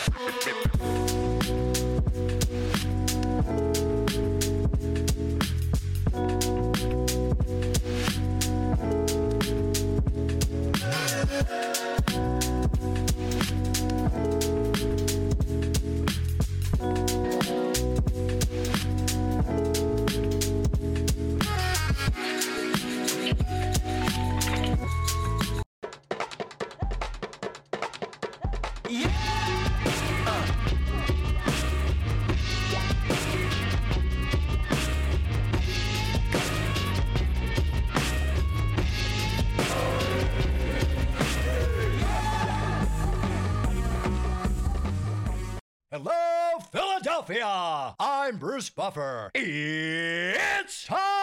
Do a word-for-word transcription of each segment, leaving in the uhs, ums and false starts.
Hello, Philadelphia! I'm Bruce Buffer. It's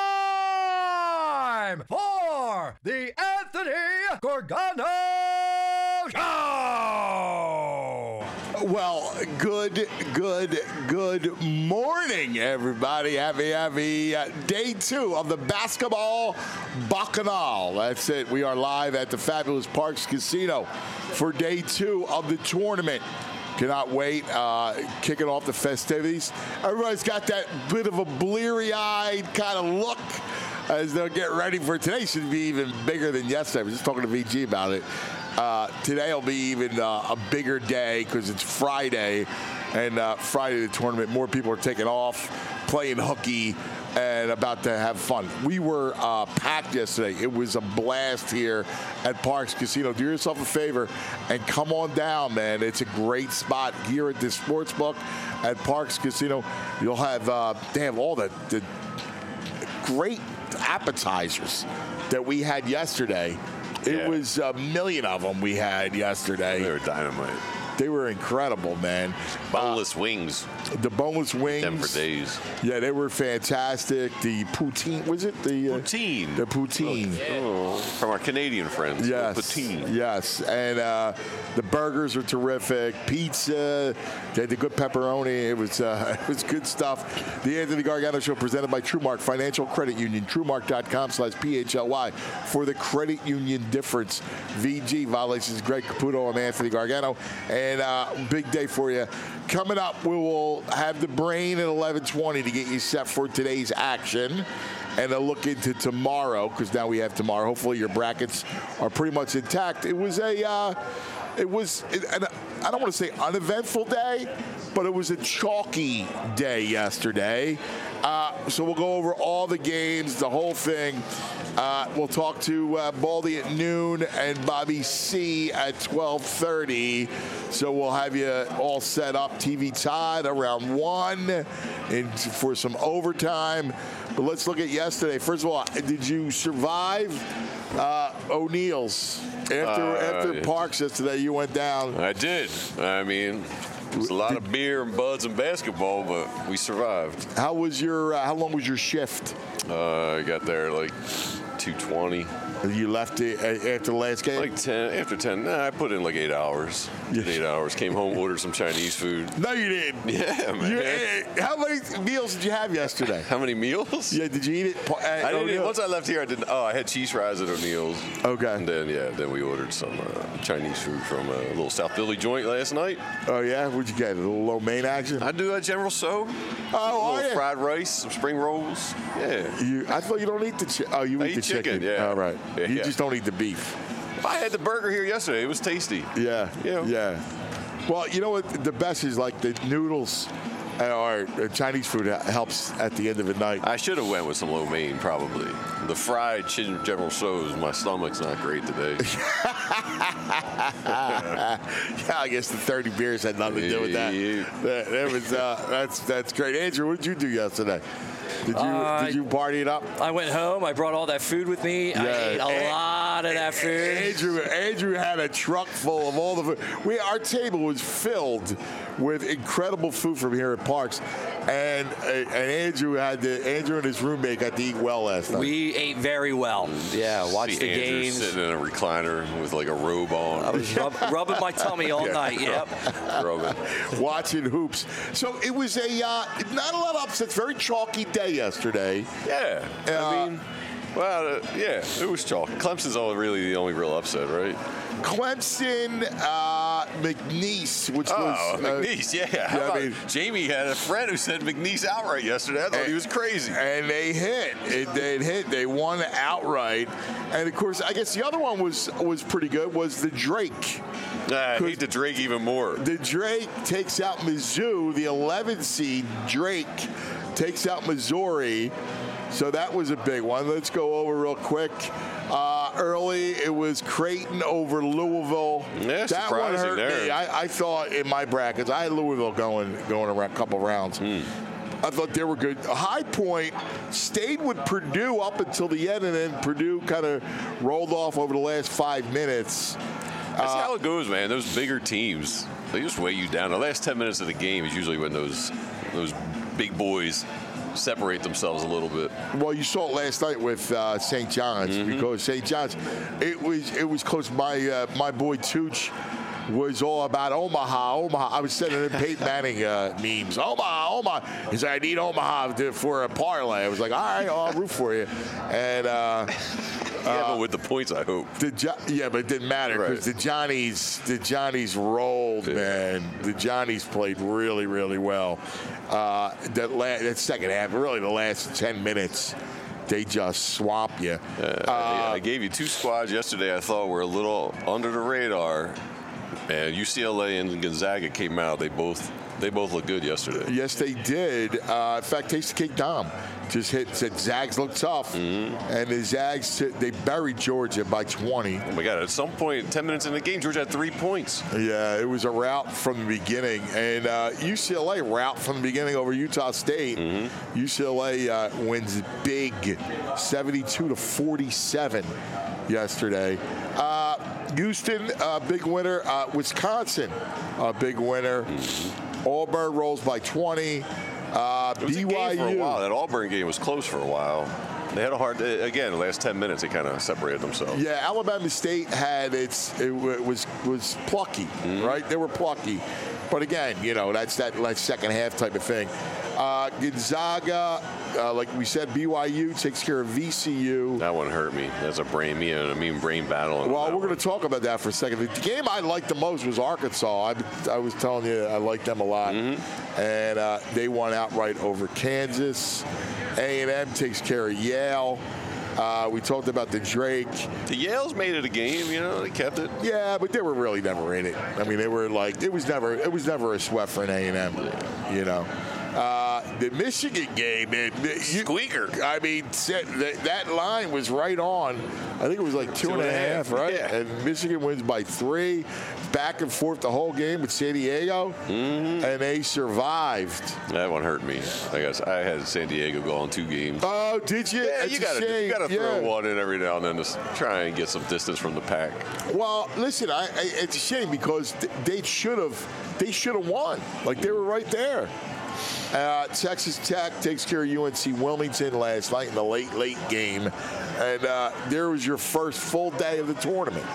time for the Anthony Gargano Show! Well, good, good, good morning, everybody. Happy, happy uh, day two of the basketball Bacchanal. That's it. We are live at the Fabulous Parks Casino for day two of the tournament. Cannot wait. Uh, kicking off the festivities. Everybody's got that bit of a bleary-eyed kind of look as they'll get ready for today. Should be even bigger than yesterday. I was just talking to V G about it. Uh, today will be even uh, a bigger day because it's Friday, and uh, Friday the tournament. More people are taking off, playing hooky, and about to have fun. We were uh, packed yesterday. It was a blast here at Parks Casino. Do yourself a favor and come on down, man. It's a great spot here at this sports book at Parks Casino. You'll have, uh, they have all the, the great appetizers that we had yesterday. It Yeah. was a million of them we had yesterday. They were dynamite. They were incredible, man. Boneless uh, wings. The boneless wings. Them for days. Yeah, they were fantastic. The poutine, was it? The uh, Poutine. The poutine. Oh, from our Canadian friends. Yes. Poutine. Yes. And uh, the burgers were terrific. Pizza. They had the good pepperoni. It was uh, it was good stuff. The Anthony Gargano Show presented by TrueMark Financial Credit Union. TrueMark.com slash P H L Y for the credit union difference. V G violations. Greg Caputo. I'm Anthony Gargano. And uh, big day for you. Coming up, we will have the brain at eleven twenty to get you set for today's action. And a look into tomorrow, because now we have tomorrow. Hopefully your brackets are pretty much intact. It was a, uh, it was, an, I don't want to say uneventful day, but it was a chalky day yesterday. Uh, so we'll go over all the games, the whole thing. Uh, we'll talk to uh, Baldy at noon and Bobby C at twelve thirty. So we'll have you all set up. T V Todd around one and for some overtime. But let's look at yesterday. First of all, did you survive uh, O'Neill's? After, uh, after Parks yesterday, you went down. I did. I mean, it was a lot of beer and buds and basketball, but we survived. How was your? Uh, how long was your shift? Uh, I got there like two twenty. You left it after the last game? Like ten, after ten. Nah, I put in like eight hours. Did eight hours. Came home, ordered some Chinese food. No, you didn't. Yeah, man. You, how many meals did you have yesterday? How many meals? Yeah, did you eat it? I didn't eat, once I left here, I didn't. Oh, I had cheese fries at O'Neill's. Okay. And then, yeah, then we ordered some uh, Chinese food from a little South Philly joint last night. Oh, yeah? What'd you get? A little low main action? I do that General So. Oh, a little oh yeah. fried rice, some spring rolls. Yeah. You, I thought you don't eat the chicken. Oh, you I eat, eat the chicken. chicken, yeah. All right. Yeah, you yeah. just don't eat the beef. I had the burger here yesterday. It was tasty. Yeah. Yeah. Yeah. Well, you know what? The best is like the noodles or Chinese food helps at the end of the night. I should have went with some lo mein, probably. The fried chicken General Tso's, my stomach's not great today. Yeah, I guess the thirty beers had nothing to do with that. Yeah. That, that was uh, that's that's great. Andrew, what did you do yesterday? Did you Uh, did you party it up? I went home. I brought all that food with me. Yeah. I ate a And- lot of that food. Andrew Andrew had a truck full of all the food. We our table was filled with incredible food from here at Parks, and and Andrew had to, Andrew and his roommate got to eat well last night. We ate very well. Yeah, watched See the Andrew games. sitting in a recliner with like a robe on. I was rub, rubbing my tummy all Yeah. night. Yep. Rubbing. Watching hoops. So it was a uh, not a lot of upsets. Very chalky day yesterday. Yeah. Uh, I mean, well, uh, yeah, it was chalk. Clemson's all really the only real upset, right? Clemson, uh, McNeese, which Oh, was uh, McNeese, yeah. How yeah, I about- mean- Jamie had a friend who said McNeese outright yesterday. I thought he was crazy. And they hit. It, they hit. They won outright. And of course, I guess the other one was was pretty good. Was the Drake. I hate the Drake even more. The Drake takes out Mizzou. The eleventh seed Drake takes out Missouri. So that was a big one. Let's go over real quick. Uh, early, it was Creighton over Louisville. Yeah, that one surprising hurt there. me. I, I thought in my brackets, I had Louisville going going around a couple rounds. Hmm. I thought they were good. High Point stayed with Purdue up until the end, and then Purdue kind of rolled off over the last five minutes. That's Uh, how it goes, man. Those bigger teams, they just weigh you down. The last ten minutes of the game is usually when those those big boys separate themselves a little bit. Well, you saw it last night with uh, Saint John's Mm-hmm. because Saint John's, it was it was close. My uh, my boy Tooch was all about Omaha, Omaha. I was sending him Peyton Manning uh, memes. Omaha, Omaha. He said, I need Omaha to, for a parlay. I was like, all right, I'll root for you. And uh, Yeah, but with the points, I hope. the jo- yeah, but it didn't matter because Right. the Johnnies, the Johnnies rolled, Yeah. man. The Johnnies played really, really well. Uh, that la- that second half, really the last ten minutes, they just swamp you. Uh, I I gave you two squads yesterday I thought were a little under the radar. And U C L A and Gonzaga came out. They both they both looked good yesterday. Yes, they did. Uh, in fact, Tasty Cake Dom just hit, said Zags look tough. Mm-hmm. And the Zags, they buried Georgia by twenty. Oh my God! At some point, ten minutes in the game, Georgia had three points. Yeah, it was a rout from the beginning. And uh, U C L A rout from the beginning over Utah State. Mm-hmm. U C L A uh, wins big, seventy-two to forty-seven yesterday. Uh, Houston, uh, big winner. Uh, Wisconsin, a big winner. Auburn rolls by twenty. Uh, It was B a Y game for a U. while. That Auburn game was close for a while. They had a hard again. The last ten minutes, they kind of separated themselves. Yeah, Alabama State had its it w- was was plucky, right? They were plucky, but again, you know that's that like second half type of thing. Uh, Gonzaga, uh, like we said, B Y U takes care of V C U. That one hurt me. That's a brain, me and a mean brain battle. Well, we're going to talk about that for a second. The game I liked the most was Arkansas. I, I was telling you I liked them a lot, and uh, they won outright over Kansas. A and M takes care of Yale. Uh, we talked about the Drake. The Yale's made it a game. You know, they kept it. Yeah, but they were really never in it. I mean, they were like it was never it was never a sweat for an A and M. You know, uh, the Michigan game, man, the, you, Squeaker. I mean, set- that, that line was right on. I think it was like two, two and, and a half, half right? Yeah. And Michigan wins by three. Back and forth the whole game with San Diego, Mm-hmm. and they survived. That one hurt me. I guess I had San Diego go on two games. Oh, did you? Yeah, That's you a got to shame. you got to throw Yeah. one in every now and then to s- try and get some distance from the pack. Well, listen, I, I, it's a shame because th- they should have they should have won. Like they were right there. Uh, Texas Tech takes care of U N C Wilmington last night in the late late game, and uh, there was your first full day of the tournament.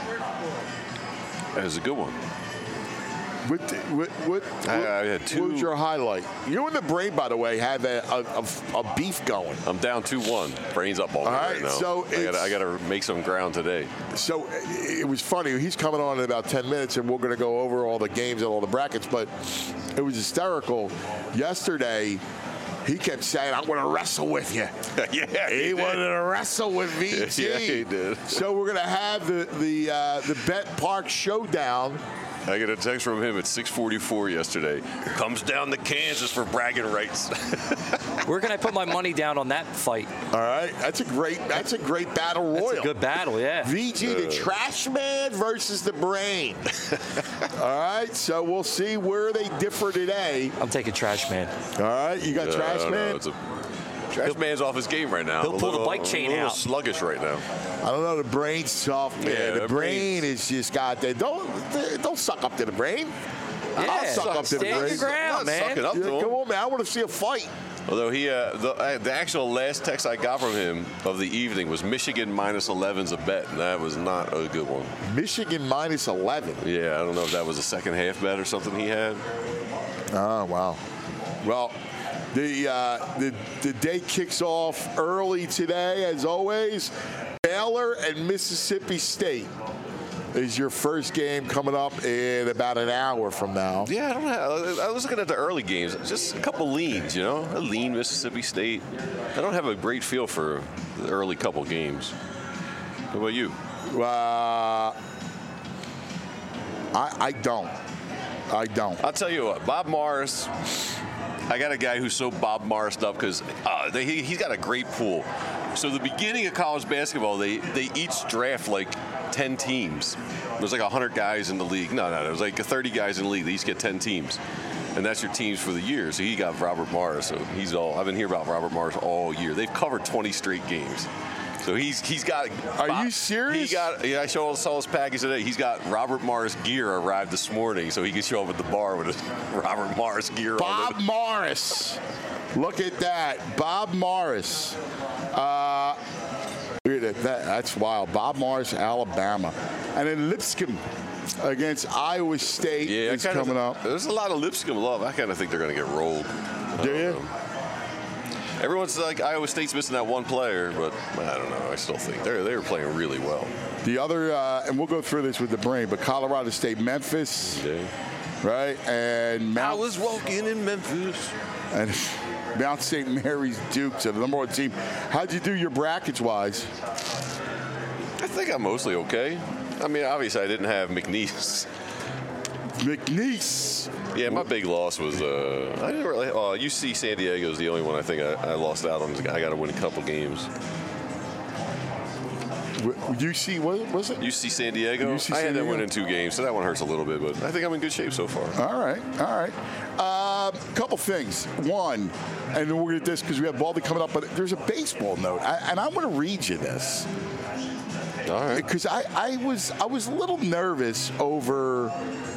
That was a good one. What, what, what, I- I had two- what was your highlight? You and the Brain, by the way, have a, a, a, a beef going. I'm down two one. Brains up on me All right, right, now. so I got it's- I got to make some ground today. So it was funny. He's coming on in about ten minutes, and we're going to go over all the games and all the brackets. But it was hysterical. Yesterday, he kept saying, I'm going to wrestle with you. yeah, He he wanted did. to wrestle with V G. Yeah, he did. So we're going to have the the uh, the Bet Park Showdown. I got a text from him at six forty-four yesterday. Comes down to Kansas for bragging rights. Where can I put my money down on that fight? All right, that's a great that's a great battle royal. That's a good battle, yeah. V G, the trash man versus the brain. All right, so we'll see where they differ today. I'm taking Trash Man. All right, you got Uh, trash I don't know. man. It's a, trash man's off his game right now. he'll A pull the little- bike chain a little out. Sluggish right now. I don't know. The brain's soft, man. Yeah, the the brain brain's- is just got that. Don't don't suck up to the brain. I'll Yeah, suck up to the stand your brain. ground, Not man. sucking up Yeah, to him. come on, man. I want to see a fight. Although he, uh, the, uh, the actual last text I got from him of the evening was Michigan minus eleven's a bet, and that was not a good one. Michigan minus eleven. Yeah, I don't know if that was a second half bet or something he had. Oh, wow. Well, the, uh, the the day kicks off early today, as always. Baylor and Mississippi State. is your first game coming up in about an hour from now. Yeah, I don't have. I was looking at the early games. Just a couple leans, you know, a lean Mississippi State. I don't have a great feel for the early couple games. What about you? Uh, I, I don't. I don't. I'll tell you what, Bob Morris. I got a guy who's so Bob Morrised up because uh, they, he, he's got a great pool. So the beginning of college basketball, they they each draft like ten teams. There's like one hundred guys in the league. No, no, there's like thirty guys in the league. They each get ten teams. And that's your teams for the year. So he got Robert Morris. So he's all, I've been hearing about Robert Morris all year. They've covered twenty straight games. So he's he's got. Are Bob, you serious? He got. Yeah, I saw, saw his package today. He's got Robert Morris gear arrived this morning, so he can show up at the bar with his Robert Morris gear Bob on. Bob Morris. Look at that, Bob Morris. Uh, look at that. That's wild. Bob Morris, Alabama, and then Lipscomb against Iowa State yeah, is coming of, up. There's a lot of Lipscomb love. I kind of think they're going to get rolled. Do you? Know. Everyone's like Iowa State's missing that one player, but I don't know. I still think they're they were playing really well. The other, uh, and we'll go through this with the brain, but Colorado State, Memphis, Yeah. right, and Mount. I was walking in Memphis. And Mount Saint Mary's Duke, so the number one team. How'd you do your brackets wise? I think I'm mostly okay. I mean, obviously I didn't have McNeese. McNeese. Yeah, my big loss was uh, I didn't really. Uh, U C San Diego is the only one I think I, I lost out on. I got to win a couple games. U C, what was it? U C San Diego. U C I San had them Diego? winning two games, so that one hurts a little bit. But I think I'm in good shape so far. All right, all right. A uh, couple things. One, and we'll get this because we have Baldy coming up, but there's a baseball note, I, and I'm going to read you this. All right. Because I, I was I was a little nervous over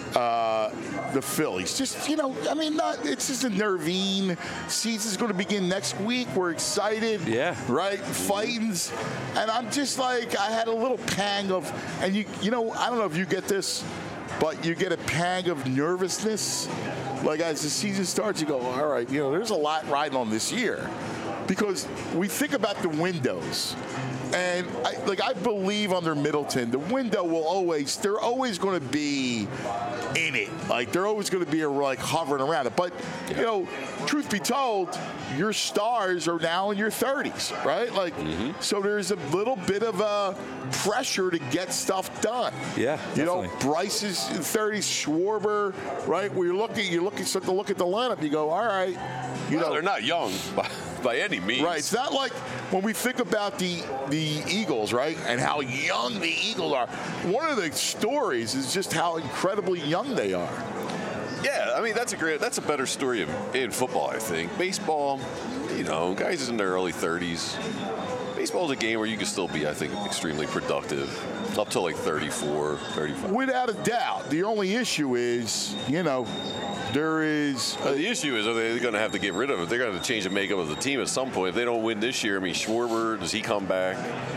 uh, the Phillies. Just, you know, I mean, not, it's just a nervine. Season's going to begin next week. We're excited. Yeah. Right? Fightings. And I'm just like, I had a little pang of, and you, you know, I don't know if you get this, but you get a pang of nervousness. Like as the season starts, you go, all right, you know, there's a lot riding on this year. Because we think about the windows. And I, like I believe under Middleton, the window will always, they're always going to be in it. Like they're always going to be like hovering around it. But, you know, truth be told, your stars are now in your thirties, right? Like, mm-hmm. So there's a little bit of a pressure to get stuff done. Yeah, You definitely. know, Bryce is in thirties, Schwarber, right? Where you're looking, you're looking, start to look at the lineup, you go, all right. You well, know, they're not young by, by any means. Right. It's not like when we think about the the Eagles, right, and how young the Eagles are. One of the stories is just how incredibly young they are. Yeah, I mean that's a great, that's a better story in, in football, I think. Baseball, you know, guys in their early thirties. Baseball is a game where you can still be, I think, extremely productive up to like thirty-four, thirty-five. Without a doubt. The only issue is, you know, there is. Well, the issue is, are they going to have to get rid of it? They're going to change the makeup of the team at some point. If they don't win this year, I mean, Schwarber, does he come back?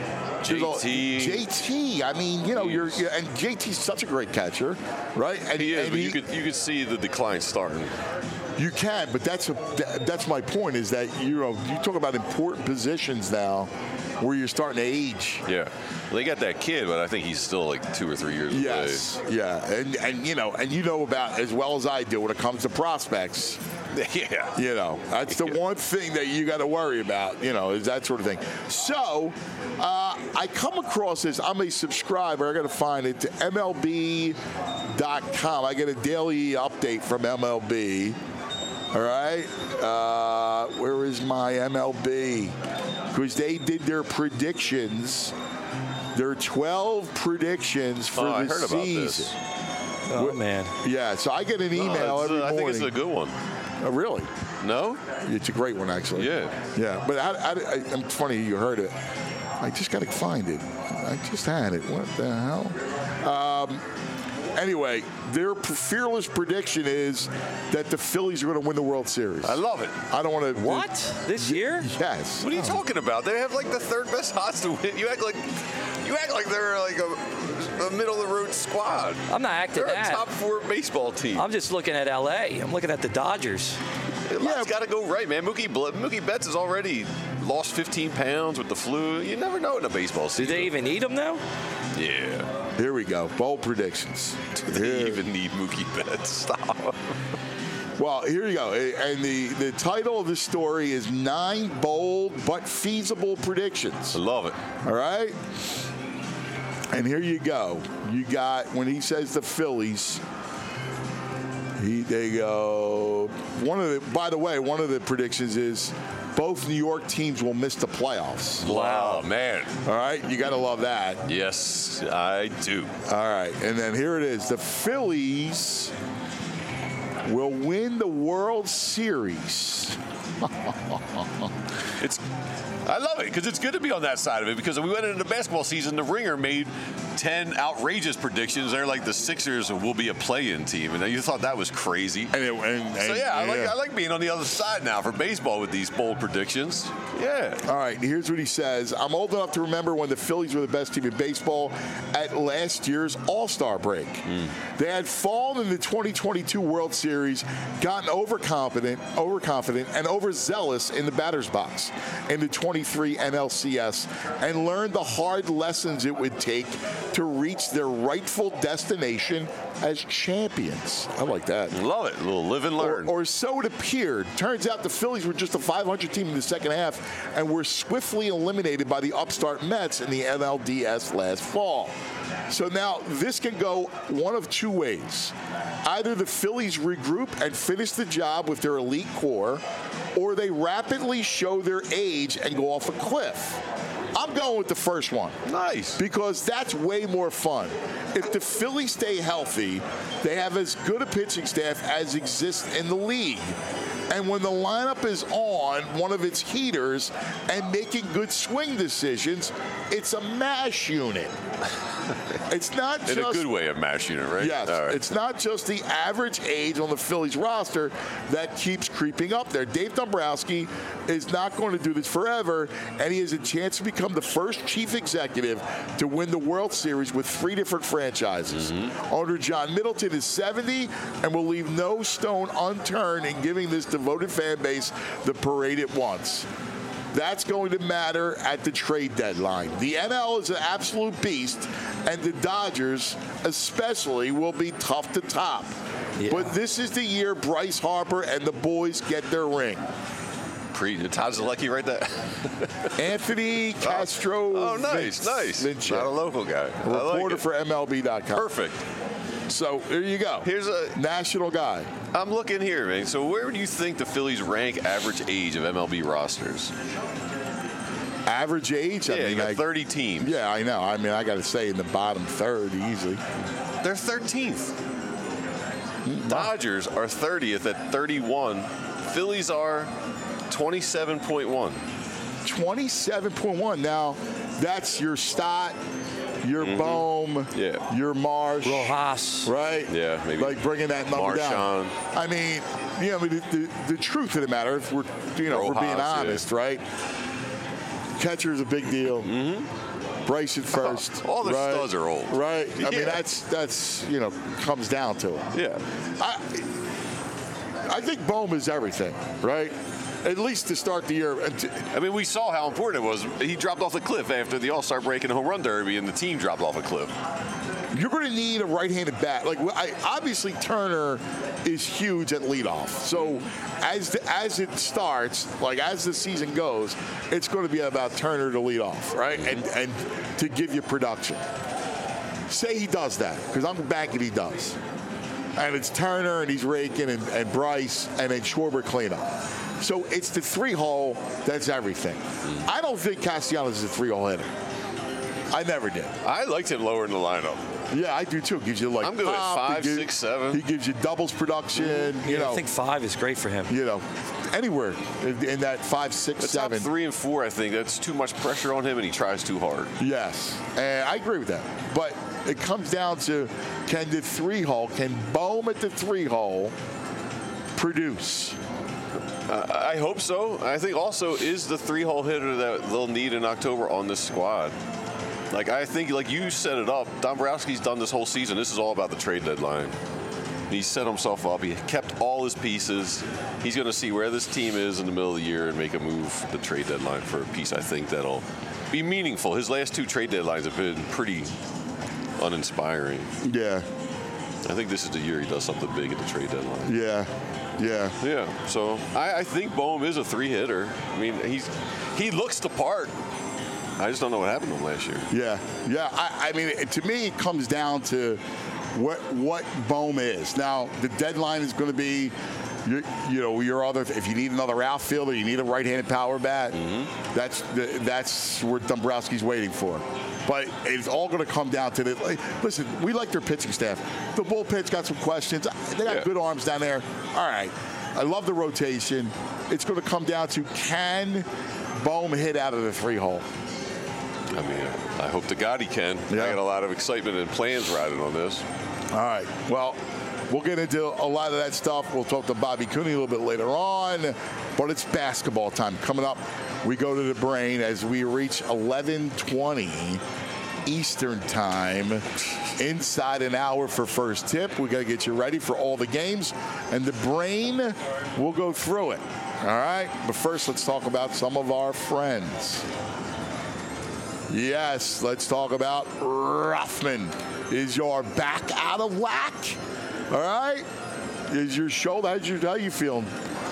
J T. J T. I mean, you know, you're, you're and J T's such a great catcher, right? And, He is, and but he, you could you could see the decline starting. You can, but that's a, that's my point. Is that you know you talk about important positions now, where you're starting to age. Yeah, well, they got that kid, but I think he's still like two or three years away. Yes, yeah, and and you know, and you know about as well as I do when it comes to prospects. Yeah, You know, that's the one thing that you got to worry about. You know, is that sort of thing. So, uh, I come across this. I'm a subscriber. I got to find it to M L B dot com. I get a daily update from M L B. All right, uh, where is my M L B? Because they did their predictions. Their twelve predictions for oh, the I heard about season. this. Oh, man. Yeah, so I get an email No, it's, every uh, I morning. think it's a good one. Oh, really? No? It's a great one, actually. Yeah. Yeah, but I, I, I, it's funny you heard it. I just got to find it. I just had it. What the hell? Um, anyway, their fearless prediction is that the Phillies are going to win the World Series. I love it. I don't want to. What? This year? Yes. What are you talking about? They have like the third best odds to win. You act like you act like they're like a, a middle of the road squad. I'm not acting They're that. a top four baseball team. I'm just looking at L A. I'm looking at the Dodgers. Yeah. It's got to go right, man. Mookie, Mookie Betts has already lost fifteen pounds with the flu. You never know in a baseball season. Do they even need him now? Yeah. Here we go. Bold predictions. Do they Here. even need Mookie Betts? Stop. Well, here you go. And the, the title of the story is Nine Bold But Feasible Predictions. I love it. All right? And here you go. You got, when he says the Phillies, he, they go, one of the, by the way, one of the predictions is both New York teams will miss the playoffs. Wow, man. All right? You got to love that. Yes, I do. All right. And then here it is. The Phillies will win the World Series. It's, I love it because it's good to be on that side of it because we went into the basketball season, the Ringer made ten outrageous predictions. They're like the Sixers will be a play-in team, and you thought that was crazy. And it, and, So and- yeah, I like I like being on the other side now for baseball with these bold predictions. Yeah. All right, here's what he says. I'm old enough to remember when the Phillies were the best team in baseball at last year's All-Star break. Mm. They had fallen in the twenty twenty-two World Series, gotten overconfident, overconfident, and overzealous in the batter's box in the twenty-three N L C S, and learned the hard lessons it would take to reach their rightful destination as champions. I like that. Love it. A little live and Or, learn. or so it appeared. Turns out the Phillies were just a five hundred team in the second half and were swiftly eliminated by the upstart Mets in the N L D S last fall. So now this can go one of two ways. Either the Phillies regroup and finish the job with their elite core, or they rapidly show their age and go off a cliff. I'm going with the first one. Nice. Because that's way more fun. If the Phillies stay healthy, they have as good a pitching staff as exists in the league. And when the lineup is on one of its heaters and making good swing decisions, it's a mash unit. It's not In just a good way of mash unit, right? Yes, All right. it's not just the average age on the Phillies roster that keeps creeping up there. Dave Dombrowski is not going to do this forever, and he has a chance to become the first chief executive to win the World Series with three different franchises. Mm-hmm. Owner John Middleton is seventy and will leave no stone unturned in giving this devoted fan base the parade it wants. That's going to matter at the trade deadline. The N L is an absolute beast, and the Dodgers especially will be tough to top. Yeah. But this is the year Bryce Harper and the boys get their ring. Pre Todd Zalecki right there. Anthony Castro. Oh, nice, Vince- nice. Vince, Not a local guy. I like reporter it. for M L B dot com. Perfect. So there you go. Here's a. National guy. I'm looking here, man. So where do you think the Phillies rank average age of M L B rosters? Average age? I Yeah, you mean, got I- thirty teams. Yeah, I know. I mean, I got to say in the bottom third easily. They're thirteenth. Dodgers are thirtieth at thirty-one. Phillies are twenty-seven point one. twenty-seven point one. Now, that's your Stott, your Bohm, Yeah. your Marsh, Rojas. right? Yeah, maybe. Like bringing that number down. Marchand. I mean, you know, I mean, the, the, the truth of the matter, if we're, you know, if we're being Rojas, yeah. honest, right? Catcher is a big deal. Mm-hmm. Bryce at first. All their right? studs are old. Right. I Yeah. mean, that's that's you know comes down to it. Yeah. I I think Bohm is everything, right? At least to start the year. And to, I mean, we saw how important it was. He dropped off the cliff after the All-Star break in the home run derby, and the team dropped off a cliff. You're going to need a right-handed bat. Like I, obviously, Turner is huge at leadoff. So as the, as it starts, like as the season goes, it's going to be about Turner to lead off, right? And and to give you production. Say he does that, because I'm banking he does. And it's Turner, and he's raking, and, and Bryce, and then Schwarber cleanup. So it's the three-hole that's everything. I don't think Castellanos is a three-hole hitter. I never did. I liked him lower in the lineup. Yeah, I do too. Gives you like I'm good at pop, he five, gives- six, seven. He gives you doubles production. You Yeah, know, I think five is great for him. you know, anywhere in, in that five, six, The top seven. three and four, I think that's too much pressure on him, and he tries too hard. Yes, and I agree with that. But it comes down to can the three hole, can Bohm at the three hole produce? Uh, I hope so. I think also is the three-hole hitter that they'll need in October on this squad. Like I think, like you set it up, Dombrowski's done this whole season. This is all about the trade deadline. He set himself up. He kept all his pieces. He's going to see where this team is in the middle of the year and make a move at the trade deadline for a piece I think that'll be meaningful. His last two trade deadlines have been pretty uninspiring. Yeah. I think this is the year he does something big at the trade deadline. Yeah. Yeah. Yeah. So I, I think Bohm is a three-hitter. I mean, he's he looks the part. I just don't know what happened to him last year. Yeah. Yeah. I, I mean, it, to me, it comes down to what what Bohm is. Now, the deadline is going to be, you, you know, your other. If you need another outfielder, you need a right-handed power bat. Mm-hmm. That's the, that's what Dombrowski's waiting for. But it's all going to come down to the. Like, listen, we like their pitching staff. The bullpen's got some questions. They got yeah. good arms down there. All right. I love the rotation. It's going to come down to, can Bohm hit out of the three hole? I mean, I hope to God he can. Yeah. I got a lot of excitement and plans riding on this. All right. Well, we'll get into a lot of that stuff. We'll talk to Bobby Cooney a little bit later on. But it's basketball time. Coming up, we go to the Brain as we reach eleven twenty Eastern time. Inside an hour for first tip. We got to get you ready for all the games. And the Brain, we'll go through it. All right? But first, let's talk about some of our friends. Yes, let's talk about Rothman. Is your back out of whack? All right? Is your shoulder, how's your, how you feeling?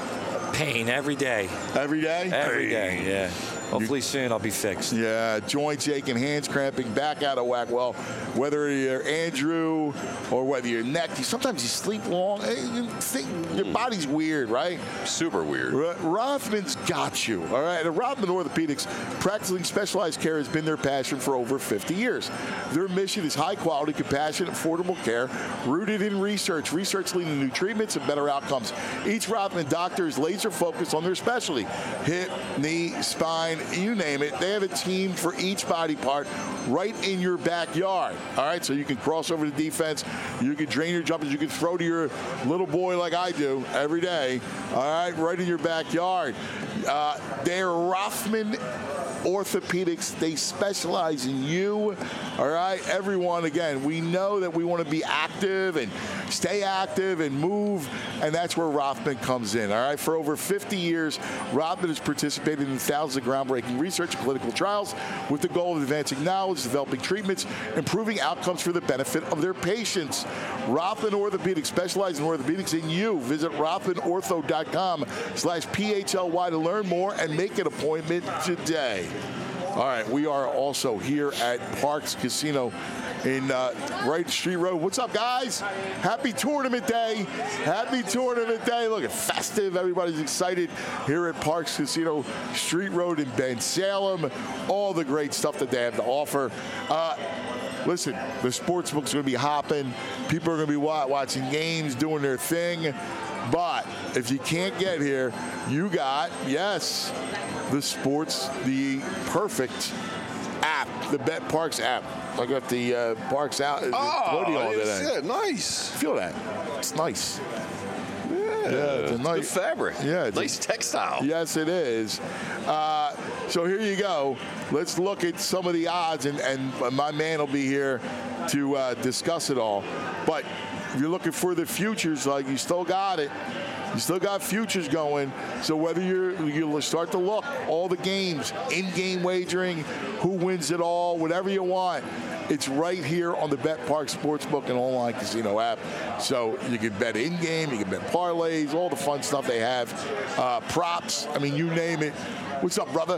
Pain every day. Every day? Every day, yeah. Hopefully soon I'll be fixed. Yeah, joints aching, hands cramping, back out of whack. Well, whether you're Andrew or whether you're neck, sometimes you sleep long. You think your body's weird, right? Super weird. Rothman's got you, all right? And Rothman Orthopedics, practicing specialized care has been their passion for over fifty years. Their mission is high-quality, compassionate, affordable care rooted in research. Research leading to new treatments and better outcomes. Each Rothman doctor is laser-focused on their specialty. Hip, knee, spine, you name it. They have a team for each body part right in your backyard. All right, so you can cross over to defense. You can drain your jumpers. You can throw to your little boy like I do every day. All right, right in your backyard. Uh, they're Rothman Orthopedics. They specialize in you. All right, everyone, again, we know that we want to be active and stay active and move, and that's where Rothman comes in. All right, for over fifty years, Rothman has participated in thousands of groundbreaking research and clinical trials with the goal of advancing knowledge, developing treatments, improving outcomes for the benefit of their patients. Rothman Orthopedics specializes in orthopedics in you. Visit rothman ortho dot com slash P H L Y to learn more and make an appointment today. All right, we are also here at Parks Casino in uh, Wright Street Road. What's up, guys? Happy tournament day. Happy tournament day. Look, it's festive. Everybody's excited here at Parks Casino, Street Road in Ben Salem. All the great stuff that they have to offer. Uh, listen, the sportsbook's going to be hopping. People are going to be watching games, doing their thing. But if you can't get here, you got, yes, the sports, the perfect app, the Bet Parks app. I got the uh, Parks out. Oh, today. Yeah, nice. Feel that? It's nice. Yeah, yeah it's a nice good fabric. Yeah, it's nice a, textile. Yes, it is. Uh, so here you go. Let's look at some of the odds, and, and my man will be here to uh, discuss it all. But if you're looking for the futures, like you still got it. You still got futures going. So whether you're, you'll start to look, all the games, in-game wagering, who wins it all, whatever you want, it's right here on the Bet Parks Sportsbook and online casino app. So you can bet in-game, you can bet parlays, all the fun stuff they have. Uh, props, I mean, you name it. What's up, brother?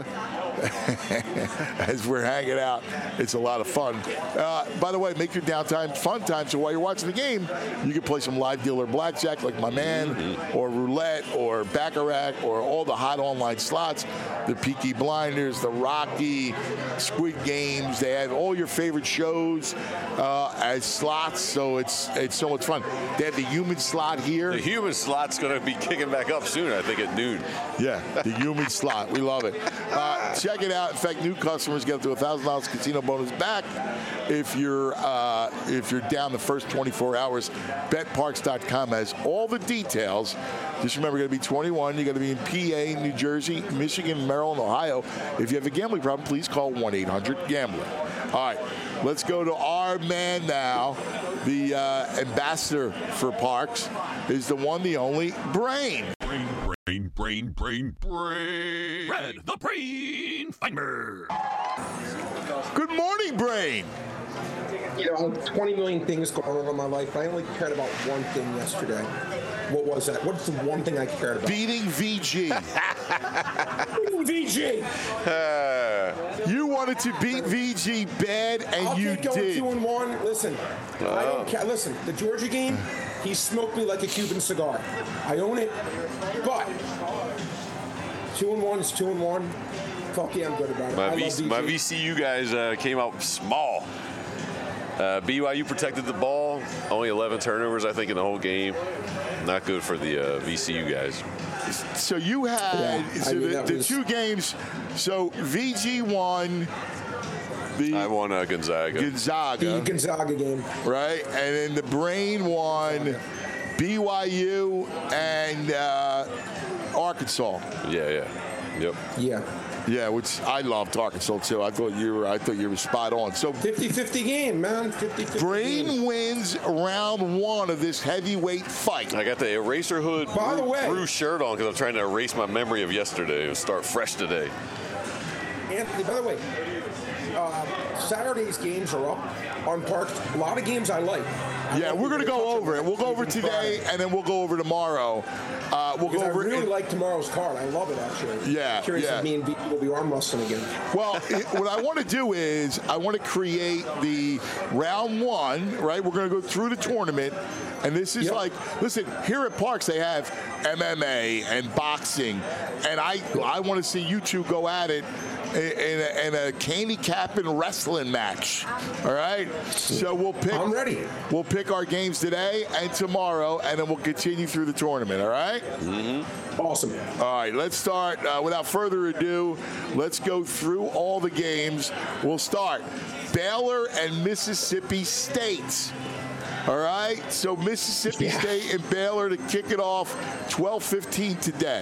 As we're hanging out, it's a lot of fun. Uh, by the way, make your downtime fun time, so while you're watching the game, you can play some live dealer blackjack like my man, mm-hmm. or roulette, or baccarat, or all the hot online slots, the Peaky Blinders, the Rocky, Squid Games. They have all your favorite shows uh, as slots, so it's it's so much fun. They have the human slot here. The human slot's going to be kicking back up soon, I think, at noon. Yeah, the human slot. We love it. Uh, check it out. In fact, new customers get up to a thousand dollars casino bonus back if you're uh, if you're down the first twenty-four hours. Bet Parks dot com has all the details. Just remember, you got to be twenty-one. You got to be in P A, New Jersey, Michigan, Maryland, Ohio. If you have a gambling problem, please call one eight hundred gambler. All right. let's go to our man now. The uh, ambassador for Parks is the one, the only, Brain. Brain, brain, brain, brain, brain. Red, the brain finder. Good morning, Brain. You know, twenty million things going on in my life. I only cared about one thing yesterday. What was that? What's the one thing I cared about? Beating V G. Beating V G. You wanted to beat V G bad, and I'll you take going did. two and one. Listen, I don't care. Listen, the Georgia game, he smoked me like a Cuban cigar. I own it, but two and one is two and one. Fuck yeah, I'm good about it. My, I v- love V G. my V C U guys uh, came out small. Uh, B Y U protected the ball. Only eleven turnovers, I think, in the whole game. Not good for the uh, V C U guys. So you had Yeah, so I mean, the, that the was- two games. So V G won the I won uh, Gonzaga. Gonzaga, The Gonzaga game. right? And then the Brain won B Y U and uh, Arkansas. Yeah, yeah. Yep. Yeah. Yeah, which I loved Arkansas too. I thought you were I thought you were spot on. So fifty-fifty game, man. fifty-fifty Brain game. wins round one of this heavyweight fight. I got the eraser hood By the blue, way- blue shirt on because I'm trying to erase my memory of yesterday and start fresh today. Anthony, by the way, uh, Saturday's games are up on Parks. A lot of games I like. I Yeah, like we're the going to way go touch over it. We'll go over Even today, Friday. and then we'll go over tomorrow. Uh, we'll Because go I over really it. like tomorrow's card. I love it, actually. Yeah, Curious yeah. if me and V will be arm wrestling again. Well, it, what I want to do is I want to create the round one, right? We're going to go through the tournament. And this is Yep. like, listen, here at Parks, they have M M A and boxing. And I I want to see you two go at it in, in, a, in a candy cap and wrestling match. All right? So we'll pick. I'm ready. We'll pick our games today and tomorrow, and then we'll continue through the tournament. All right? Awesome. All right, let's start. Uh, without further ado, let's go through all the games. We'll start Baylor and Mississippi State. All right, so Mississippi Yeah. State and Baylor to kick it off, twelve fifteen today.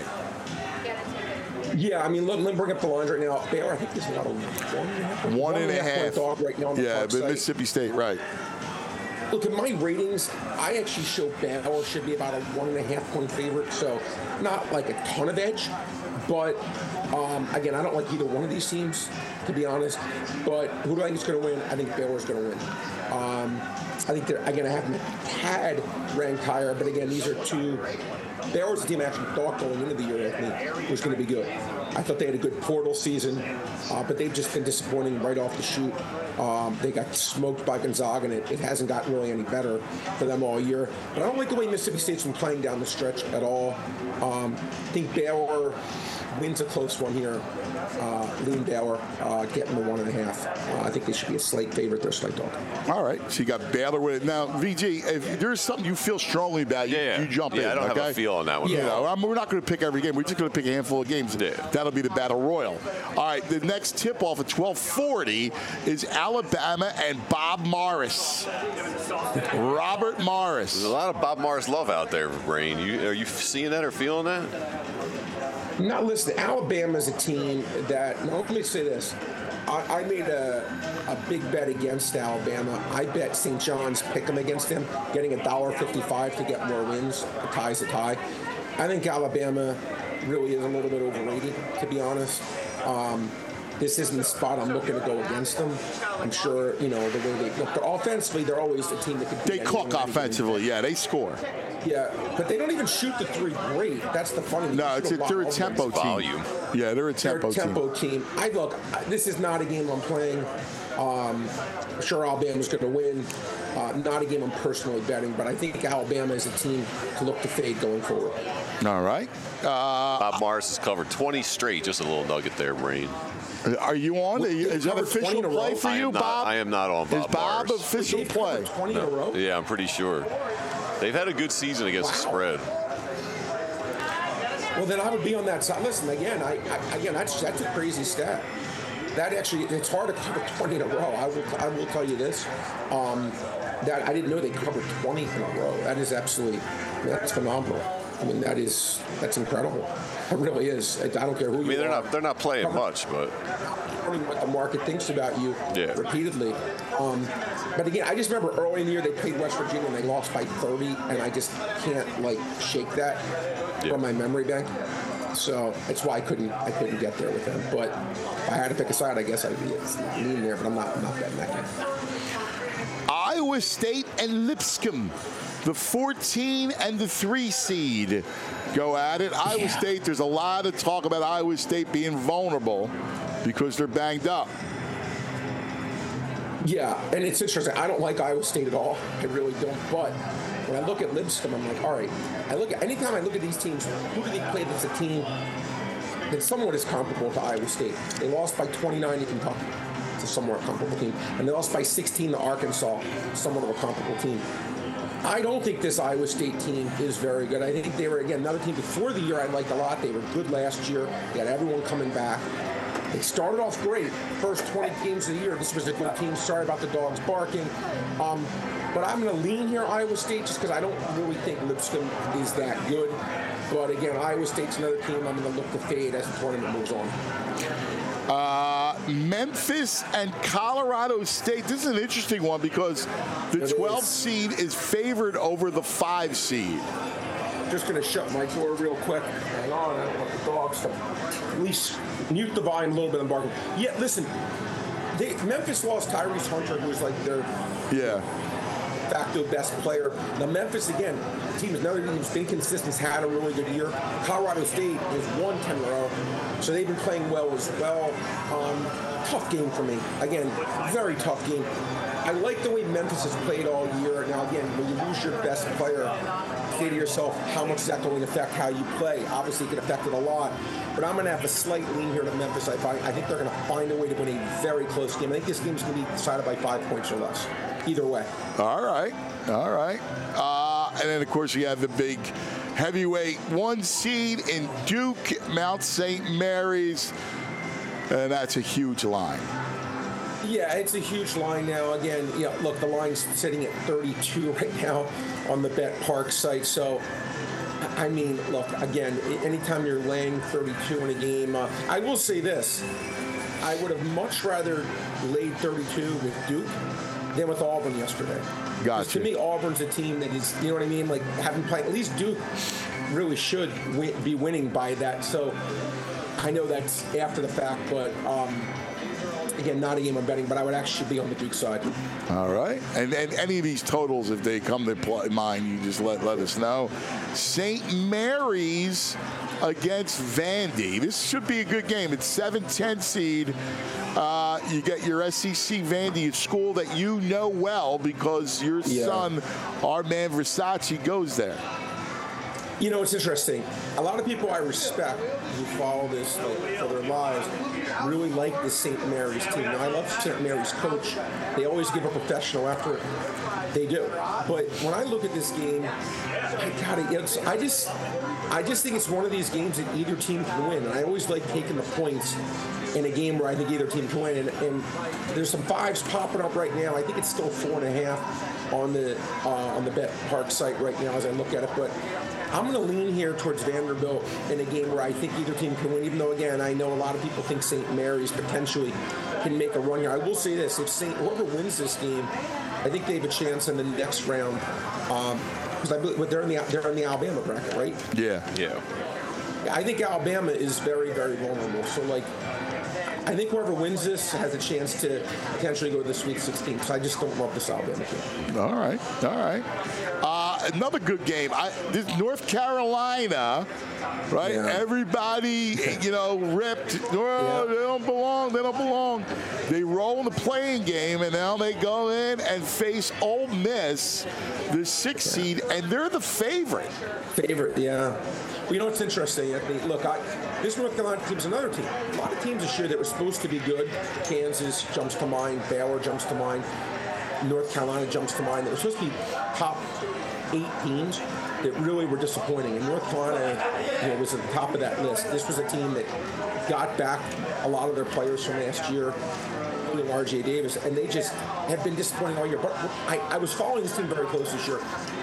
Yeah, I mean, let, let me bring up the lines right now. Baylor, I think, is about a one and a half. One and a point half. dog right now on the Yeah, Park but site. Mississippi State, right. Look, in my ratings, I actually show Baylor should be about a one and a half point favorite, so not like a ton of edge. But um, again, I don't like either one of these teams, to be honest. But who do I think is going to win? I think Baylor's going to win. Um, I think they're again. I haven't had ranked higher, but again, these are two. Baylor's the team I actually thought going into the year, Anthony, was going to be good. I thought they had a good portal season, uh, but they've just been disappointing right off the shoot. Um, they got smoked by Gonzaga, and it, it hasn't gotten really any better for them all year. But I don't like the way Mississippi State's been playing down the stretch at all. Um, I think Baylor wins a close one here. Uh, lean Baylor, uh, getting the one and a half. Uh, I think they should be a slight favorite. They're a slight dog. All right, so you got Baylor with it. Now, V G, if there's something you feel strongly about, you, Yeah, you jump yeah, in. I don't okay? have a feel on that one. You Yeah. know, I mean, we're not going to pick every game. We're just going to pick a handful of games. Yeah. That'll be the Battle Royal. All right, the next tip-off at twelve forty is Alabama and Bob Morris. Robert Morris. There's a lot of Bob Morris love out there, Brain. You, are you seeing that or feeling that? Now, listen, Alabama's a team that, now let me say this. I, I made a, a big bet against Alabama. I bet Saint John's pick 'em against them, getting one dollar fifty-five to get more wins. The tie's a tie. I think Alabama really is a little bit overrated, to be honest. Um, this isn't the spot I'm looking to go against them. I'm sure, you know, the way they look. Offensively, they're always the team that can They cook offensively. Yeah, they score. Yeah, but they don't even shoot the three great. That's the funny thing. No, They it's shoot a, lot they're a of tempo offense. team. Volume. Yeah, they're a They're tempo, a tempo team. team. I look. I- This is not a game I'm playing. Um, I'm sure Alabama's going to win. Uh, not a game I'm personally betting, but I think Alabama is a team to look to fade going forward. All right. Uh, Bob Morris has covered twenty straight. Just a little nugget there, Brain. are you on? Well, Is that covered official twenty in a play row? for I you, am not, Bob? I am not on Bob Is Bob Morris. official They've play? covered twenty in a row. Yeah, I'm pretty sure. They've had a good season against the Wow. spread. Well, then I would be on that side. Listen, again, I, I again that's that's a crazy stat. That actually, it's hard to cover twenty in a row. I will I will tell you this. Um, that I didn't know they covered twenty in a row. That is absolutely that's phenomenal. I mean, that is that's incredible. It really is. I don't care who you are. I mean, they're not they're not playing Probably, much, but learning what the market thinks about you Yeah. repeatedly. Um, but again, I just remember early in the year they played West Virginia and they lost by thirty, and I just can't like shake that Yeah. from my memory bank. So that's why I couldn't I couldn't get there with them. But if I had to pick a side, I guess I'd be leaning there. But I'm not I'm not betting that game. Iowa State and Lipscomb, the fourteen and the three seed, go at it. Iowa Yeah. State, there's a lot of talk about Iowa State being vulnerable because they're banged up. Yeah, and it's interesting. I don't like Iowa State at all. I really don't. But when I look at Lipscomb, I'm like, all right. I look at anytime I look at these teams, who do they play that's a team that somewhat is comparable to Iowa State? They lost by twenty-nine to Kentucky. It's a somewhat comparable team. And they lost by sixteen to Arkansas, somewhat of a comparable team. I don't think this Iowa State team is very good. I think they were, again, another team before the year I liked a lot. They were good last year. They had everyone coming back. They started off great. First twenty games of the year, this was a good team. Sorry about the dogs barking. Um, but I'm going to lean here Iowa State just because I don't really think Lipscomb is that good. But again, Iowa State's another team I'm going to look to fade as the tournament moves on. Uh, Memphis and Colorado State. This is an interesting one because the twelfth seed is favored over the five seed. Just going to shut my door real quick. Hang on, I don't want the dogs to at least mute the volume a little bit and barking. Yeah, listen, they, Memphis lost Tyrese Hunter, who was like their Yeah. facto best player. Now Memphis, again, the team is another team who's been consistent, has had a really good year. Colorado State has won ten in a row, so they've been playing well as well. Um, tough game for me. Again, very tough game. I like the way Memphis has played all year. Now, again, when you lose your best player, say to yourself, how much is that going to affect how you play? Obviously, it can affect it a lot. But I'm going to have a slight lean here to Memphis. I, find, I think they're going to find a way to win a very close game. I think this game's going to be decided by five points or less. Either way. All right. All right. Uh, and then, of course, you have the big heavyweight one seed in Duke, Mount Saint Mary's. And that's a huge line. Yeah, it's a huge line now. Again, you know, look, the line's sitting at thirty-two right now on the Bet Park site. So, I mean, look, again, anytime you're laying thirty-two in a game, uh, I will say this. I would have much rather laid thirty-two with Duke than with Auburn yesterday. Gotcha. To me, Auburn's a team that is, you know what I mean? Like, having played, at least Duke really should win, be winning by that. So, I know that's after the fact, but... Um, Again, not a game I'm betting, but I would actually be on the Duke side. All right. And, and any of these totals, if they come to pl- mind, you just let, let us know. Saint Mary's against Vandy. This should be a good game. It's seven ten seed. Uh, you get your S E C Vandy, a school that you know well because your Yeah. son, our man Versace, goes there. You know, it's interesting. A lot of people I respect who follow this like, for their lives really like the Saint Mary's team. Now, I love Saint Mary's coach. They always give a professional effort. They do. But when I look at this game, I got it. It's, I just, I just think it's one of these games that either team can win. And I always like taking the points in a game where I think either team can win. And, and there's some fives popping up right now. I think it's still four and a half on the uh, on the Bet Park site right now as I look at it. But I'm going to lean here towards Vanderbilt in a game where I think either team can win, even though, again, I know a lot of people think Saint Mary's potentially can make a run here. I will say this. If Saint whoever wins this game, I think they have a chance in the next round because um, I believe they're in the they're in the Alabama bracket, right? Yeah. yeah. I think Alabama is very, very vulnerable. So, like, I think whoever wins this has a chance to potentially go to the Sweet sixteen because I just don't love this Alabama team. All right. All right. Uh, another good game. I, this North Carolina, right? Yeah. Everybody, you know, ripped. Oh, Yeah. They don't belong. They don't belong. They roll in the playing game, and now they go in and face Ole Miss, the sixth seed, and they're the favorite. Favorite, yeah. Well, you know what's interesting? I mean, look, I, this North Carolina team's another team. A lot of teams this year that were supposed to be good. Kansas jumps to mind. Baylor jumps to mind. North Carolina jumps to mind. They were supposed to be top eight teams that really were disappointing. And North Carolina, you know, was at the top of that list. This was a team that got back a lot of their players from last year, including R J Davis, and they just have been disappointing all year. But I, I was following this team very close this year.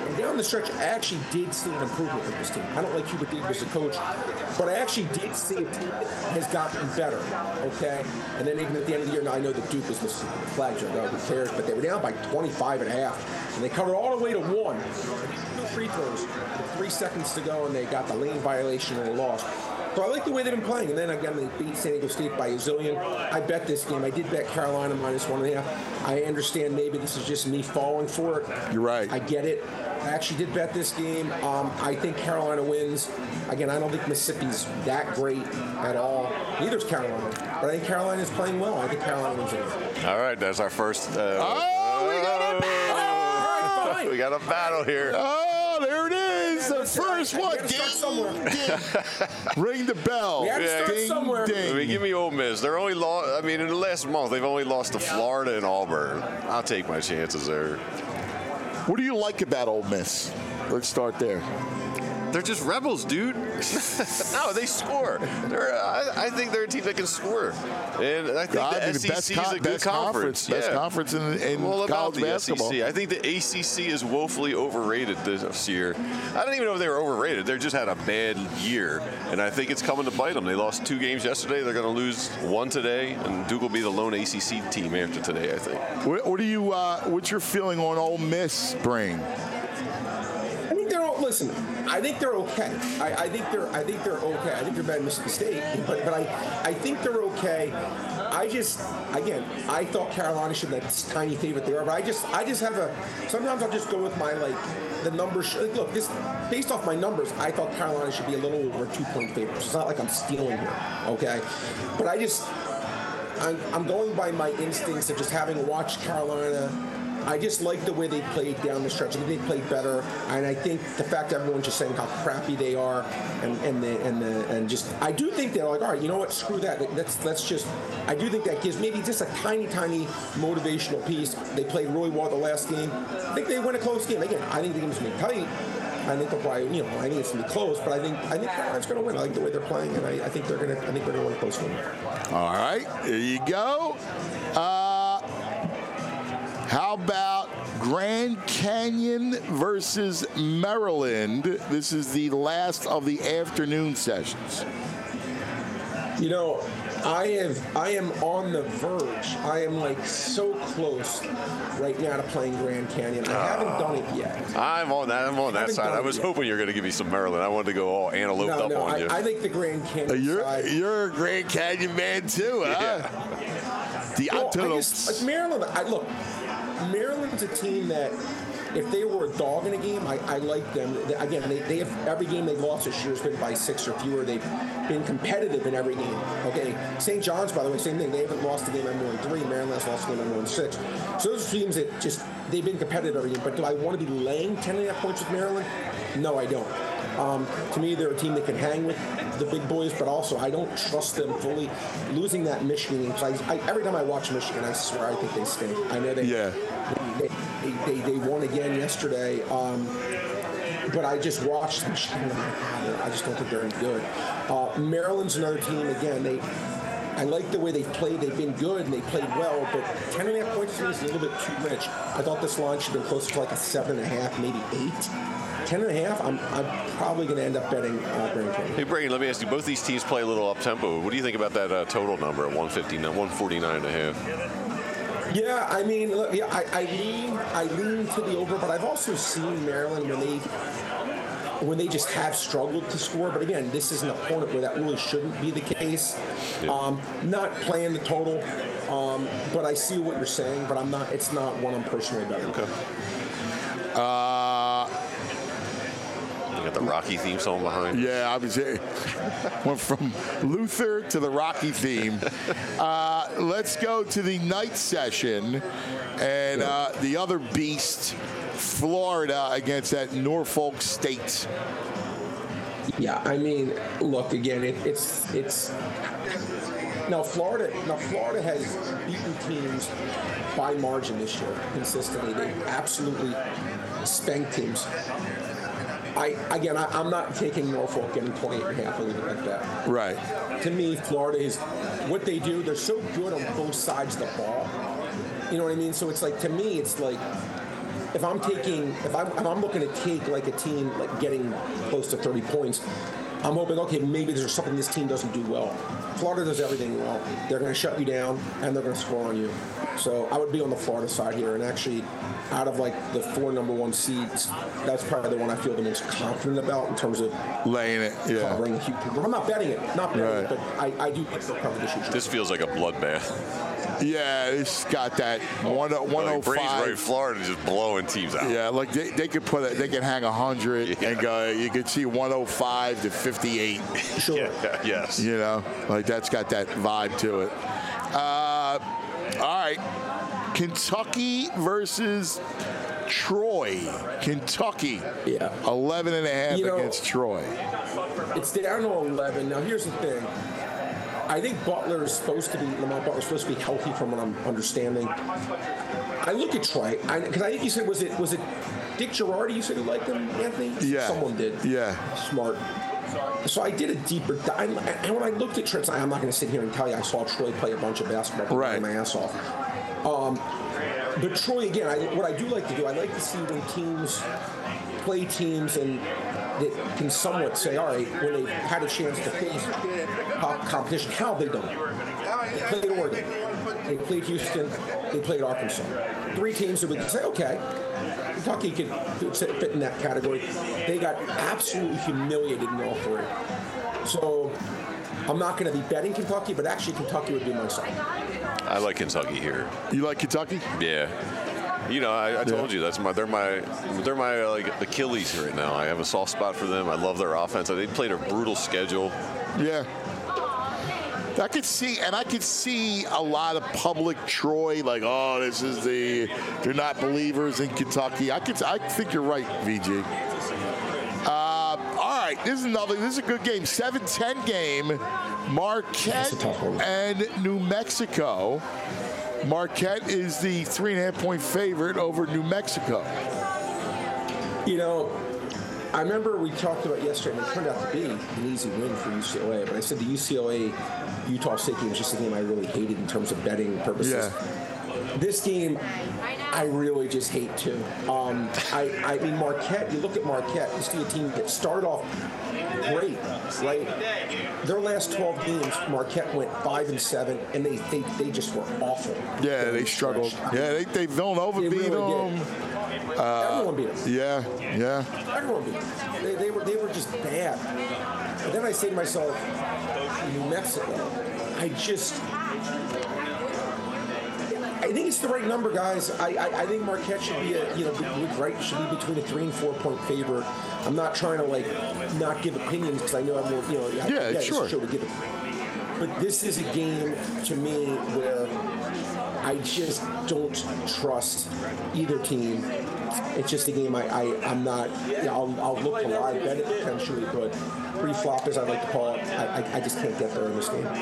And down the stretch, I actually did see an improvement with this team. I don't like Hubert Davis as a coach, but I actually did see a team that has gotten better, okay? And then even at the end of the year, now I know that Duke was the flag joke, no, who cares, but they were down by twenty-five and a half, and they covered all the way to one. No free throws with three seconds to go, and they got the lane violation and they lost. So I like the way they've been playing. And then again, they beat San Diego State by a zillion. I bet this game. I did bet Carolina minus one and a half. I understand maybe this is just me falling for it. You're right. I get it. I actually did bet this game. Um, I think Carolina wins. Again, I don't think Mississippi's that great at all. Neither's Carolina. But I think Carolina's playing well. I think Carolina wins it. All right, that's our first. Uh, Oh, we got a All right, fine. we got a battle here. Oh, there it is. The That's first right. one. We gotta start somewhere. Ring the bell. We had to start Ding, somewhere. ding. I mean, give me Ole Miss. They're only lost. I mean, in the last month, they've only lost to Florida and Auburn. I'll take my chances there. What do you like about Ole Miss? Let's start there. They're just rebels, dude. No, they score. They're, I, I think they're a team that can score, and I think I the mean, S E C is con- a good best conference. Best Yeah. conference in, in Well, about college the basketball. S E C. I think the A C C is woefully overrated this year. I don't even know if they were overrated. They just had a bad year, and I think it's coming to bite them. They lost two games yesterday. They're going to lose one today, and Duke will be the lone A C C team after today, I think. What, what do you? Uh, what's your feeling on Ole Miss, Brain? I think they're listen. I think they're okay. I, I think they're. I think they're okay. I think they're better than Mississippi State, but but I I think they're okay. I just again I thought Carolina should be that tiny favorite they are, but I just I just have a. Sometimes I'll just go with my like the numbers. Like, look, this based off my numbers, I thought Carolina should be a little over two point favorites. It's not like I'm stealing here, okay? But I just I'm, I'm going by my instincts of just having watched Carolina. I just like the way they played down the stretch. I think they played better, and I think the fact that everyone's just saying how crappy they are, and and the and the and just I do think they're like, all right, you know what, screw that. Let's let's just. I do think that gives maybe just a tiny, tiny motivational piece. They played really well the last game. I think they win a close game. Again, I think the game's gonna be tight. I think they'll probably, you know, I think it's gonna be close, but I think I think Carolina's gonna win. I like the way they're playing, and I, I think they're gonna I think they're gonna win a close game. All right, there you go. Uh, how about Grand Canyon versus Maryland? This is the last of the afternoon sessions. You know, I have I am on the verge. I am like so close right now to playing Grand Canyon. I haven't done it yet. I'm on that. I'm on that haven't side. done I it was yet. hoping you were going to give me some Maryland. I wanted to go all antelope No, up no, on I, you. I think the Grand Canyon You're side. you're a Grand Canyon man too, huh? The Well, I antelopes. just, like Maryland, I, look, Maryland's a team that if they were a dog in a game, I, I like them. They- Again, they, they have every game they've lost this year has been by six or fewer. They've been competitive in every game. Okay, Saint John's, by the way, same thing. They haven't lost a game by more than three. Maryland has lost a game by more than six. So those are teams that just they've been competitive every game. But do I want to be laying ten and a half points with Maryland? No, I don't. Um, to me, they're a team that can hang with the big boys, but also I don't trust them fully. Losing that Michigan game, 'cause I, I, every time I watch Michigan, I swear I think they stink. I know they Yeah. they, they, they, they won again yesterday, um, but I just watched Michigan. And I'm like, "Ah, I just don't think they're any good. Uh, Maryland's another team. Again, they. I like the way they've played. They've been good and they played well, but ten and a half points to me is a little bit too rich. I thought this line should have been closer to like a seven and a half, maybe eight. Ten and a half, I'm, I'm probably going to end up betting uh, Grand Canyon. Hey, Brady, let me ask you, both these teams play a little up-tempo. What do you think about that uh, total number at one fifty-nine, one forty-nine and a half? Yeah, I mean, look, yeah, I, I lean, I lean to the over, but I've also seen Maryland when they, when they just have struggled to score. But again, this is an opponent where that really shouldn't be the case. Yeah. Um, not playing the total, um, but I see what you're saying. But I'm not. It's not one I'm personally betting. Okay. Uh, You got the Rocky theme song behind. yeah, I was went from Luther to the Rocky theme. Uh, let's go to the night session, and uh, the other beast, Florida against that Norfolk State. Yeah, I mean, look again. It, it's it's now Florida. Now Florida has beaten teams by margin this year consistently. They absolutely spanked teams. I again, I, I'm not taking Norfolk getting twenty-eight and a half. I'll leave it like that. Right. To me, Florida is what they do. They're so good on both sides of the ball. You know what I mean? So it's like, to me, it's like if I'm taking, if I'm, if I'm looking to take like a team like getting close to thirty points, I'm hoping, okay, maybe there's something this team doesn't do well. Florida does everything well. They're going to shut you down, and they're going to score on you. So I would be on the Florida side here. And actually, out of like the four number one seeds, that's probably the one I feel the most confident about in terms of laying it. Yeah. Covering. I'm not betting it, not betting Right. it, but I, I do think they'll cover this huge. This feels like a bloodbath. Yeah, it's got that one one oh Like Braves right, five. Florida just blowing teams out. Yeah, like they, they could put it, they could hang a hundred Yeah. and go. You could see one oh five to fifty-eight. Sure. Yeah, yes. You know, like that's got that vibe to it. Uh, all right, Kentucky versus Troy. Kentucky, Yeah. eleven and a half You know- against Troy. It's down to eleven. Now, here's the thing. I think Butler is supposed to be, Lamont Butler is supposed to be healthy from what I'm understanding. I look at Troy, because I, I think you said, was it was it Dick Girardi you said who liked him, Anthony? Yeah. Someone did. Yeah. Smart. So I did a deeper dive. And when I looked at Troy, I'm not going to sit here and tell you I saw Troy play a bunch of basketball, Right. my ass off. Um, but Troy, again, I, what I do like to do, I like to see when teams play teams and that can somewhat say, all right, when they've had a chance to face top competition, how have they done it? They played Oregon, they played Houston, they played Arkansas. Three teams that we can say, okay, Kentucky could fit in that category. They got absolutely humiliated in all three. So I'm not going to be betting Kentucky, but actually Kentucky would be my side. I like Kentucky here. You like Kentucky? Yeah. You know, I, I told Yeah. you that's my they're my they're my uh, like Achilles right now. I have a soft spot for them. I love their offense. They played a brutal schedule. Yeah. I could see, and I could see a lot of public Troy, like, oh, this is the, they're not believers in Kentucky. I could, I think you're right, V G. Uh, all right, this is another, this is a good game. seven ten game, Marquette That's a tough one. and New Mexico. Marquette is the three and a half point favorite over New Mexico. You know, I remember we talked about yesterday, and it turned out to be an easy win for U C L A, but I said the U C L A Utah State game was just a game I really hated in terms of betting purposes. Yeah. This game, I really just hate too. Um, I, I mean, Marquette, you look at Marquette, you see a team that started off great, right? Their last twelve games, Marquette went five and seven, and they they, they just were awful. Yeah, they were struggled. stretched. Yeah, they, they Villanova They beat really them. did. Everyone beat them. Yeah, yeah. Everyone beat them. They, they were they were just bad. And then I say to myself, New Mexico, I just. I think it's the right number, guys. I, I, I think Marquette should be a you know right should be between a three and four point favorite. I'm not trying to like not give opinions because I know I'm you know I, Yeah, it's sure. a show to give it. But this is a game to me where I just don't trust either team. It's just a game I, I I'm not. You know, I'll, I'll look to live bet it potentially, but pre-flop as I like to call it, I, I I just can't get there in this game.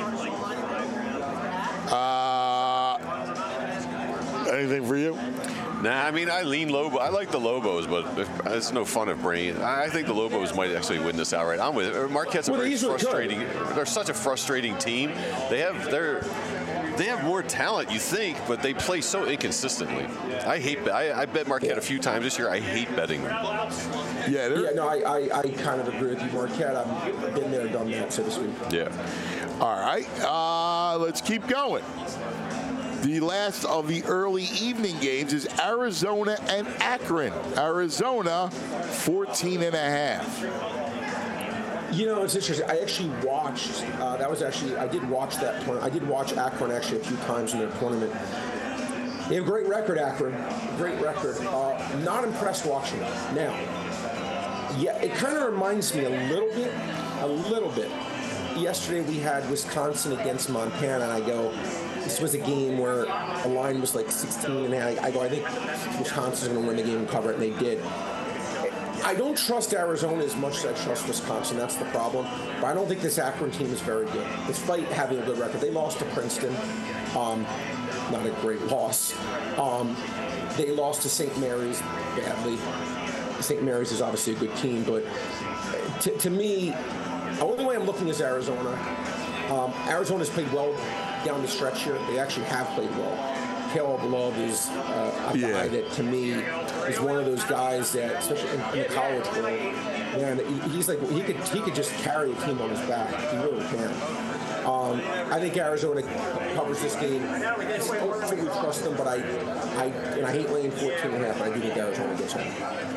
Uh, anything for you? Nah, I mean, I lean Lobo. I like the Lobos, but if, it's no fun if Brain. I I think the Lobos might actually win this outright. I'm with it. Marquette's a Well, very these are good. frustrating. They're such a frustrating team. They have they're they have more talent, you think, but they play so inconsistently. I hate. I, I bet Marquette a few times this year. I hate betting them. Yeah, they're- Yeah, no, I, I, I kind of agree with you, Marquette. I've been there, done that, so to speak. Yeah. All right, uh, let's keep going. The last of the early evening games is Arizona and Akron. Arizona, fourteen and a half. You know, it's interesting. I actually watched. Uh, that was actually. I did watch that. Tournament. I did watch Akron actually a few times in their tournament. They have a great record, Akron. Great record. Uh, not impressed watching it. Now, yeah, it kind of reminds me a little bit, a little bit. Yesterday we had Wisconsin against Montana, and I go, this was a game where the line was like sixteen and a half. I go, I think Wisconsin's going to win the game and cover it, and they did. I don't trust Arizona as much as I trust Wisconsin. That's the problem. But I don't think this Akron team is very good, despite having a good record. They lost to Princeton. Um, not a great loss. Um, they lost to Saint Mary's badly. Saint Mary's is obviously a good team, but to, to me, the only way I'm looking is Arizona. Um, Arizona's played well down the stretch here. They actually have played well. Caleb Love is uh, a Yeah. guy that, to me, is one of those guys that, especially in, in the college world, man, he, he's like he could he could just carry a team on his back. He really can. Um, I think Arizona covers this game. I don't fully trust them, but I, I, and I hate laying fourteen and a half. But I do think Arizona gets home.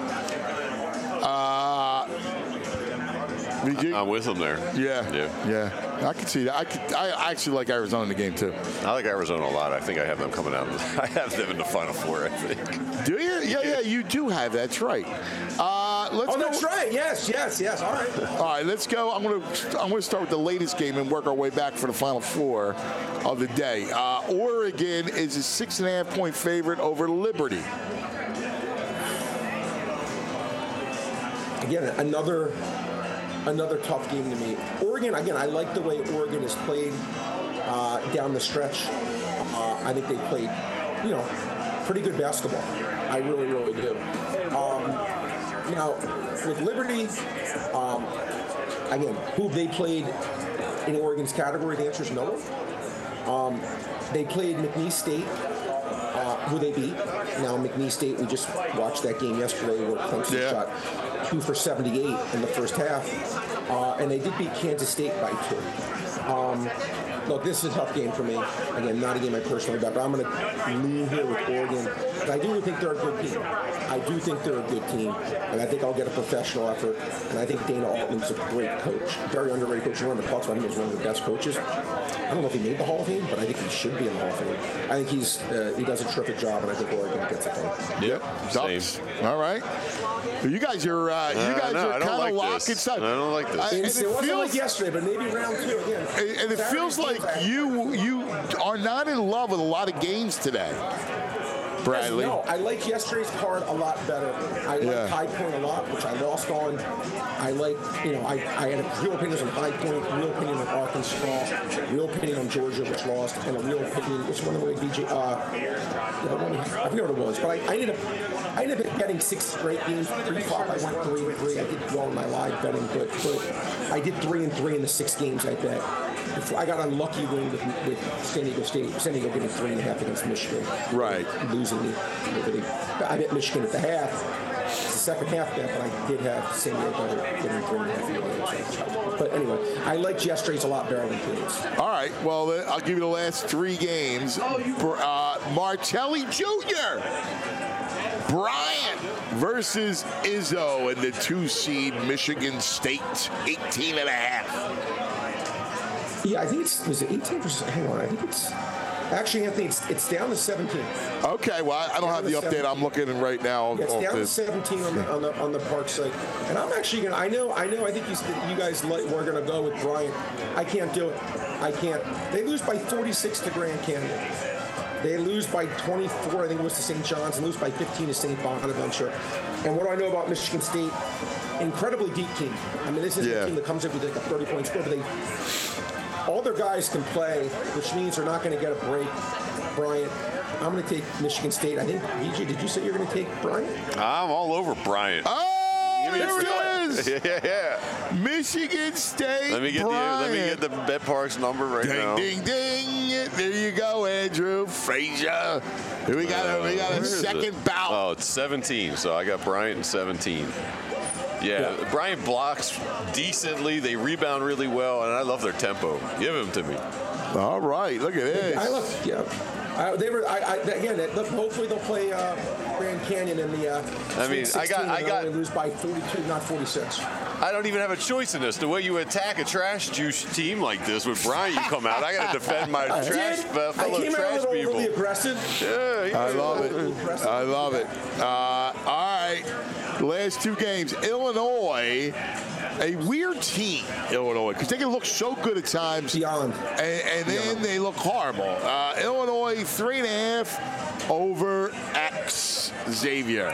Uh, V G? I'm with him there. Yeah, Yeah. yeah. I can see that. I, could, I actually like Arizona in the game too. I like Arizona a lot. I think I have them coming out. I have them in the Final Four, I think. Do you? Yeah, yeah. You do have. That's right. Uh, let's Oh, go. that's right. Yes, yes, yes. All right. All right, let's go. I'm gonna I'm gonna start with the latest game and work our way back for the Final Four of the day. Uh, Oregon is a six and a half point favorite over Liberty. Again, another another tough game to me. Oregon, again, I like the way Oregon has played uh, down the stretch. Uh, I think they played, you know, pretty good basketball. I really, really do. Um, now, with Liberty, um, again, who they played in Oregon's category, the answer is no one. Um, they played McNeese State, uh, who they beat. Now, McNeese State, we just watched that game yesterday where Clemson Yeah. shot two for seventy-eight in the first half, uh, and they did beat Kansas State by two. Um, look, this is a tough game for me. Again, not a game I personally bet, but I'm going to lean here with Oregon. But I do think they're a good team. I do think they're a good team, and I think I'll get a professional effort. And I think Dana Altman's a great coach, very underrated coach. Everyone talks about him as one of the best coaches. I don't know if he made the Hall of Fame, but I think he should be in the Hall of Fame. I think he's uh, he does a terrific job, and I think Oregon gets it done. Yep. Ducks. All right. You guys are uh, you Uh, guys no, are I don't kind of like locked this. inside. I don't like this. I- and It's- it it wasn't feels like yesterday, but maybe round two again. and and it Saturday feels like games, I- you you are not in love with a lot of games today, Bradley. No, I like yesterday's card a lot better. I like Yeah. High Point a lot, which I lost on. I like, you know, I, I had a real opinion on High Point, real opinion on Arkansas, real opinion on Georgia, which lost, and a real opinion, which one of the B J, uh, the one, I forget what it was, but I, I ended up, I ended up getting six straight games. Pre-flop, I went three and three. I did well in my live betting, but, but I did three and three in the six games I bet. Before, I got unlucky win with, with San Diego State. San Diego getting three and a half against Michigan. Right. Losing the, the I bet Michigan at the half. It's the second half bet, but I did have San Diego getting three and a half in the game. But anyway, I like yesterday's a lot better than today's. All right. Well, then I'll give you the last three games. Uh, Martelli Junior Bryant versus Izzo in the two seed Michigan State, eighteen and a half. Yeah, I think it's was it eighteen percent. Hang on, I think it's actually Anthony. It's, it's down to seventeen. Okay, well, I don't have the update. I'm looking right now. Yeah, it's off down to this. seventeen on the, on the on the park site, and I'm actually gonna. I know, I know. I think you you guys like, we're gonna go with Bryant. I can't do it. I can't. They lose by forty-six to Grand Canyon. They lose by twenty-four. I think it was to Saint John's. And lose by fifteen to Saint Bonaventure. And what do I know about Michigan State? Incredibly deep team. I mean, this is Yeah. a team that comes up with like a thirty point score, but they. All their guys can play, which means they're not going to get a break. Bryant, I'm going to take Michigan State. I think, V J, did you say you're going to take Bryant? I'm all over Bryant. Oh, Give me there a- it is. yeah, yeah. Michigan State. Let me get the let me get the Bet Parks number right Ding, now. ding, ding. There you go, Andrew Frazier. Here we got a, we got Where a is second it? bout. Oh, it's seventeen. So I got Bryant in seventeen. Yeah, Yeah. Bryant blocks decently. They rebound really well, and I love their tempo. Give them to me. All right, look at this. I love, yeah. I, they were, I, I, again, they- look, hopefully they'll play uh, Grand Canyon in the uh, I mean, Sweet I got- sixteen, I and got- only lose by forty-two, not forty-six. I don't even have a choice in this. The way you attack a trash juice team like this with Bryant, you come out. I got to defend my I trash did. uh, I fellow came out a trash little people. overly aggressive. Yeah, yeah. I love it. Impressive. I love it. Uh, all right. Last two games. Illinois, a weird team, Illinois, because they can look so good at times. Beyond. And, and then they look horrible. Uh, Illinois, three and a half over X Xavier.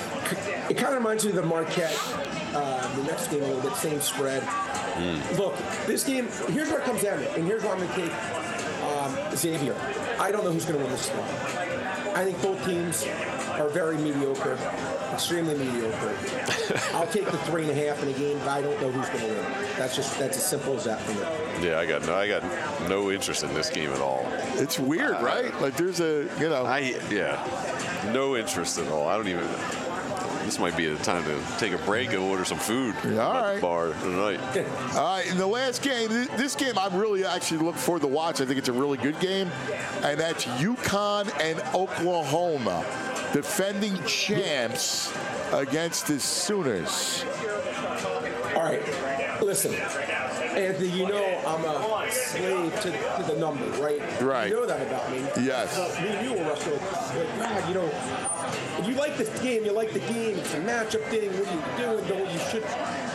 It kind of reminds me of the Marquette, uh, the next game a little bit, same spread. Look, this game, here's where it comes down to, and here's why I'm going to take um, Xavier. I don't know who's going to win this game. I think both teams are very mediocre, extremely mediocre. I'll take the three and a half in a game, but I don't know who's going to win. That's just that's as simple as that for me. Yeah, I got no, I got no interest in this game at all. It's weird, uh, right? Like there's a, you know. I yeah, no interest at all. I don't even. This might be a time to take a break and order some food All at right. the bar tonight. All right, in the last game, this game I'm really actually looking forward to watch. I think it's a really good game, and that's UConn and Oklahoma, defending champs against the Sooners. All right, listen, Anthony, you know I'm a slave to, to the number, right? Right. You know that about me. Yes. So me and you were Russell. Like, God, you know, if you like this game, you like the game. It's a matchup thing. What are you doing? Know what you should.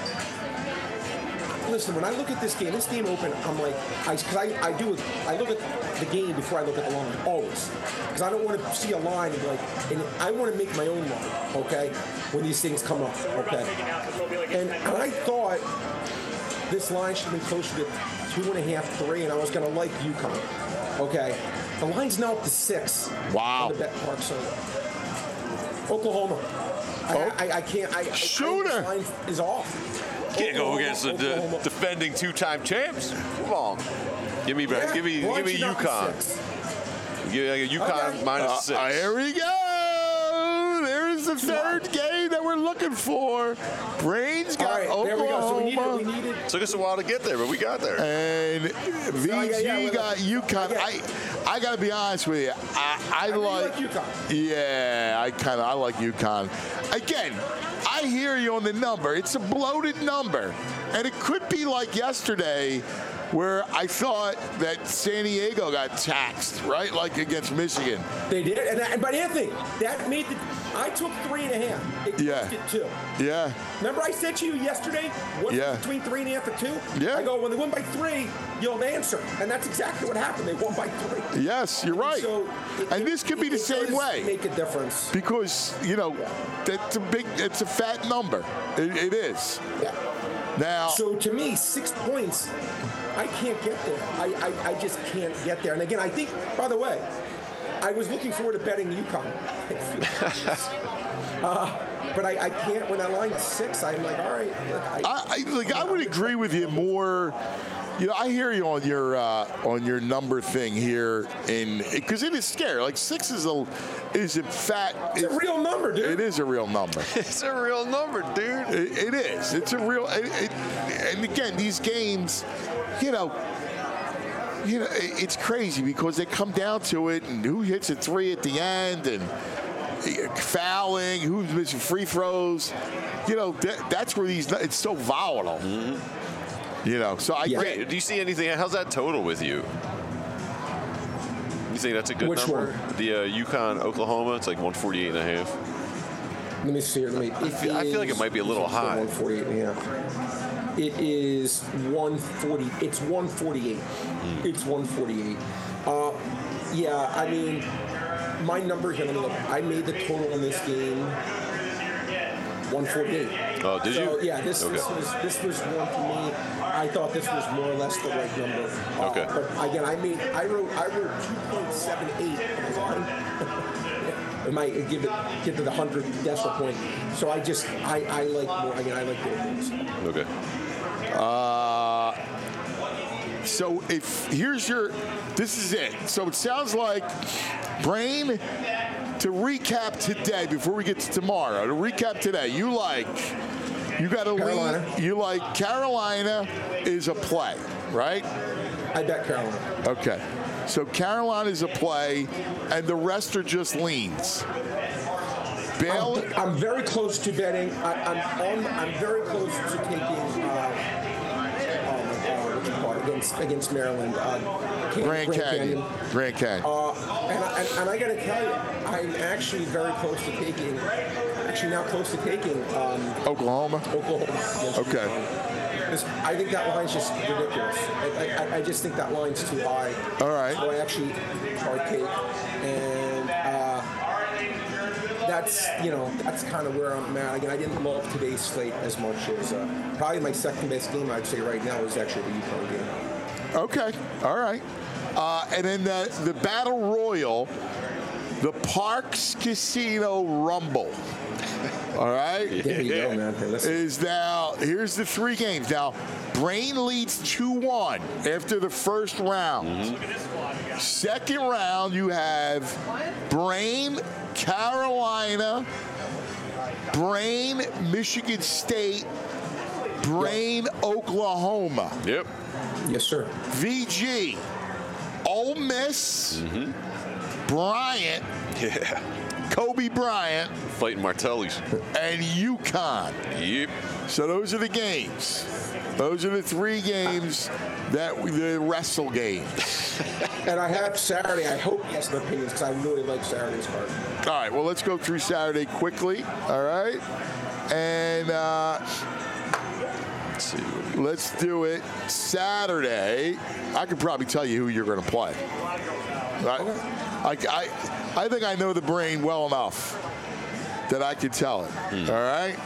Listen, when I look at this game, this game open, I'm like, I, cause I, I do, I look at the game before I look at the line, always. Because I don't want to see a line and be like, and I want to make my own line, okay, when these things come up, okay. And, and I thought this line should have been closer to two and a half, three, and I was going to like UConn, okay. The line's now up to six. Wow. On the bet park, so Oklahoma. Oh. I, I, I can't, I, I, Shooter. I, this line is off. Can't go Oklahoma, against the de- Oklahoma. defending two-time champs. Come on, give me back. Yeah, Give me, why give me don't you knock the UConn. six? Give me like a UConn Okay. minus Uh, six. uh, here we go. There's the third game that we're looking for. Brains got All right, Oklahoma. there we go. So we needed, we needed. Took us a while to get there, but we got there. And V G Yeah, yeah, yeah, got UConn. yeah. I, I got to be honest with you. I, I, I really like, like UConn. Yeah, I kind of I like UConn. Again, I hear you on the number. It's a bloated number, and it could be like yesterday, where I thought that San Diego got taxed, right? Like against Michigan. They did, and, that, and but Anthony, that made the. I took three and a half. It Yeah. it two. Yeah. Remember, I said to you yesterday, what's Yeah. between three and a half and two? Yeah. I go, when they won by three, you'll answer, and that's exactly what happened. They won by three. Yes, you're right. So it, and this could be it, the it same does way. Make a difference. Because, you know, that's a big, it's a fat number. It, it is. Yeah. Now, So to me, six points, I can't get there. I, I, I just can't get there. And again, I think, by the way, I was looking forward to betting UConn. uh, but I, I can't, when I line six, I'm like, all right. Look, I, I, I, like, I would agree with you more. You know, I hear you on your uh, on your number thing here, in because it is scary. Like six is a is a fat. it's a real number, dude. It is a real number. It's a real number, dude. It, it is. It's a real. It, it, and again, these games, you know, you know, it, it's crazy because they come down to it, and who hits a three at the end, and fouling, who's missing free throws. You know, that, that's where these. It's so volatile. Mm-hmm. You know, so I Yeah. get. Wait, do you see anything? How's that total with you? You think that's a good Which number? one? The uh, UConn Oklahoma, it's like one forty-eight and a half. Let me see here. Let me, it feel- I feel like it is- might be a little it's high. one forty-eight and a half. It is one forty. It's one forty-eight. Hmm. It's one forty-eight. Uh, yeah, I mean, my numbers. Let me look. I made the total in this game one forty-eight. Oh, did So, you? yeah, this, this Okay. was this was one for me. I thought this was more or less the right number. Uh, Okay. But again, I made I wrote I wrote two point seven eight. It might give it get to the hundred decimal point. So I just I, I like more. Again, I like the openings. Okay. Uh, so if here's your, this is it. So it sounds like, Brain, to recap today before we get to tomorrow. To recap today, you like, you got to Carolina. lean. You like Carolina is a play, right? I bet Carolina. Okay. So Carolina is a play, and the rest are just leans. Bail. I'm, I'm very close to betting. I, I'm on, I'm very close to taking. Uh, uh, what you call it, against against Maryland. Uh, Can- Grand Canyon. Grand Canyon. Uh, and, I- and, and I got to tell you, I'm actually very close to taking. Actually, now close to taking um, Oklahoma. Oklahoma. against Okay. UConn. This- I think that line's just ridiculous. I, I, I just think that line's too high. All right. So I actually partake, and uh, that's you know that's kind of where I'm at. Again, I didn't love today's slate as much as uh, probably my second best game. I'd say right now is actually the UConn game. Okay. All right. Uh, and then the, the Battle Royal, The Parks Casino Rumble. All right? There you go, man. Hey, listen. Is now, here's the three games. Now, Brain leads two one after the first round. Mm-hmm. Second round, you have Brain, Carolina, Brain, Michigan State, Brain, yep. Oklahoma. Yep. Yes, sir. V G, Ole Miss, mm-hmm. Bryant, yeah. Kobe Bryant, fighting Martellis, and UConn. Yep. So those are the games. Those are the three games that we, the wrestle games. And I have Saturday. I hope he has some opinions because I really like Saturday's card. All right. Well, let's go through Saturday quickly. All right. And uh, let's see. Let's do it Saturday. I could probably tell you who you're going to play. I, I, I, I think I know the Brain well enough that I could tell it. Hmm. All right.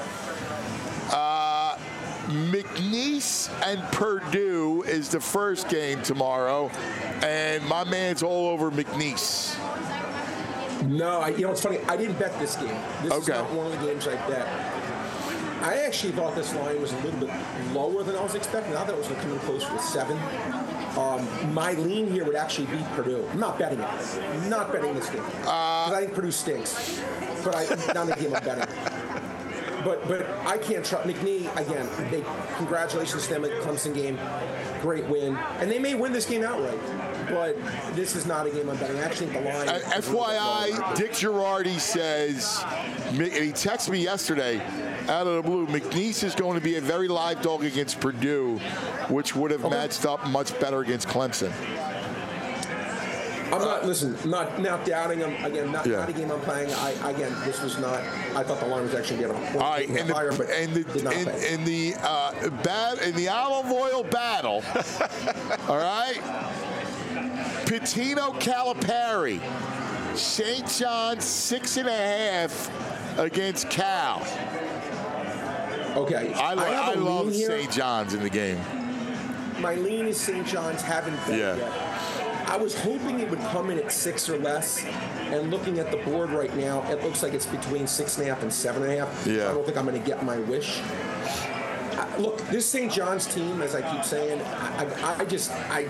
Uh, McNeese and Purdue is the first game tomorrow, and my man's all over McNeese. No, I, you know, it's funny. I didn't bet this game. This okay. is not one of the games I bet. I actually thought this line was a little bit lower than I was expecting. I thought it was going to come in closer to seven. Um, my lean here would actually be Purdue. I'm not betting it. I'm not betting this game. Uh, I think Purdue stinks. But I, not the game I'm betting. But but I can't trust McNeese again. They congratulations to them at the Clemson game, great win, and they may win this game outright. But this is not a game I'm betting. I actually think the line. Uh, F Y I, Dick Girardi says, and he texted me yesterday, out of the blue, McNeese is going to be a very live dog against Purdue, which would have okay. matched up much better against Clemson. I'm not, listen, not not doubting them. Again, not, yeah. not a game I'm playing. I, again, this was not, I thought the line was actually getting a All right, and higher, the, but and the, in, in the, uh, bat, in the olive oil battle, all right, Pitino Calipari, Saint John's six and a half against Cal. Okay. I, I, I love Saint John's in the game. My lean is Saint John's, haven't bet yeah. yet. I was hoping it would come in at six or less, and looking at the board right now, it looks like it's between six and a half and seven and a half. Yeah. I don't think I'm going to get my wish. I, look, this Saint John's team, as I keep saying, I, I, I just, I,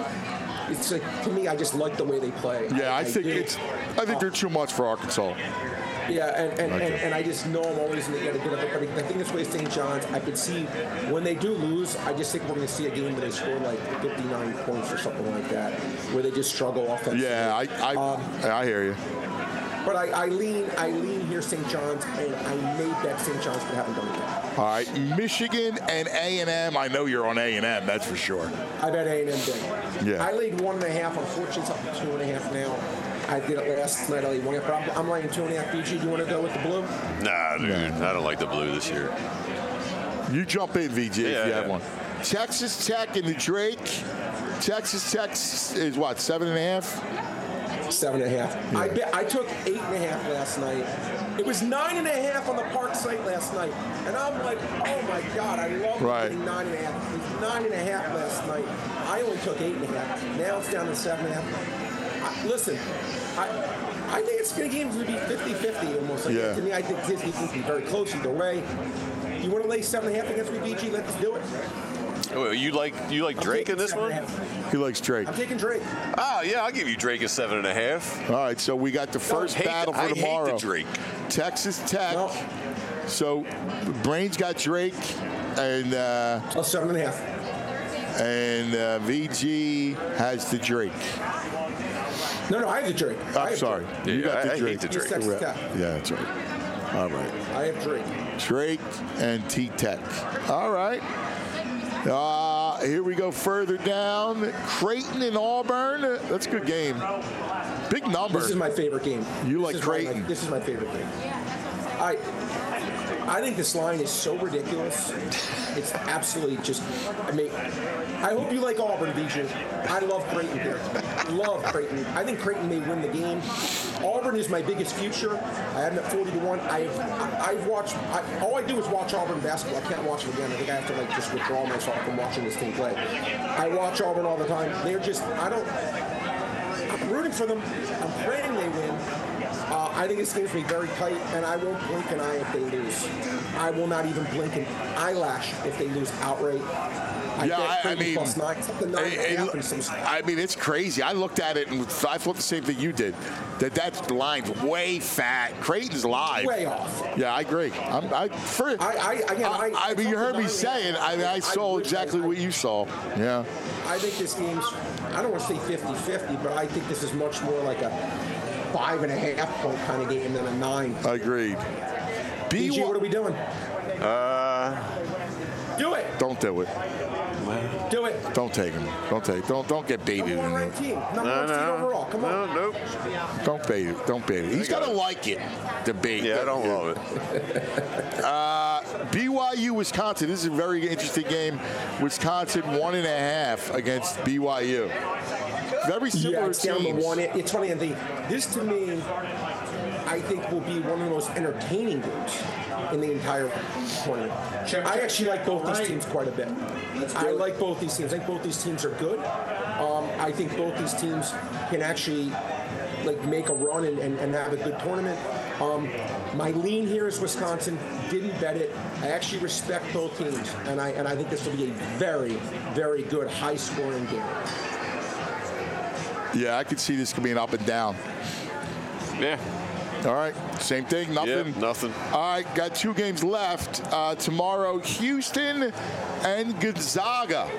it's like, to me, I just like the way they play. Yeah, I, I think it's, I think they're too much for Arkansas. Yeah, and, and, okay. and, and I just know I'm always going to get a good of it. But I think this way Saint John's, I could see when they do lose, I just think we're going to see a game where they score like fifty-nine points or something like that, where they just struggle offensively. Yeah, I I, um, I hear you. But I, I lean I lean here Saint John's, and I may bet Saint John's, but haven't done it yet. All right, Michigan and A and M. I know you're on A and M, that's for sure. I bet A and M big. Yeah. I laid one and a half. Unfortunately, it's up to two and a half now. I did it last night. I laid one and a half. I'm laying two and a half. B G, do you want to go with the blue? Nah, dude. I don't like the blue this year. You jump in, V G, yeah, if you have yeah. one. Texas Tech and the Drake. Texas Tech is what, seven and a half? Seven and a half. Yeah. I bet I took eight and a half last night. It was nine and a half on the Park site last night, and I'm like, oh my God, I love right. getting nine and a half. It was nine and a half last night. I only took eight and a half. Now it's down to seven and a half. I, listen, I I think it's going to games to be fifty-fifty almost. Like yeah. To me, I think this game will be very close either way. You want to lay seven and a half against me, B G? Let's do it. Oh, you like you like Drake in this one? He likes Drake. I'm taking Drake. Oh yeah, I'll give you Drake a seven and a half. All right, so we got the first hate battle the, for I tomorrow. Hate the Drake. Texas Tech. No. So Brain's got Drake, and uh, oh, seven and a half. And uh, V G has the Drake. No, no, I have the Drake. I'm sorry. Yeah, you got I, the I Drake. hate the Drake. Yeah, that's right. All right. I have Drake. Drake and T-Tech. All right. Uh, here we go further down. Creighton and Auburn. That's a good game. Big number. This is my favorite game. You this like Creighton. My, this is my favorite game. I I think this line is so ridiculous. It's absolutely just, I mean, I hope you like Auburn, V J. I love Creighton here. Love Creighton. I think Creighton may win the game. Auburn is my biggest future. I have them at forty to one. I've I've watched. I, all I do is watch Auburn basketball. I can't watch them again. I think I have to like just withdraw myself from watching this team play. I watch Auburn all the time. They're just. I don't. I'm rooting for them. I'm praying they win. Uh, I think this game's going to be very tight, and I won't blink an eye if they lose. I will not even blink an eyelash if they lose outright. I yeah, I, I mean, plus nine, something nine it, and a half and it, some- I mean, it's crazy. I looked at it and I thought the same thing you did. That that line's way fat. Creighton's live. Way off. Yeah, I agree. I'm, I, for, I, I, again, I, I, I mean, you heard me nine saying. I mean, I saw wish exactly I- what you saw. Yeah. I think this game's, I don't want to say fifty-fifty, but I think this is much more like a five and a half point kind of game than a nine. Agreed. B G, what are we doing? Uh, Do it. Don't do it. Do it. Don't take him. Don't take. Don't don't get babied. Number in one it. ranked team. Number no, one seed no. overall. Come on. No, nope. Don't bait it. Don't bait it. He's got to like it. The bait. Yeah, I don't love it. Uh, B Y U Wisconsin. This is a very interesting game. Wisconsin one and a half against B Y U. Very similar Yeah, it's down to teams. one. It, it's funny, and the, this to me, I think will be one of the most entertaining games in the entire tournament. I actually like both these teams quite a bit. I like both these teams. I think both these teams are good. Um, I think both these teams can actually like make a run and, and, and have a good tournament. Um, my lean here is Wisconsin. Didn't bet it. I actually respect both teams, and I and I think this will be a very, very good, high-scoring game. Yeah, I could see this could be an up and down. Yeah. All right, same thing, nothing. Yeah, nothing. All right, got two games left. Uh, tomorrow, Houston and Gonzaga.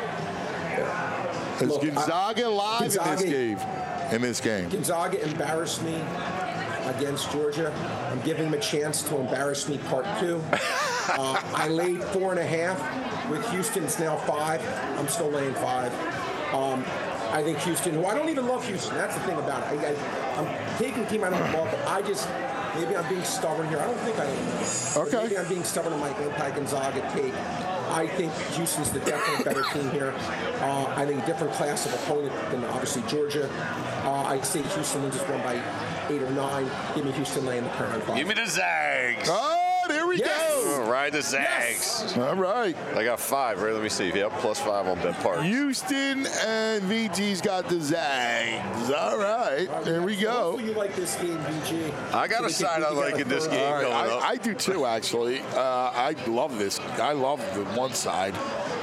Is Look, Gonzaga I- live Gonzaga- in this game? In this game, Gonzaga embarrassed me against Georgia. I'm giving them a chance to embarrass me part two. uh, I laid four and a half with Houston. It's now five. I'm still laying five. Um, I think Houston, who I don't even love Houston. That's the thing about it. I, I, I'm taking a team I don't love, but I just, maybe I'm being stubborn here. I don't think I am. Okay. Maybe I'm being stubborn in my anti-Gonzaga take. I think Houston's the definitely better team here. Uh, I think a different class of opponent than obviously Georgia. Uh, I say Houston wins this one by eight or nine. Give me Houston laying the current five. Give me the Zags. oh, there we Yes. All right, the Zags. go. All right, I got five, right? Let me see. Yep, plus five on Bet Park. Houston and V G's got the Zags. All right, there we go. Hopefully you like this game, B G. I got So a we side can- I we can like get in this a- game. All right, coming up. I, I do too, actually. Uh, I love this. I love the one side.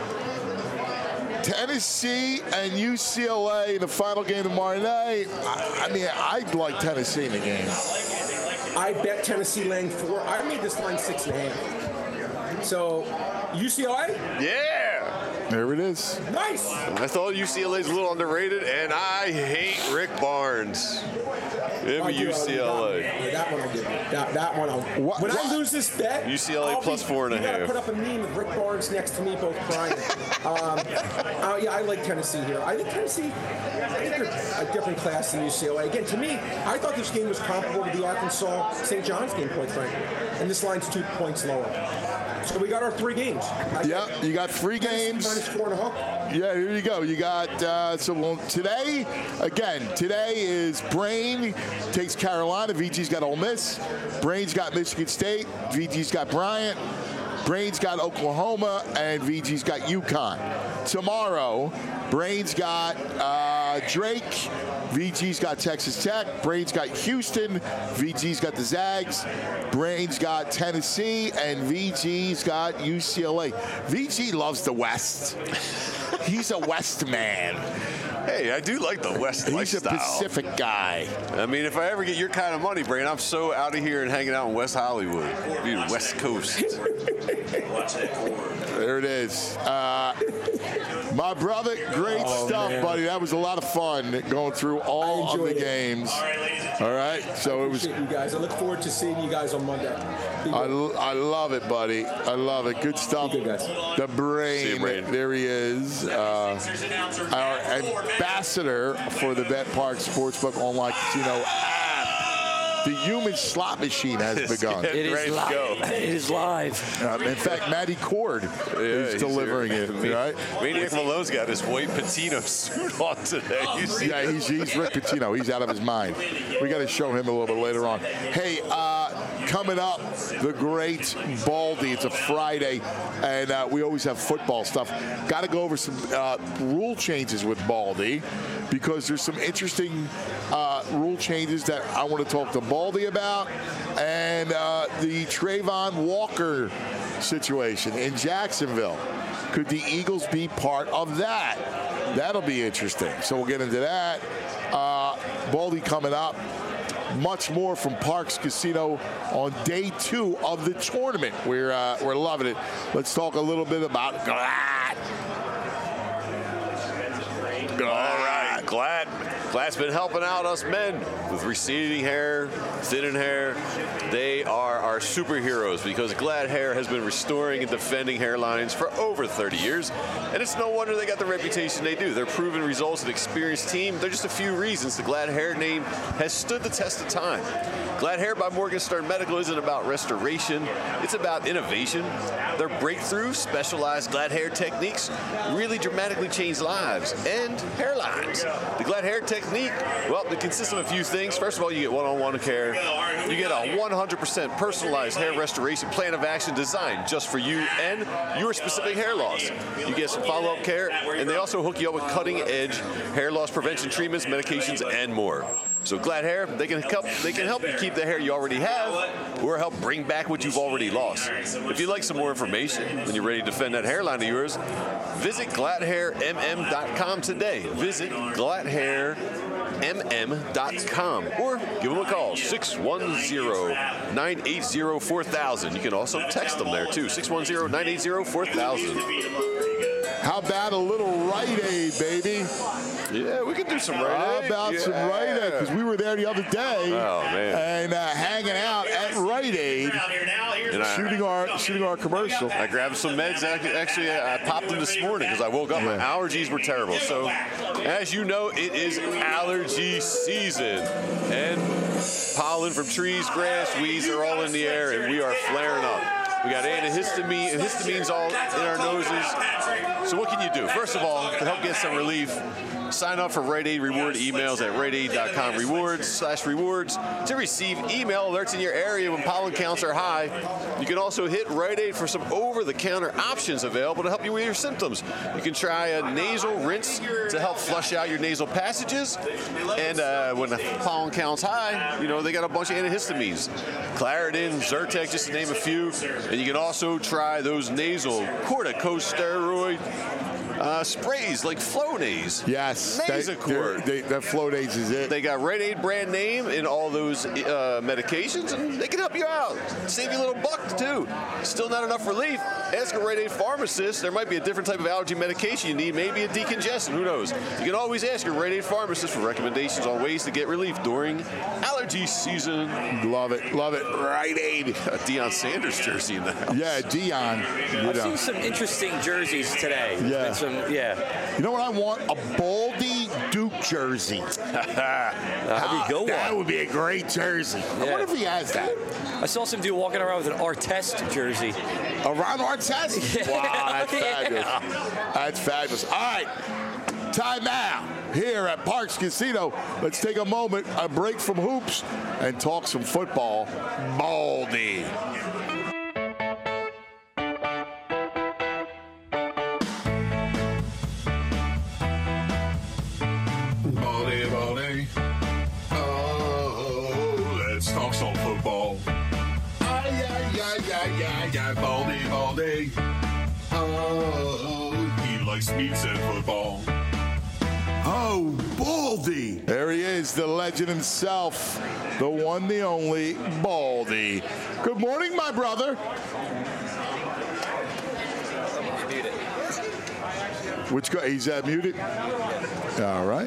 Tennessee and U C L A in the final game tomorrow night. I, I mean, I'd like Tennessee in the game. I bet Tennessee laying four. I made this line six and a half. So U C L A, Yeah. There it is. nice. I thought U C L A's a little underrated, and I hate Rick Barnes. Give I me do, U C L I'll- A. yeah, that one I'll give you. That, that one I'll. What- when what- I lose this bet, U C L A I'll plus be, four and a you gotta half. put up a meme with Rick Barnes next to me, both crying. um, uh, yeah, I like Tennessee here. I think Tennessee. I think they're a different class than U C L A. Again, to me, I thought this game was comparable to the Arkansas Saint John's game, quite frankly. And this line's two points lower. So we got our three games. I Yeah, think you got three Tennessee games. minus four and a half. Yeah, here you go. You got, uh, so well, today, again, today is Brain takes Carolina. V G's got Ole Miss. Brain's got Michigan State. V G's got Bryant. Brain's got Oklahoma. And V G's got UConn. Tomorrow, Brain's got uh, Drake. V G's got Texas Tech. Brain's got Houston. V G's got the Zags. Brain's got Tennessee. And V G's got U C L A. V G loves the West. He's a West man. Hey, I do like the West He's lifestyle. a Pacific guy. I mean, if I ever get your kind of money, Brain, I'm so out of here and hanging out in West Hollywood. Be the West Coast. There it is. Uh, my brother, great Oh, stuff, man. buddy. That was a lot of fun going through all I of the enjoyed it. games. All right, so it was. Appreciate you guys. I look forward to seeing you guys on Monday. Be I, good. I love it, buddy. I love it. Good stuff. Be good, guys. The brain. See you, Brain. There he is. Uh, our ambassador for the Bet Park Sportsbook online casino app. the human slot machine has begun. It is Ready to go. live. It is live. Uh, in fact, Matty Cord is he's delivering here. it, Ma- right? Maniac Malone's got his white Patino suit on today. You see? Yeah, he's, he's Rick Pitino. He's out of his mind. We got to show him a little bit later on. Hey, uh, coming up, the great Baldy. It's a Friday, and uh, we always have football stuff. Got to go over some uh, rule changes with Baldy because there's some interesting uh, rule changes that I want to talk to Baldy about, and uh, the Trayvon Walker situation in Jacksonville. Could the Eagles be part of that? That'll be interesting. So we'll get into that. Uh, Baldy coming up. Much more from Parx Casino on day two of the tournament. We're uh, we're loving it. Let's talk a little bit about Glatt. All right, Glad. Glad's been helping out us men with receding hair, thinning hair. They are our superheroes because Glad Hair has been restoring and defending hairlines for over thirty years. And it's no wonder they got the reputation they do. Their proven results and experienced team, they're just a few reasons the Glad Hair name has stood the test of time. Glad Hair by Morgenstern Medical isn't about restoration, it's about innovation. Their breakthrough, specialized Glad Hair techniques really dramatically change lives and hairlines. The Glad Hair technique, well, it consists of a few things. First of all, you get one-on-one care. You get a one hundred percent personalized hair restoration plan of action designed just for you and your specific hair loss. You get some follow-up care, and they also hook you up with cutting-edge hair loss prevention treatments, medications, and more. So Glad Hair, they can help they can help you keep the hair you already have or help bring back what you've already lost. If you'd like some more information and you're ready to defend that hairline of yours, visit glad hair m m dot com today. Visit glad hair m m dot com or give them a call, six one zero, nine eight zero, four thousand. You can also text them there too, six one zero, nine eight zero, four thousand. How about a little Rite Aid, baby? Yeah, we can do some Rite How Aid. about yeah. some Rite Aid? Because we were there the other day Oh, man. and uh, hanging out at Rite Aid, And I- shooting our shooting our commercial. I grabbed some meds. Actually, actually, I popped them this morning because I woke up. My Yeah. allergies were terrible. So, as you know, it is allergy season. And pollen from trees, grass, weeds are all in the air, and we are flaring up. We got antihistamine, and histamines all in our noses. So what can you do? First of all, to help get some relief, sign up for Rite Aid reward emails at rite aid dot com rewards slash rewards to receive email alerts in your area when pollen counts are high. You can also hit Rite Aid for some over-the-counter options available to help you with your symptoms. You can try a nasal rinse to help flush out your nasal passages. And uh, when the pollen counts high, you know, they got a bunch of antihistamines. Claritin, Zyrtec, just to name a few. And you can also try those nasal corticosteroid Uh, sprays like Flonase. Yes, Nasacort. they, they, that Flonase is it. They got Rite Aid brand name in all those uh, medications, and they can help you out. Save you a little buck, too. Still not enough relief? Ask a Rite Aid pharmacist. There might be a different type of allergy medication you need, maybe a decongestant. Who knows? You can always ask your Rite Aid pharmacist for recommendations on ways to get relief during allergy season. Love it, love it. Rite Aid. A Deion Sanders jersey in the house. Yeah, Dion. You I've know. seen some interesting jerseys today. There's Yeah. been some, yeah. You know what I want? A Baldy Duke jersey. That'd be a good That one. would be a great jersey. I Yeah. wonder if he has that. I saw some dude walking around with an Artest jersey. A Ron Artest? Wow, that's Yeah. fabulous. That's fabulous. All right, time out here at Parx Casino. Let's take a moment, a break from hoops, and talk some football. Baldy. Baldy, Baldy. Oh, let's talk some football. Ay, ay, ay, ay, ay, ay, Baldy, Baldy. Oh, he likes pizza and football. Oh, Baldy. There he is, the legend himself, the one, the only, Baldy. Good morning, my brother. Which guy? He's uh, muted? All right.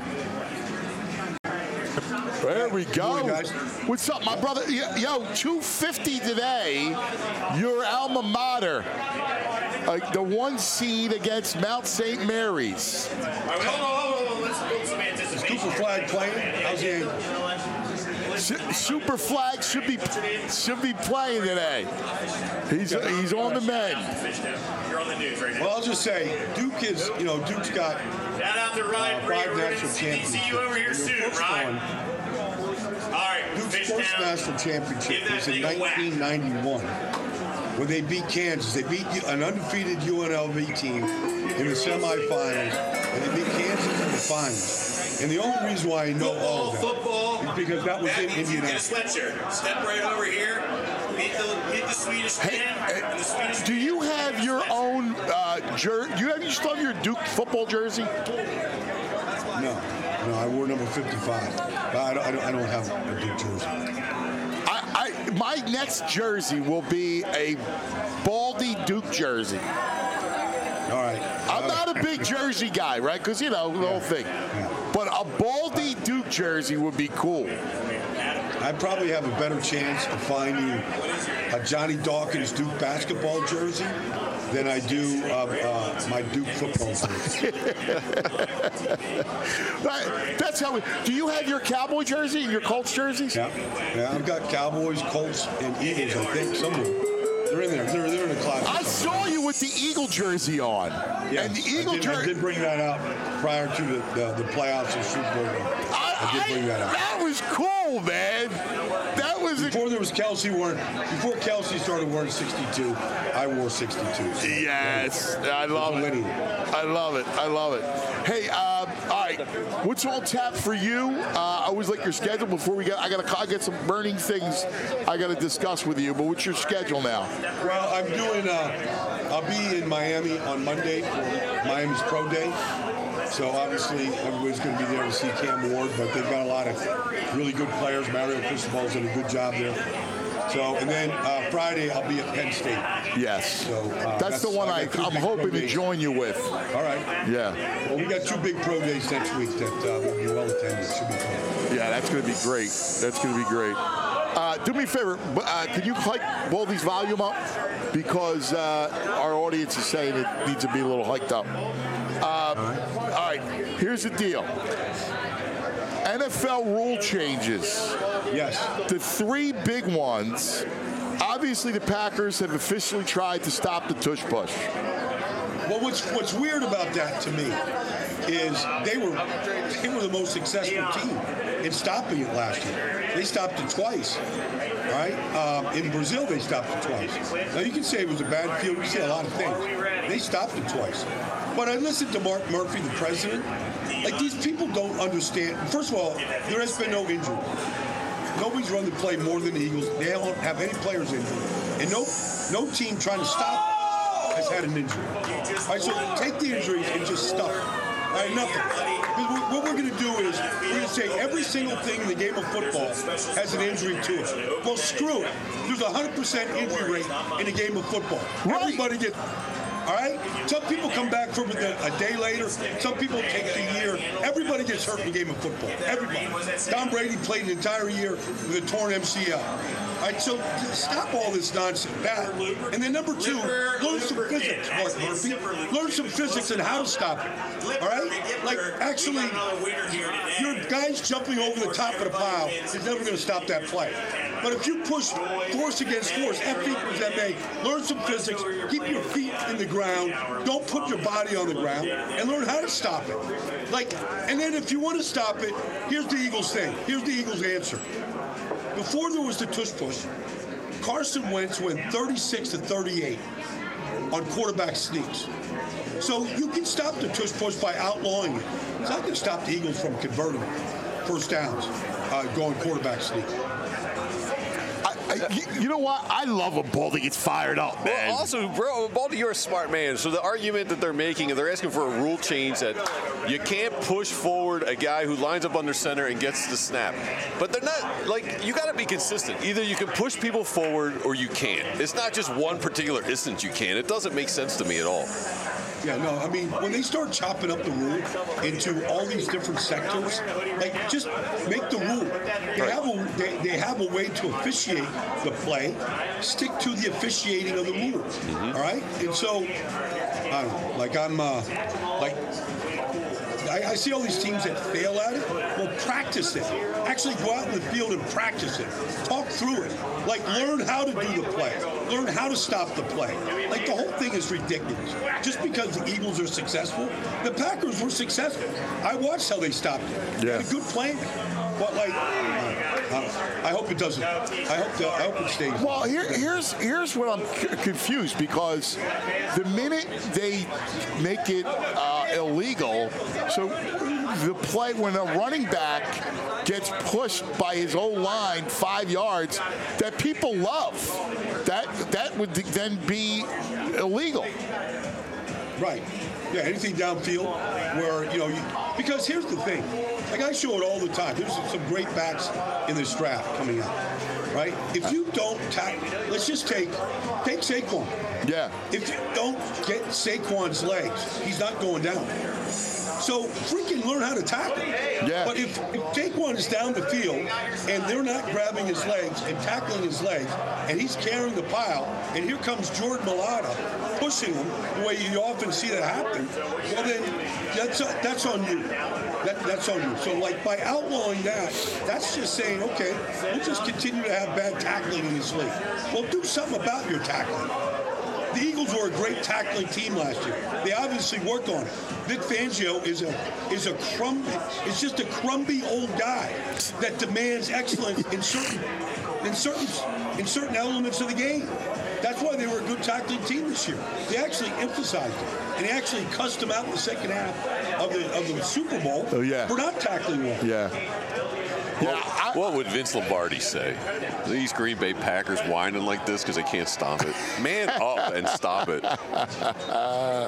There we go. What's up, my brother? Yo, yo, two fifty today. Your alma mater. Uh, the one seed against Mount Saint Mary's. Hold on, hold on, hold on. Let's build some anticipation. Is Cooper Flag playing? How's he? Su- Super Flag should be should be playing today. He's he's on the mend. Well, I'll just say, Duke is, you know, Duke's got Shout out to Ryan uh, Brady. five We're gonna national see, championships. see you over here And the soon, first Ryan. one, All right, Duke's fish first down. national championship Give that was in thing a whack. nineteen ninety-one, when they beat Kansas. They beat an undefeated U N L V team in the semifinals, and they beat Kansas in the finals. And the only reason why I know all Football, of that football. is because that was That in means you get a Indianapolis. sweatshirt. Step right over here. Meet the, meet the Swedish man. and the Swedish Do you have your own uh, jersey? Do you have you still have your Duke football jersey? No, no, I wore number fifty-five, but I don't, I don't, I don't have a Duke jersey. I, I my next jersey will be a Baldy Duke jersey. All right. I'm not a big jersey guy, right? Because, you know, the whole thing. But a Baldy Duke jersey would be cool. I probably have a better chance of finding a Johnny Dawkins Duke basketball jersey than I do uh, uh, my Duke football jersey. Right, that's how we. Do you have your Cowboy jersey and your Colts jerseys? Yeah, yeah. I've got Cowboys, Colts, and Eagles. I think somewhere. They're in there. They're, they're in the closet. I saw you with the Eagle jersey on. Yes, And the Eagle I did, I jersey. did bring that out prior to the, the, the playoffs and Super Bowl. I, I did bring that out. That was cool, man. That was a, Before there was Kelsey wearing, before Kelsey started wearing sixty-two, I wore sixty-two. So, yes, I love it. Linear. I love it. I love it. Hey, uh, all right, what's on tap for you? Uh, I always like your schedule. Before we get, I got I got some burning things I got to discuss with you. But what's your schedule now? Well, I'm doing. Uh, I'll be in Miami on Monday for Miami's Pro Day. So obviously everybody's going to be there to see Cam Ward, but they've got a lot of really good players. Mario Cristobal's done a good job there. So, and then uh, Friday I'll be at Penn State. Yes, So uh, that's, the one I I, got two I'm big hoping pro to days. join you with. All right. Yeah, Well, we got two big pro days next week that uh, will be well attended. Should be fun. yeah, that's going to be great. That's going to be great. Uh, do me a favor, uh, can you hike Baldy's volume up? Because uh, our audience is saying it needs to be a little hiked up. Uh, all right, here's the deal. N F L rule changes. Yes. The three big ones, obviously the Packers have officially tried to stop the tush push. Well, what's what's weird about that to me is they were they were the most successful team in stopping it last year. They stopped it twice. All right. Um, in Brazil, they stopped it twice. Now you can say it was a bad field. You can say a lot of things. They stopped it twice. But I listened to Mark Murphy, the president. Like, these people don't understand. First of all, there has been no injury. Nobody's run the play more than the Eagles. They don't have any players injured, and no no team trying to stop has had an injury. All right, so take the injuries and just stop it. All right, nothing. Because what we're going to do is we're going to say every single thing in the game of football has an injury to it. Well, screw it. There's a one hundred percent injury rate in the game of football. Right. Everybody gets. All right? Some people come back from it a day later. Some people take a year. Everybody gets hurt in the game of football. Everybody. Tom Brady played an entire year with a torn M C L. All right, so stop all this nonsense. That. And then number two, learn some physics, Mark Murphy. Learn some physics and how to stop it. All right? Like, actually, your guys jumping over the top of the pile is never going to stop that play. But if you push force against force, F equals M A, learn some physics, keep your feet in the ground, don't put your body on the ground, and learn how to stop it. Like, and then if you want to stop it, here's the Eagles thing. Here's the Eagles answer. Before there was the tush push, Carson Wentz went thirty-six to thirty-eight on quarterback sneaks. So you can stop the tush push by outlawing it. It's not going to stop the Eagles from converting first downs, uh, going quarterback sneak. I, you, you know what? I love when Baldy gets fired up, man. Well, also, bro, Baldy, you're a smart man. So the argument that they're making, and they're asking for a rule change that you can't push forward a guy who lines up under center and gets the snap. But they're not, like, you got to be consistent. Either you can push people forward or you can't. It's not just one particular instance you can. It doesn't make sense to me at all. Yeah, no, I mean, when they start chopping up the rule into all these different sectors, like, just make the rule. They have a, they, they have a way to officiate the play. Stick to the officiating of the rule, Mm-hmm. all right? And so, I don't know, like, I'm, uh, like, I, I see all these teams that fail at it. Well, practice it. Actually go out in the field and practice it. Talk through it. Like, learn how to do the play. Learn how to stop the play. Like, the whole thing is ridiculous. Just because the Eagles are successful, the Packers were successful. I watched how they stopped it. They had a good plan. But, like, uh, I hope it doesn't. I hope the, I hope it stays. Well, here, here's here's what I'm c- confused because the minute they make it uh, illegal, so the play when a running back gets pushed by his own line five yards, that people love, that that would then be illegal. Right. Yeah, anything downfield where, you know, you, because here's the thing. Like, I show it all the time. There's some great backs in this draft coming up, right? If you don't tackle, let's just take, take Saquon. Yeah. If you don't get Saquon's legs, he's not going down. So freaking learn how to tackle. Yeah. But if, if Saquon is down the field and they're not grabbing his legs and tackling his legs, and he's carrying the pile, and here comes Jordan Mailata pushing him the way you often see that happen, well then that's that's on you. That, that's on you. So like by outlawing that, that's just saying, okay, we'll just continue to have bad tackling in this league. Well, do something about your tackling. The Eagles were a great tackling team last year. They obviously worked on it. Vic Fangio is a is a crumb. It's just a crumby old guy that demands excellence in certain in certain in certain elements of the game. That's why they were a good tackling team this year. They actually emphasized it, and they actually cussed them out in the second half of the of the Super Bowl oh, yeah. for not tackling well. Yeah. Yeah, I, what would Vince Lombardi say? These Green Bay Packers whining like this because they can't stop it. Man up and stop it. Uh,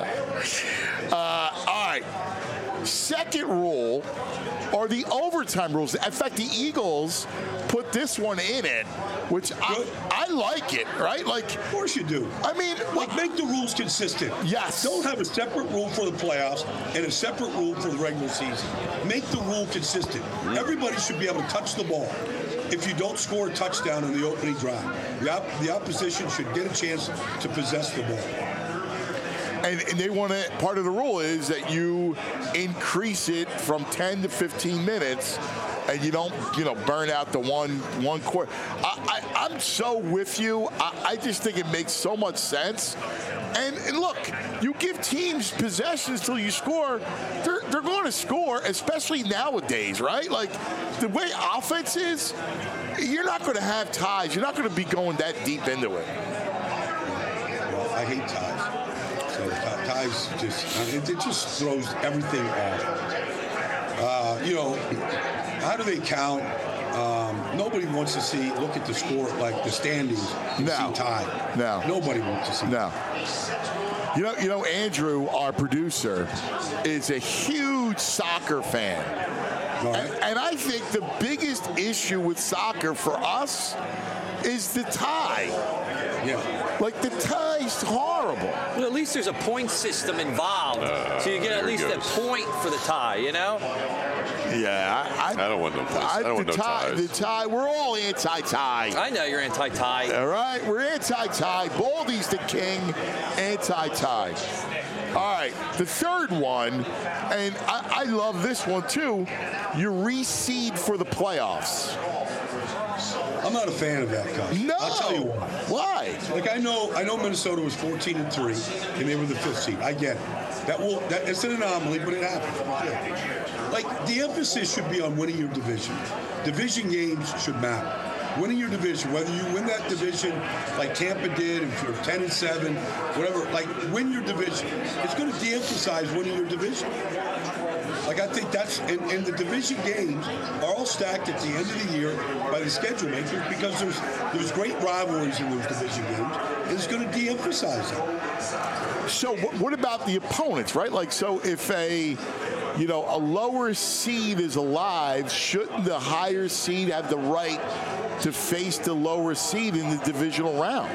all right. Second rule are the overtime rules. In fact, the Eagles put this one in it, which I, I like it, right? Like, of course you do. I mean, like, make the rules consistent. Yes. Don't have a separate rule for the playoffs and a separate rule for the regular season. Make the rule consistent. Everybody should be able to touch the ball. If you don't score a touchdown in the opening drive, the, op- the opposition should get a chance to possess the ball. And, and they want to, part of the rule is that you increase it from ten to fifteen minutes and you don't, you know, burn out the one one quarter. I, I, I'm so with you. I, I just think it makes so much sense. And, and look, you give teams possessions till you score, they're, they're going to score, especially nowadays, right? Like, the way offense is, you're not going to have ties. You're not going to be going that deep into it. Well, I hate ties. So ties just, it, it just throws everything off. Uh, you know, how do they count? Um, nobody wants to see, look at the score, like the standings, and no. see tie. No. Nobody wants to see No. You know, you know, Andrew, our producer, is a huge soccer fan. Right. And, and I think the biggest issue with soccer for us is the tie. Yeah. Like, the tie's horrible. Well, at least there's a point system involved, Uh, so you get at there it least a goes. point for the tie, you know? Yeah, I, I don't want no place. I don't want the no tie, ties. The tie, we're all anti-tie. I know you're anti-tie. All right, we're anti-tie. Baldy's the king, anti-tie. All right, the third one, and I, I love this one too, you reseed for the playoffs. I'm not a fan of that, Coach. No. I'll tell you why. Why? Like, I know I know Minnesota was fourteen and three, and they were the fifth seed. I get it. That will that it's an anomaly, but it happens. Yeah. Like, the emphasis should be on winning your division. Division games should matter. Winning your division, whether you win that division like Tampa did, if you're ten and seven, whatever, like, win your division. It's going to de-emphasize winning your division. Like, I think that's, and, and the division games are all stacked at the end of the year by the schedule makers because there's there's great rivalries in those division games, and it's going to de-emphasize them. So wh- what about the opponents, right? Like, so if a, you know, a lower seed is alive, shouldn't the higher seed have the right to face the lower seed in the divisional round?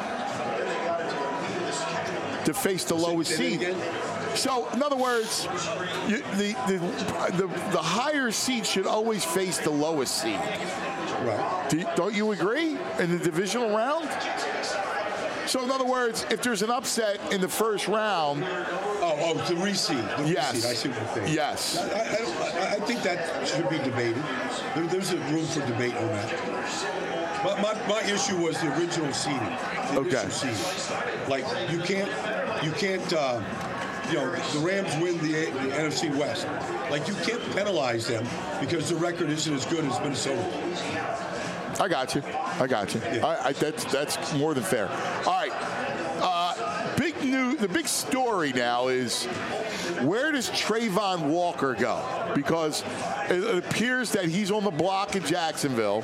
To face the lowest seed. So, in other words, you, the, the the the higher seed should always face the lowest seed. Right. Do, don't you agree in the divisional round? So, in other words, if there's an upset in the first round, Oh, oh, the reseed. The Yes. reseed. I see what you're saying. Yes. I, I, I, don't- I I think that should be debated. There, there's a room for debate on that. But my, my issue was the original seeding. The Okay. initial seeding. Like, you can't, you can't, uh, you know, the Rams win the, the N F C West. Like, you can't penalize them because the record isn't as good as Minnesota. I got you. I got you. Yeah. I, I, that's that's more than fair. All right. Uh, big new. The big story now is where does Trayvon Walker go? Because it, it appears that he's on the block in Jacksonville,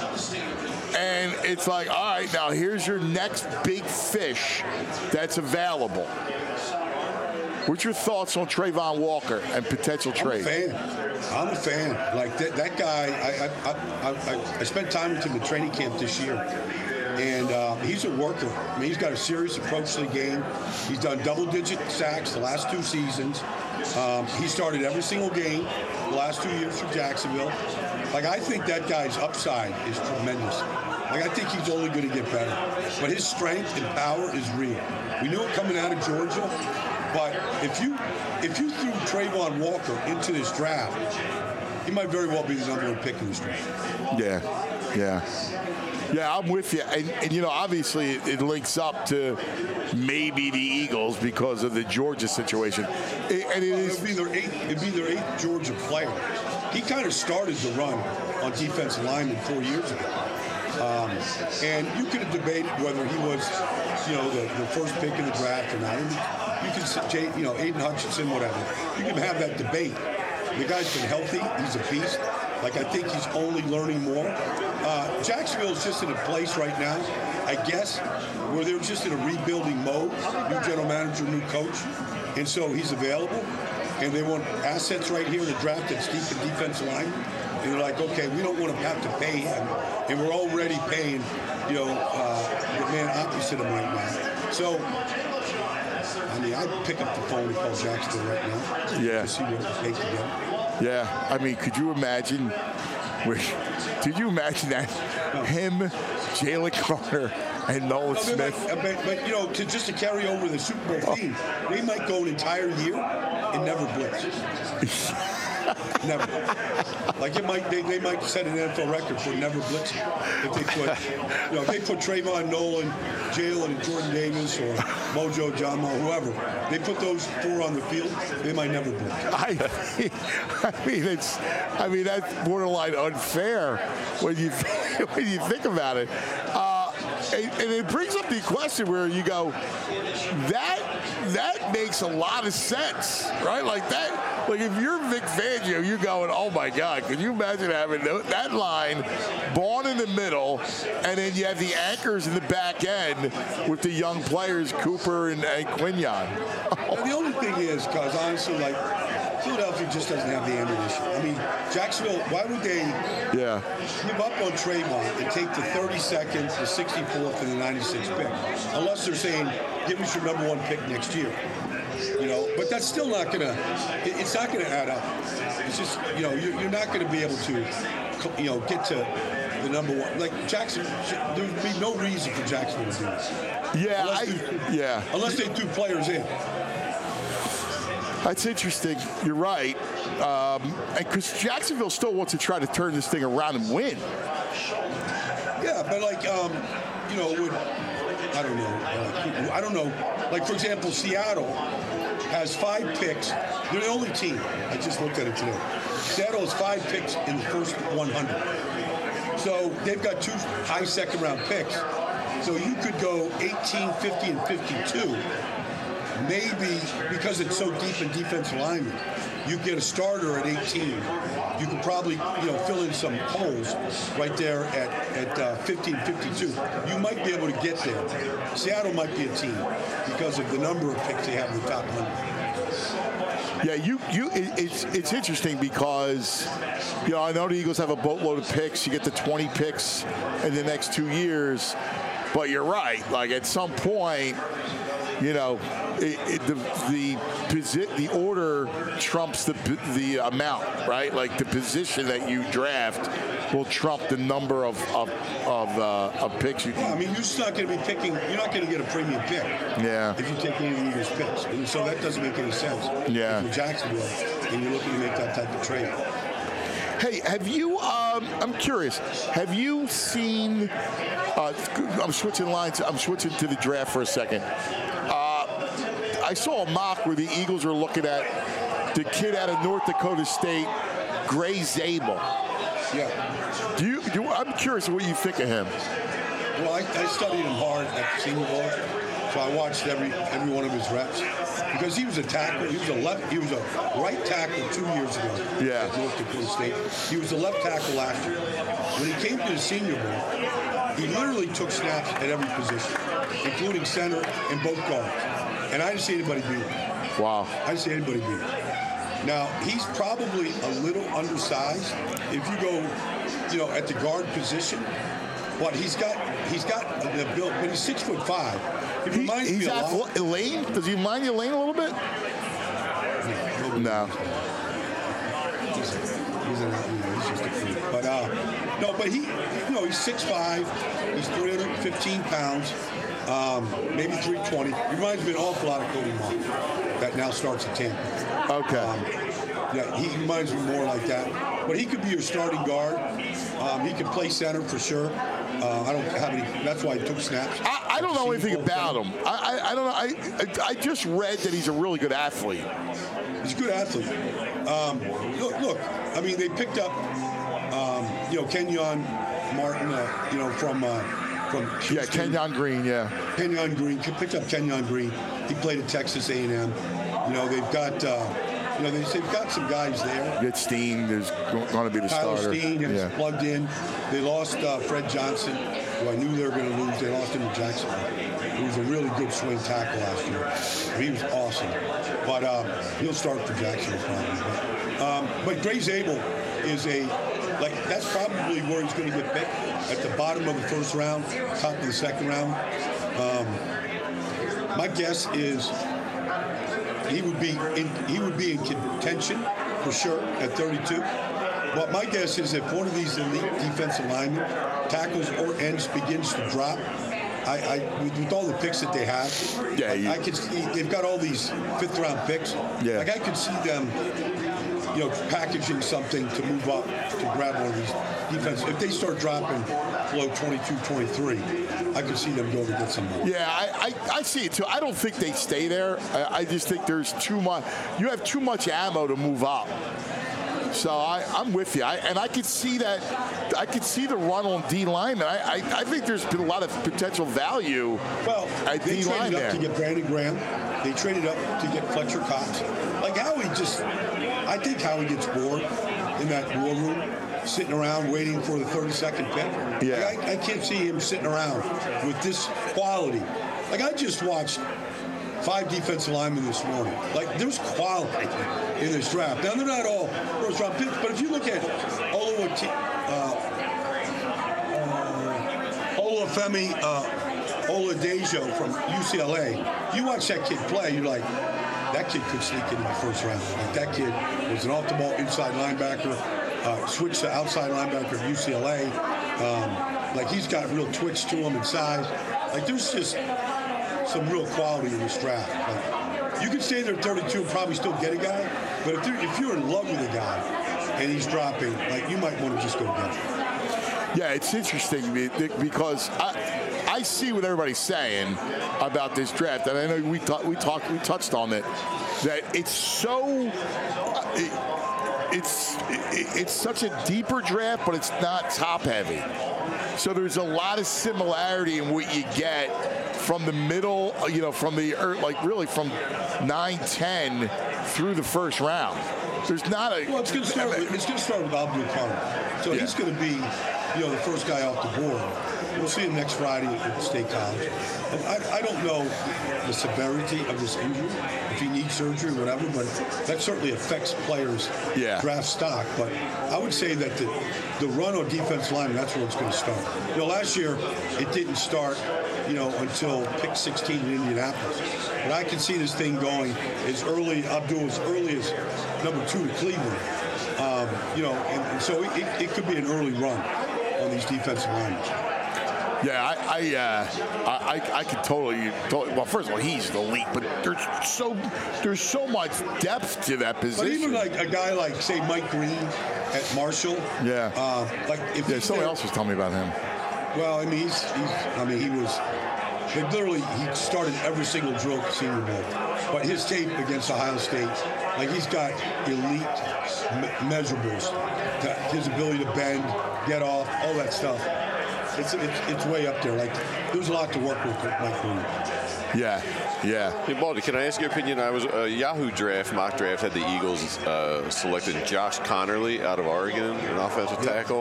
and it's like, all right, now here's your next big fish that's available. What's your thoughts on Trayvon Walker and potential I'm a trade? fan. I'm a fan. Like that, that guy, I, I, I, I, I spent time with him at training camp this year. And uh, he's a worker. I mean, he's got a serious approach to the game. He's done double-digit sacks the last two seasons. Um, he started every single game the last two years for Jacksonville. Like, I think that guy's upside is tremendous. Like, I think he's only going to get better. But his strength and power is real. We knew it coming out of Georgia. But if you if you threw Trayvon Walker into this draft, he might very well be the number one pick in this draft. Yeah, yeah. Yeah, I'm with you. And, and you know, obviously it, it links up to maybe the Eagles because of the Georgia situation. It, and it Well, is, it'd be their eighth, it'd be their eighth Georgia player. He kind of started the run on defensive linemen four years ago. Um, and you could have debated whether he was, you know, the, the first pick in the draft or not. And you can say, you know, Aiden Hutchinson, whatever. You can have that debate. The guy's been healthy. He's a beast. Like, I think he's only learning more. Uh, Jacksonville's just in a place right now, I guess, where they're just in a rebuilding mode. New general manager, new coach. And so he's available. And they want assets right here in the draft that's deep in defensive line. And they're like, okay, we don't want to have to pay him. And we're already paying, you know, uh, the man opposite him right now. So, I mean, I'd pick up the phone and call Jacksonville right now. Yeah. To see what it takes to get him. yeah. I mean, could you imagine? Where, did you imagine that him, Jalen Carter, and Nolan No, they Smith? might- but, but, you know, to, just to carry over the Super Bowl theme, they might go an entire year and never blitz. Never. Like it might, they, they might set an N F L record for never blitzing if they put, you know, if they put Trayvon, Nolan, Jalen, and Jordan Davis or Mojo, John Mo, whoever, they put those four on the field, they might never blitz. I, I mean, it's. I mean, that's borderline unfair when you when you think about it. Uh, and, and it brings up the question where you go, that that makes a lot of sense, right? Like that. Like if you're Vic Fangio, you're going, oh my God, could you imagine having that line, Bond in the middle, and then you have the anchors in the back end with the young players, Cooper and, and Quinyon. And the only thing is, because honestly, like, Philadelphia just doesn't have the ammunition. I mean, Jacksonville, why would they Yeah. give up on Trayvon and take the thirty-second, the sixty-fourth, and the ninety-sixth pick? Unless they're saying, give us your number one pick next year. You know, but that's still not going to, it's not going to add up. It's just, you know, you're, you're not going to be able to, you know, get to the number one. Like, Jackson, there would be no reason for Jacksonville to do this. Yeah, Unless I, they- yeah. Unless they threw players in. That's interesting. You're right. Um, and because Jacksonville still wants to try to turn this thing around and win. Yeah, but like, um, you know, would, I don't know. Uh, I don't know. Like, for example, Seattle has five picks. They're the only team. I just looked at it today. Seattle has five picks in the first one hundred. So they've got two high second round picks. So you could go eighteen, fifty, and fifty-two. Maybe because it's so deep in defensive linemen, you get a starter at eighteen. You could probably, you know, fill in some holes right there at at uh, fifteen, fifty-two. You might be able to get there. Seattle might be a team because of the number of picks they have in the top one hundred. Yeah, you you it, it's it's interesting because you know I know the Eagles have a boatload of picks. You get the twenty picks in the next two years, but you're right. Like at some point, you know, it, it, the the posi- the order trumps the the amount, right? Like the position that you draft will trump the number of of of, uh, of picks you. Well, I mean, you're just not going to be picking. You're not going to get a premium pick. Yeah. If you take any of the Eagles' picks, and so that doesn't make any sense. Yeah. If you're Jacksonville, and you're looking to make that type of trade. Hey, have you, um, I'm curious, have you seen, uh, I'm switching lines, I'm switching to the draft for a second. Uh, I saw a mock where the Eagles were looking at the kid out of North Dakota State, Gray Zabel. Yeah. Do you, do, I'm curious what you think of him. Well, I, I studied him hard at the Senior Bowl, so I watched every every one of his reps because he was a tackle. He was a left. He was a right tackle two years ago. Yeah. At North Dakota State. He was a left tackle last year. When he came to the Senior Bowl, he literally took snaps at every position, including center and both guards. And I didn't see anybody beat him. Wow. I didn't see anybody beat him. Now he's probably a little undersized if you go, you know, at the guard position. But he's got he's got the build, but he's six foot five. He He, reminds he's me a at lot. Elaine? Does he remind you of Elaine a little bit? No. He's, he's, an, you know, he's just a freak. But uh, no, but he, you know, he's six five. He's three hundred fifteen pounds, um, maybe three twenty. He reminds me an awful lot of Cody Martin that now starts at Tampa. Okay. Um, yeah, he reminds me more like that. But he could be your starting guard. Um, he could play center for sure. Uh, I don't have any. That's why he took snaps. I, I don't know anything about him. I, I, I don't know. I, I I just read that he's a really good athlete. He's a good athlete. Um, look, look, I mean, they picked up, um, you know, Kenyon Martin, uh, you know, from uh, from Houston. Yeah, Kenyon Green. Yeah. Kenyon Green picked up Kenyon Green. He played at Texas A and M. You know, they've got, uh, you know, they, they've got some guys there. Get Steen is going to be the Tyler starter. Steen is Yeah. plugged in. They lost uh, Fred Johnson, who I knew they were going to lose. They lost him to Jacksonville. He was a really good swing tackle last year. He was awesome. But uh, he'll start for Jacksonville probably. But, um, but Gray Zabel is a, like, that's probably where he's going to get picked, at the bottom of the first round, top of the second round. Um, my guess is he would be in, he would be in contention for sure at thirty-two. But my guess is if one of these elite defensive linemen, tackles or ends, begins to drop, I, I with, with all the picks that they have, Yeah, I, you- I could see they've got all these fifth round picks. Yeah. Like I could see them, you know, packaging something to move up to grab one of these defense. If they start dropping below twenty-two, twenty-three, I could see them going to get some more. Yeah, I, I, I see it too. I don't think they stay there. I, I just think there's too much. You have too much ammo to move up. So I, I'm with you. I, and I could see that. I could see the run on D lineman. I, I, I think there's been a lot of potential value Well, at they D line traded up there. to get Brandon Graham. They traded up to get Fletcher Cox. Like Howie just, I think Howie gets bored in that war room, sitting around waiting for the thirty-second pick. Yeah. Like, I, I can't see him sitting around with this quality. Like I just watched five defensive linemen this morning. Like there's quality in this draft. Now they're not all first round picks, but if you look at Oluwati, uh, uh, Olufemi uh, Oladejo from U C L A, you watch that kid play, you're like, that kid could sneak into the first round. Like that kid was an off-the-ball inside linebacker, uh, switched to outside linebacker at U C L A. Um, like he's got real twitch to him and size. Like there's just some real quality in this draft. Like, you could stay there at thirty-two and probably still get a guy, but if, if you're in love with a guy and he's dropping, like you might want to just go get him. Yeah, it's interesting because I, I see what everybody's saying about this draft, and I know we ta- we talked we touched on it, that it's so it, it's it, it's such a deeper draft, but it's not top heavy. So there's a lot of similarity in what you get from the middle, you know, from the like really from nine ten through the first round. there's not a. Well, it's going to start. With, it's going to start with Abdul Karim. So Yeah. he's going to be, you know, the first guy off the board. We'll see him next Friday at State College. And I, I don't know the severity of this injury, if he needs surgery or whatever, but that certainly affects players' Yeah. draft stock. But I would say that the, the run on defense line, that's where it's going to start. You know, last year it didn't start, you know, until pick sixteen in Indianapolis. But I can see this thing going as early, Abdul, as early as number two to Cleveland. Um, you know, and, and so it, it, it could be an early run on these defensive linemen. Yeah, I, I, uh, I, I, I could totally, totally. Well, first of all, he's the elite, but there's so, there's so much depth to that position. But even like a guy like, say, Mike Green at Marshall. Yeah. Uh, like if Yeah, he's someone there- else was telling me about him. Well, I mean, he's, he's I mean, he was. Like literally, he started every single drill at Senior Bowl. But his tape against Ohio State, like he's got elite me- measurables. That his ability to bend, get off, all that stuff. It's, it's it's way up there. Like there's a lot to work with with Mike Green. Yeah, yeah. Hey, Baldy, can I ask your opinion? I was uh, Yahoo draft, mock draft, had the Eagles uh, selected Josh Connerly out of Oregon, an offensive tackle.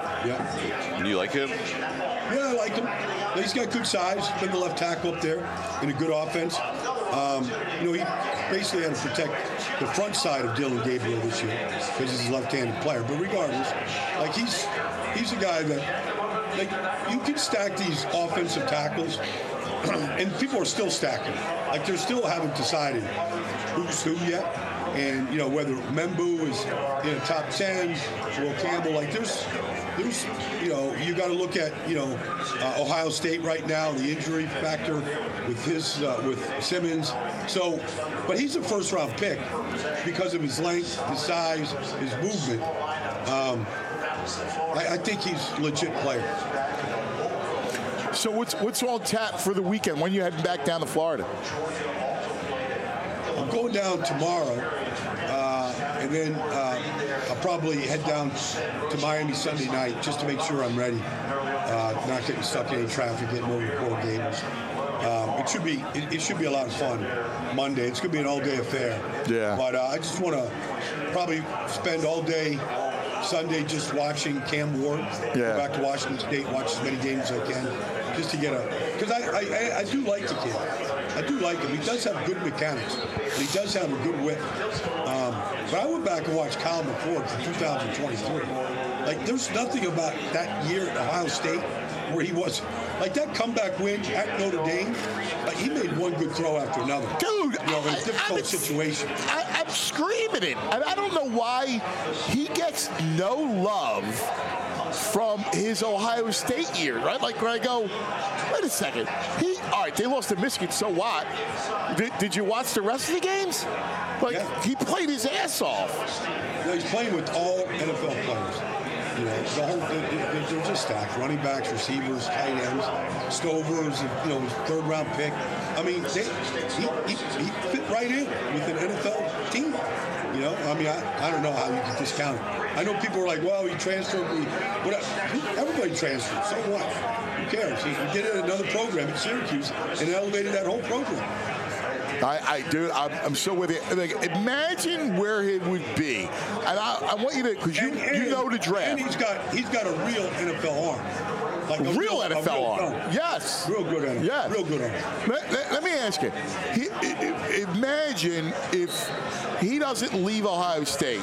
Yeah. Do you like him? Yeah, I like him. He's got good size. Been the left tackle up there in a good offense. Um, you know, he basically had to protect the front side of Dylan Gabriel this year because he's a left-handed player. But regardless, like he's he's a guy that like you can stack these offensive tackles, and people are still stacking. Like they're still haven't decided who's who yet. And you know whether Membu is in the top ten, Will Campbell. Like there's, there's, you know, you got to look at you know uh, Ohio State right now, the injury factor with his uh, with Simmons. So, but he's a first round pick because of his length, his size, his movement. Um, I, I think he's a legit player. So what's what's on tap for the weekend? When are you heading back down to Florida? I'm going down tomorrow, uh, and then uh, I'll probably head down to Miami Sunday night just to make sure I'm ready, uh, not getting stuck in any traffic, getting over to Coral Gables. Um, it should be it, it should be a lot of fun Monday. It's going to be an all-day affair. Yeah. But uh, I just want to probably spend all day Sunday just watching Cam Ward. Yeah. Go back to Washington State, watch as many games as I can, just to get a because I, I I do like the kid. I do like him. He does have good mechanics. And he does have a good whip. Um, but I went back and watched Kyle McCord from two thousand twenty-three. Like, there's nothing about that year at Ohio State where he was like that comeback win at Notre Dame. Like he made one good throw after another. Dude, you know, in a I- difficult I'm- situation. I, I'm screaming it. And I don't know why he gets no love from his Ohio State year, right? Like when I go, wait a second. He all right, they lost to Michigan, so what? Did, did you watch the rest of the games? Like Yeah. he played his ass off. You know, he's playing with all N F L players. You know, the whole, they're, they're they're just stacked. Running backs, receivers, tight ends, Stovers, you know, his third round pick. I mean, they, he, he, he fit right in with an N F L team. You know, I mean, I, I don't know how you can discount it. I know people are like, well, he transferred. He, whatever. Everybody transferred. So what? Who cares? He, he did it at another program at Syracuse and elevated that whole program. I, I do. I'm, I'm so with you. Like, imagine where it would be, and I, I want you to, because you And- and- you know the draft. And he's got he's got a real N F L arm. Like a Real N F L real arm. gun. Yes. Real good N F L. Yeah. Real good arm. Let, let- let me ask you. He, i- i- imagine if he doesn't leave Ohio State,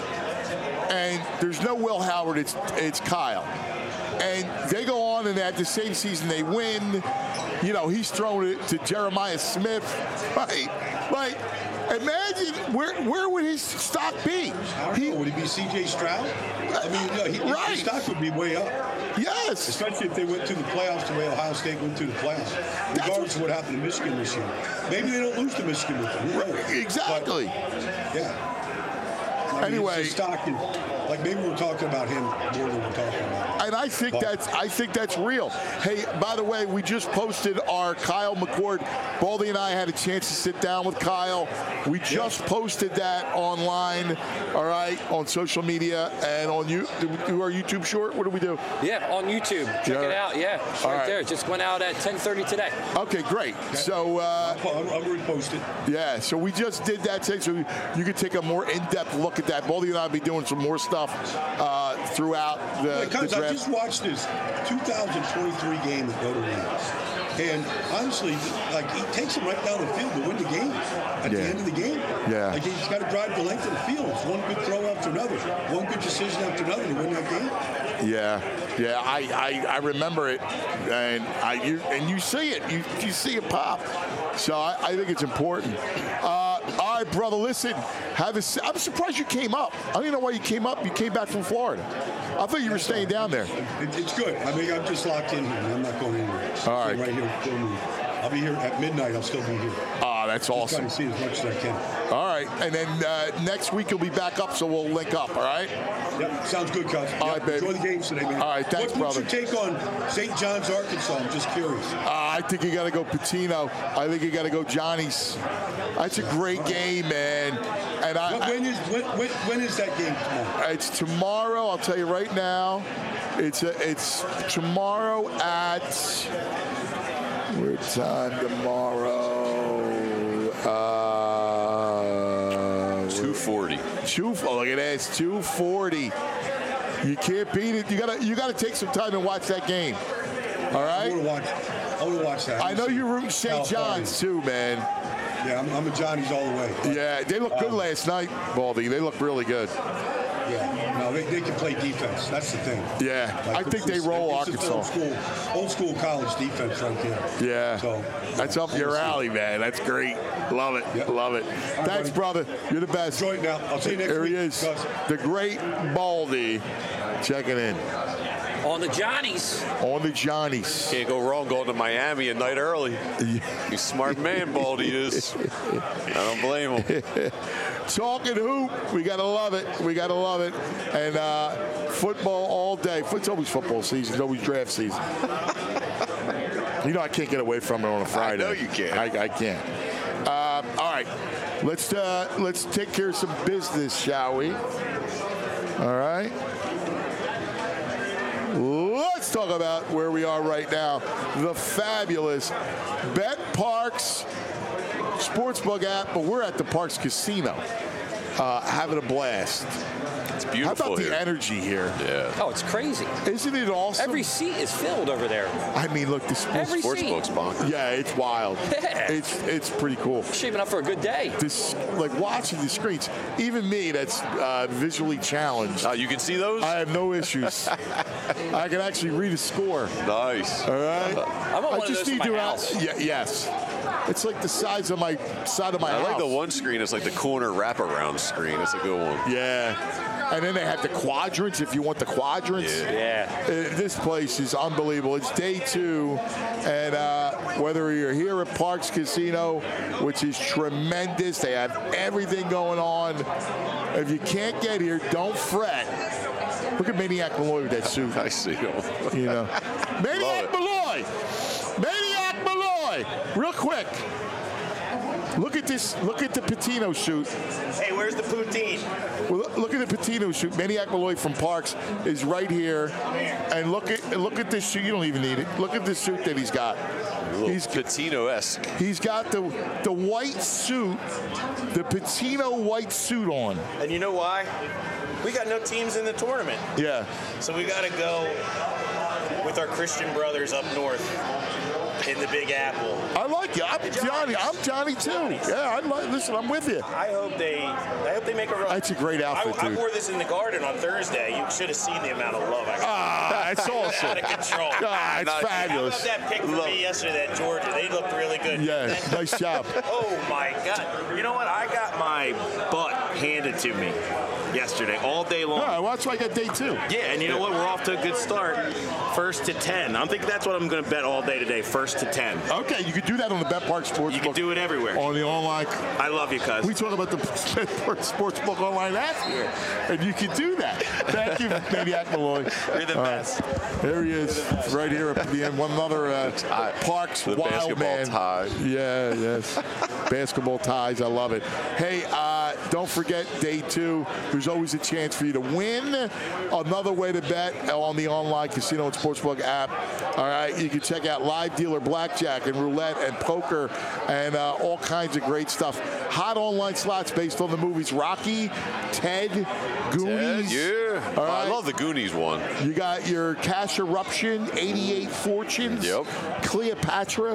and there's no Will Howard. It's it's Kyle, and they go on, and at the same season they win. You know, he's thrown it to Jeremiah Smith. Right. Like, imagine where where would his stock be? I don't know. Would he be C J Stroud? I mean, no, he, Right. his stock would be way up. Yes. Especially if they went to the playoffs the way Ohio State went to the playoffs. Regardless of what happened to Michigan this year. Maybe they don't lose to Michigan with them. Who knows? Exactly. But, yeah. I mean, Anyway. his stock is, like maybe we're talking about him more than we're talking about. And I think But- that's I think that's real. Hey, by the way, we just posted our Kyle McCord. Baldy and I had a chance to sit down with Kyle. We just posted that online, all right, on social media and on you. Did we do our YouTube short? What do we do? Yeah, on YouTube. Check Yeah. it out. Yeah, it's All right, right. there. It just went out at ten thirty today. Okay, great. So, uh, I'll, I'll repost it. yeah, so we just did that thing, so you could take a more in-depth look at that. Baldy and I will be doing some more stuff uh, throughout the, Because the I draft. just watched this two thousand twenty-three game at Notre Dame. And honestly, like, he takes him right down the field to win the game at Yeah. the end of the game. Yeah. Like, he's got to drive the length of the field. It's one good throw after another, one good decision after another to win that game. Yeah, yeah, I, I, I remember it, and I you and you see it, you you see it pop. So I, I think it's important. Uh, all right, brother, listen. Have a, I'm surprised you came up. I don't even know why you came up. You came back from Florida. I thought you were staying down there. It, it's good. I mean, I'm just locked in here. I'm not going anywhere. All right. I'm right here. Still moving. I'll be here at midnight. I'll still be here. Oh, that's Just awesome. trying to see as much as I can. All right, and then uh, next week you'll be back up, so we'll link up. All right. Yep, sounds good, Cuz. All Yep, right, baby. Enjoy the games today, man. All right, thanks, what, what's brother. your take on Saint John's, Arkansas? I'm just curious. Uh, I think you got to go Patino. I think you got to go Johnny's. That's a great game, man. And I, When- when is when, when, when is that game tomorrow? It's tomorrow. I'll tell you right now. It's a, it's tomorrow at what time tomorrow? Uh, two forty. Two. Oh, look at that. It's two forty. You can't beat it. You gotta you gotta take some time and watch that game. All I right. want to watch. I want to watch that. I know you're rooting Saint California. John's too, man. Yeah, I'm, I'm a Johnny's all the way. Yeah, they looked good last night, Baldy. They looked really good. Yeah, no, they, they can play defense. That's the thing. Yeah, Like, I think they it's- roll it's just Arkansas. Old school, old school college defense right there. Yeah, So that's up your alley, man. That's great. Love it. Yep. Love it. right, Thanks, buddy. brother. You're the best. Enjoy it now. I'll see you next There week. he is, Gus. the great Baldy, checking in On the Johnnies. on the Johnnies. Can't go wrong going to Miami a night early. He's a smart man, Baldy is. I don't blame him. Talking hoop, we gotta love it. We gotta love it. And uh, football all day. It's always football season. It's always draft season. You know I can't get away from it on a Friday. I know you can't. I, I can't. Uh, all right, let's uh, let's take care of some business, shall we? All right. Let's talk about where we are right now. The fabulous Bet Parks Sportsbook app, but we're at the Parks Casino, uh, having a blast. It's How beautiful about the here. energy here? Yeah. Oh, it's crazy. Isn't it awesome? Every seat is filled over there. I mean, look, the sports. Every Sports seat. book's bonkers. Yeah, it's wild. Yeah. It's it's pretty cool. Shaping up for a good day. This, like watching the screens, even me that's uh, visually challenged, Uh, you can see those? I have no issues. I can actually read a score. Nice. All right. I want one of those for my to house. Yeah, yes. It's like the size of my side of my I house. like the one screen. It's like the corner wraparound screen. It's a good one. Yeah. And then they have the quadrants if you want the quadrants. Yeah. Uh, this place is unbelievable. It's day two, and uh, whether you're here at Parks Casino, which is tremendous, they have everything going on. If you can't get here, don't fret. Look at Maniac Malloy with that suit. I see him. You know, Maniac it. Malloy, Maniac Malloy. Real quick, look at this. Look at the Patino suit. Hey, where's the poutine? Well, look at the Patino shoot. Maniac Malloy from Parks is right here, and look at look at this suit. You don't even need it. Look at this suit that he's got. He's Patino-esque. he's got the the white suit, the Patino white suit on. And you know why? We got no teams in the tournament. Yeah. So we got to go with our Christian brothers up north in the Big Apple. I like it. I'm Johnny. I'm Johnny too. Yeah, I like. Listen, I'm with you. I hope they I hope they make a run. That's a great outfit, I, I dude. wore this in the garden on Thursday. You should have seen the amount of love I got. Ah, that's awesome. Out of control. Ah, it's Nice. How fabulous. about that pick for me yesterday at Georgia? They looked really good. Yeah, nice job. Oh my God! You know what? I got my butt handed to me yesterday all day long. All right, well, that's why I got day two. Yeah, and you know what? We're off to a good start. First to ten. I'm thinking that's what I'm going to bet all day today. First to ten. Okay, you could do that on the Bet Park Sportsbook. You can do it everywhere. on the online. I love you, cuz. We talk about the Sportsbook Online app here, and you can do that. Thank you, Maniac Malloy. You're the All best. right. There he is, right here at the end. One other uh, Parks The wild basketball man. tie. Yeah, yes. Basketball ties. I love it. Hey, uh, Don't forget, day two, there's always a chance for you to win. Another way to bet on the online casino and sportsbook app. All right, you can check out live dealer blackjack and roulette and poker and uh, all kinds of great stuff. Hot online slots based on the movies Rocky, Ted, Goonies. Ted, yeah. All Oh, right. I love the Goonies one. You got your Cash Eruption, eighty-eight Fortunes. Yep. Cleopatra.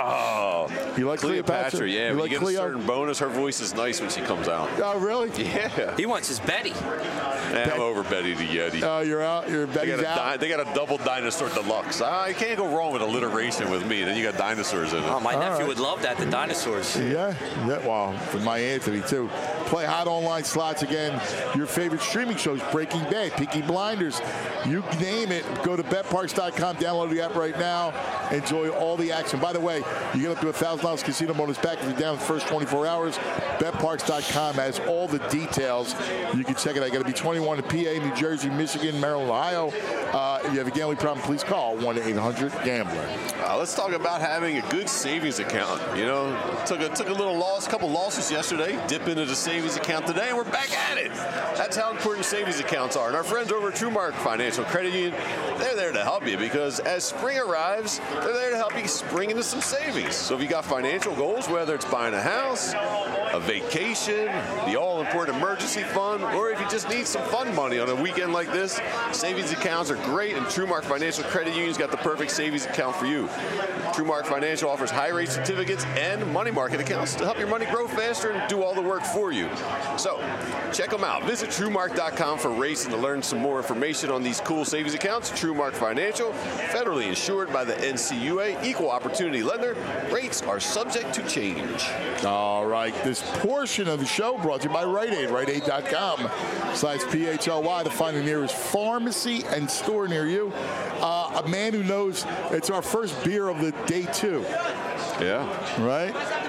Oh, You like Cleopatra? Cleopatra, yeah. You When like you get Cleo? a certain bonus, her voice is nice when she comes out. Oh, really? Yeah. He wants his Betty. Yeah, I'm over Betty the Yeti. Oh, you're out. You're They Betty's got, a out. di- they got a double dinosaur deluxe. I can't go wrong with alliteration with me. Then you got dinosaurs in it. Oh, my All nephew right. would love that, the dinosaurs. Yeah, yeah. Well, for my Anthony too. Play hot online slots again. Your favorite streaming shows: Breaking Bad, Peaky Blinders. You name it. Go to bet parks dot com. Download the app right now. Enjoy all the action. By the way, you get up to a thousand dollars casino bonus back if you're down the first twenty-four hours. bet parks dot com has all the details. You can check it out. You got to be twenty-one in P A, New Jersey, Michigan, Maryland, Ohio. Uh, if you have a gambling problem, please call one eight hundred gambler. Uh, let's talk about having a good savings account. You know, took a took a little loss, couple losses yesterday. Dip into the savings account today, and we're back at it. That's how important savings accounts are. And our friends over at TrueMark Financial Credit Union, they're there to help you because as spring arrives, they're there to help you spring into some savings. So if you got financial goals, whether it's buying a house, a vacation, the all-important emergency fund, or if you just need some fun money on a weekend like this, savings accounts are great, and TrueMark Financial Credit Union's got the perfect savings account for you. TrueMark Financial offers high-rate certificates and money market accounts to help your money grow faster and do all the work for you. So, check them out. Visit TrueMark dot com for rates and to learn some more information on these cool savings accounts. TrueMark Financial, federally insured by the N C U A, equal opportunity lender. Rates are subject to change. All right, this portion of the show brought to you by Rite Aid, Rite Aid dot com slash P H L Y to find the nearest pharmacy and store near you. Uh, a man who knows it's our first beer of the day two, Yeah. right?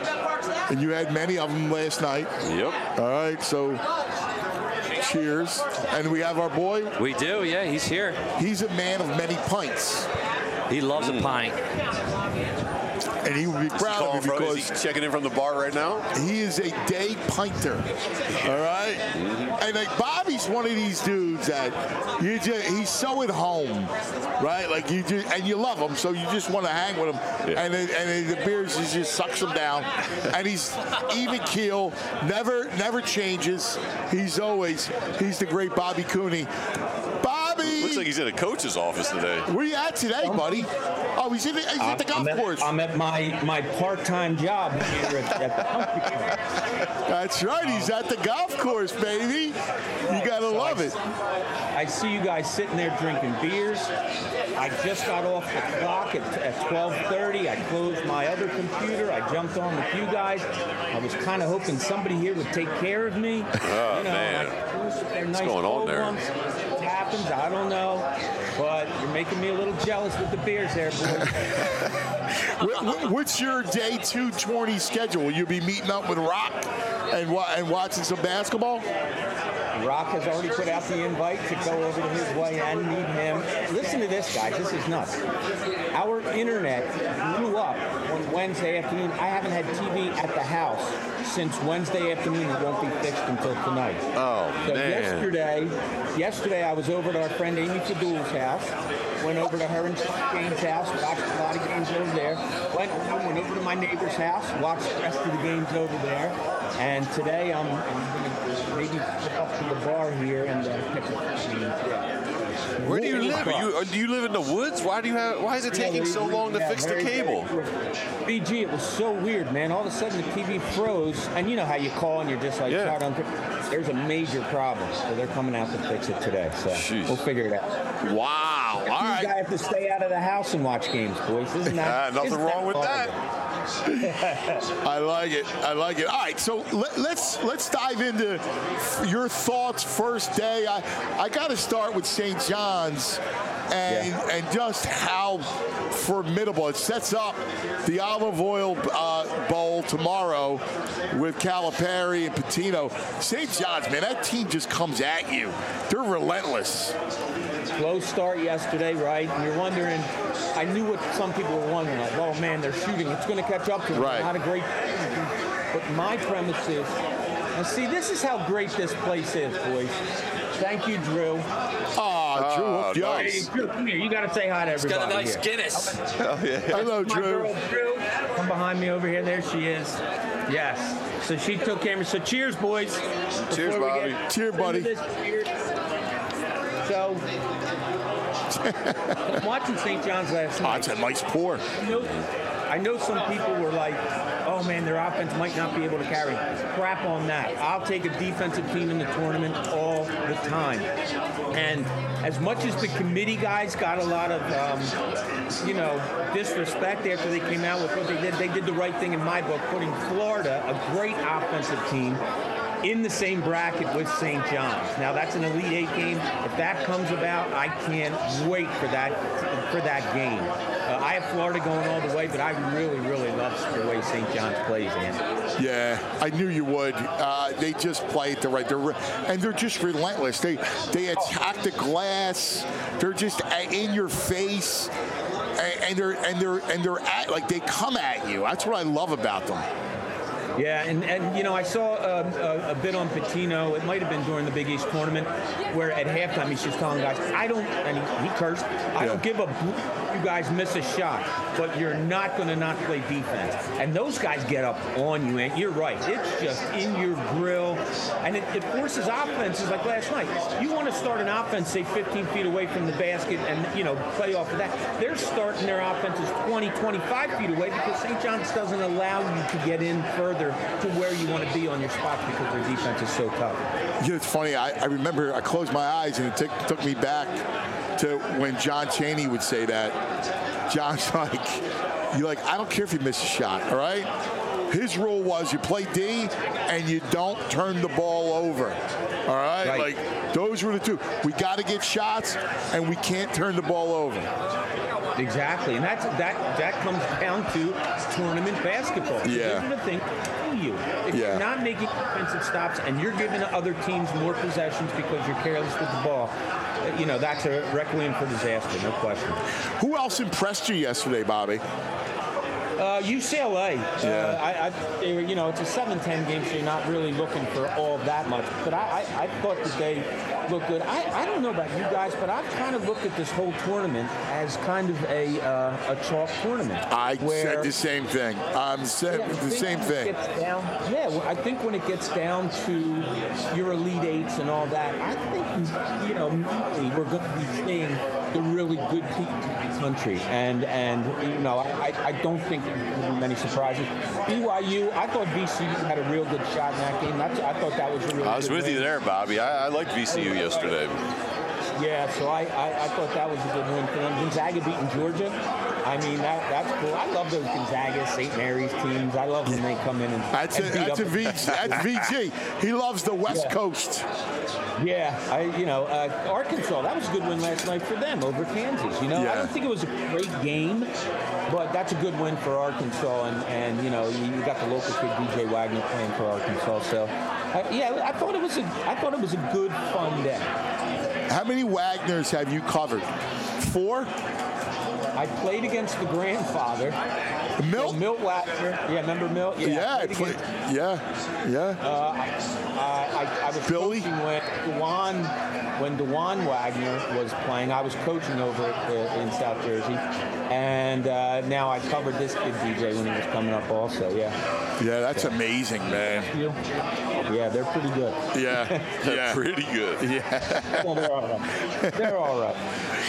And you had many of them last night. Yep. All right, so cheers. And we have our boy. We do, yeah, he's here. He's a man of many pints. He loves Mm. a pint. And he would be proud Call of him, me bro. because Is he checking in from the bar right now? he is a day pinter, all right? Mm-hmm. And like Bobby's one of these dudes that you just, he's so at home, right? Like you just, and you love him, so you just want to hang with him. Yeah. And then, and then the beers just, just sucks him down. And he's even keel, never never changes. He's always he's the great Bobby Cooney. Bobby, Looks like he's in a coach's office today. where you at today, buddy? Oh, he's, in the, he's at the golf I'm at, course. I'm at my, my part-time job here at, at the country club. That's right. He's at the golf course, baby. You gotta love it. I see you guys sitting there drinking beers. I just got off the clock at, at twelve thirty. I closed my other computer. I jumped on with you guys. I was kind of hoping somebody here would take care of me. Oh, you know, man. What's What's going on there? What happens? I don't know. But you're making me a little jealous with the beers there, boys. Wh- wh- What's your day two tourney schedule? Will you be meeting up with Rock and wa- and watching some basketball? Rock has already put out the invite to go over to his way and meet him. Listen to this, guys. This is nuts. Our internet blew up on Wednesday afternoon. I haven't had T V at the house since Wednesday afternoon. It won't be fixed until tonight. Oh, So man. yesterday, yesterday I was over to our friend Amy Fadul's house. Went over to her and James' house, watched a lot of games over there. Went, went over to my neighbor's house, watched the rest of the games over there. And today I'm, I'm going to maybe go up to the bar here and uh, catch a few games. Yeah. Where do you live? Are you, uh, do you live in the woods? Why do you have? Why is it taking so long to Yeah, fix the very, cable? very- B G, it was so weird, man. All of a sudden the T V froze, and you know how you call and you're just like, Yeah. "Try to-" there's a major problem, so they're coming out to fix it today. So Jeez. we'll figure it out. Wow. All You right. guys have to stay out of the house and watch games, boys. Isn't that? Ah, nothing isn't wrong with horrible? I like it. I like it. All right, so let, let's let's dive into your thoughts first day. I I got to start with Saint John's and Yeah. and just how formidable it sets up the Olive Oil uh, Bowl tomorrow with Calipari and Patino. Saint John's, man, that team just comes at you. They're relentless. Slow start yesterday, right? And you're wondering, I knew what some people were wondering, like, oh man, they're shooting. It's going to catch up to them. Right. Not a great. But my premise is, Now, see, this is how great this place is, boys. Thank you, Drew. Oh, Drew, Oh, hooked you up. nice. Hey, Drew, come here. You got to say hi to He's everybody. got a nice here. Guinness. Oh, yeah. Hello, My Drew. girl, Drew. Come behind me over here. There she is. Yes. So she took camera. So cheers, boys. Cheers, Before we Bobby. get Cheers, into buddy. this, cheers. So, I'm watching Saint John's last Oh, night. it's a nice pour. I know, I know some people were like, oh man, their offense might not be able to carry. Crap on that. I'll take a defensive team in the tournament all the time. And as much as the committee guys got a lot of, um, you know, disrespect after they came out with what they did, they did the right thing in my book, putting Florida, a great offensive team, in the same bracket with Saint John's. Now that's an Elite Eight game. If that comes about, I can't wait for that for that game. Uh, I have Florida going all the way, but I really, really love the way Saint John's plays, man. Yeah, I knew you would. Uh, they just play it the right. They're re- and they're just relentless. They they attack the glass. They're just in your face, and, and they're and they're and they're at like they come at you. That's what I love about them. Yeah, and, and you know, I saw um, a, a bit on Patino. It might have been during the Big East tournament, where at halftime he's just telling guys, "I don't," and he, he cursed. I Yeah. don't give a bl- you guys miss a shot, but you're not going to not play defense. And those guys get up on you, and you're right. It's just in your grill, and it, it forces offenses like last night. You want to start an offense, say fifteen feet away from the basket, and you know play off of that. They're starting their offenses twenty, twenty-five feet away because Saint John's doesn't allow you to get in further to where you want to be on your spots because their defense is so tough. You know, it's funny. I, I remember I closed my eyes and it took took me back to when John Chaney would say that. John's like, you're like, I don't care if you miss a shot, all right? His rule was you play D and you don't turn the ball over, all right? Right. Like, those were the two. We got to get shots and we can't turn the ball over. Exactly, and that's that that comes down to tournament basketball. Yeah. Those are the things that kill you. If Yeah. you're not making defensive stops and you're giving other teams more possessions because you're careless with the ball, uh, you know that's a requiem for disaster, no question. Who else impressed you yesterday, Bobby? Uh, U C L A. Yeah. Uh, I, I, they were, you know, it's a seven ten game, so you're not really looking for all that much. But I, I, I thought that they looked good. I, I don't know about you guys, but I've kind of looked at this whole tournament as kind of a uh, a chalk tournament. I where, said the same thing. Um, said Yeah, I the think same when it thing. gets down, yeah, well, I think when it gets down to your Elite Eights and all that, I think, you know, mainly we're going to be seeing the really good teams in the country. And, and you know, I, I don't think there's going to be many surprises. B Y U, I thought V C U had a real good shot in that game. That's, I thought that was a really I was good with win. you there, Bobby. I, I liked V C U yesterday. Yeah, so I, I, I thought that was a good win for them. Gonzaga beating Georgia. I mean, that that's cool. I love those Gonzaga, Saint Mary's teams. I love when they come in and, That's a, and beat that's a up. V G. That's V G. He loves the West Yeah. Coast. Yeah, I, you know, uh, Arkansas, that was a good win last night for them over Kansas. You know, Yeah. I don't think it was a great game, but that's a good win for Arkansas. And, and you know, you, you got the local kid D J Wagner playing for Arkansas. So, uh, yeah, I thought it was a, I thought it was a good, fun day. How many Wagners have you covered? Four? I played against the grandfather. Milt? So Milt Wagner. Yeah, remember Milt? Yeah. Yeah, I I played play, against- yeah, yeah. Uh, I, I, I was Billy? coaching when Dewan, when Dewan Wagner was playing. I was coaching over uh, in South Jersey, and uh, now I covered this kid D J when he was coming up also. Yeah. yeah, that's amazing, man. Yeah, they're pretty good. Yeah, yeah. Pretty good. Yeah. Well, they're all right. They're all right.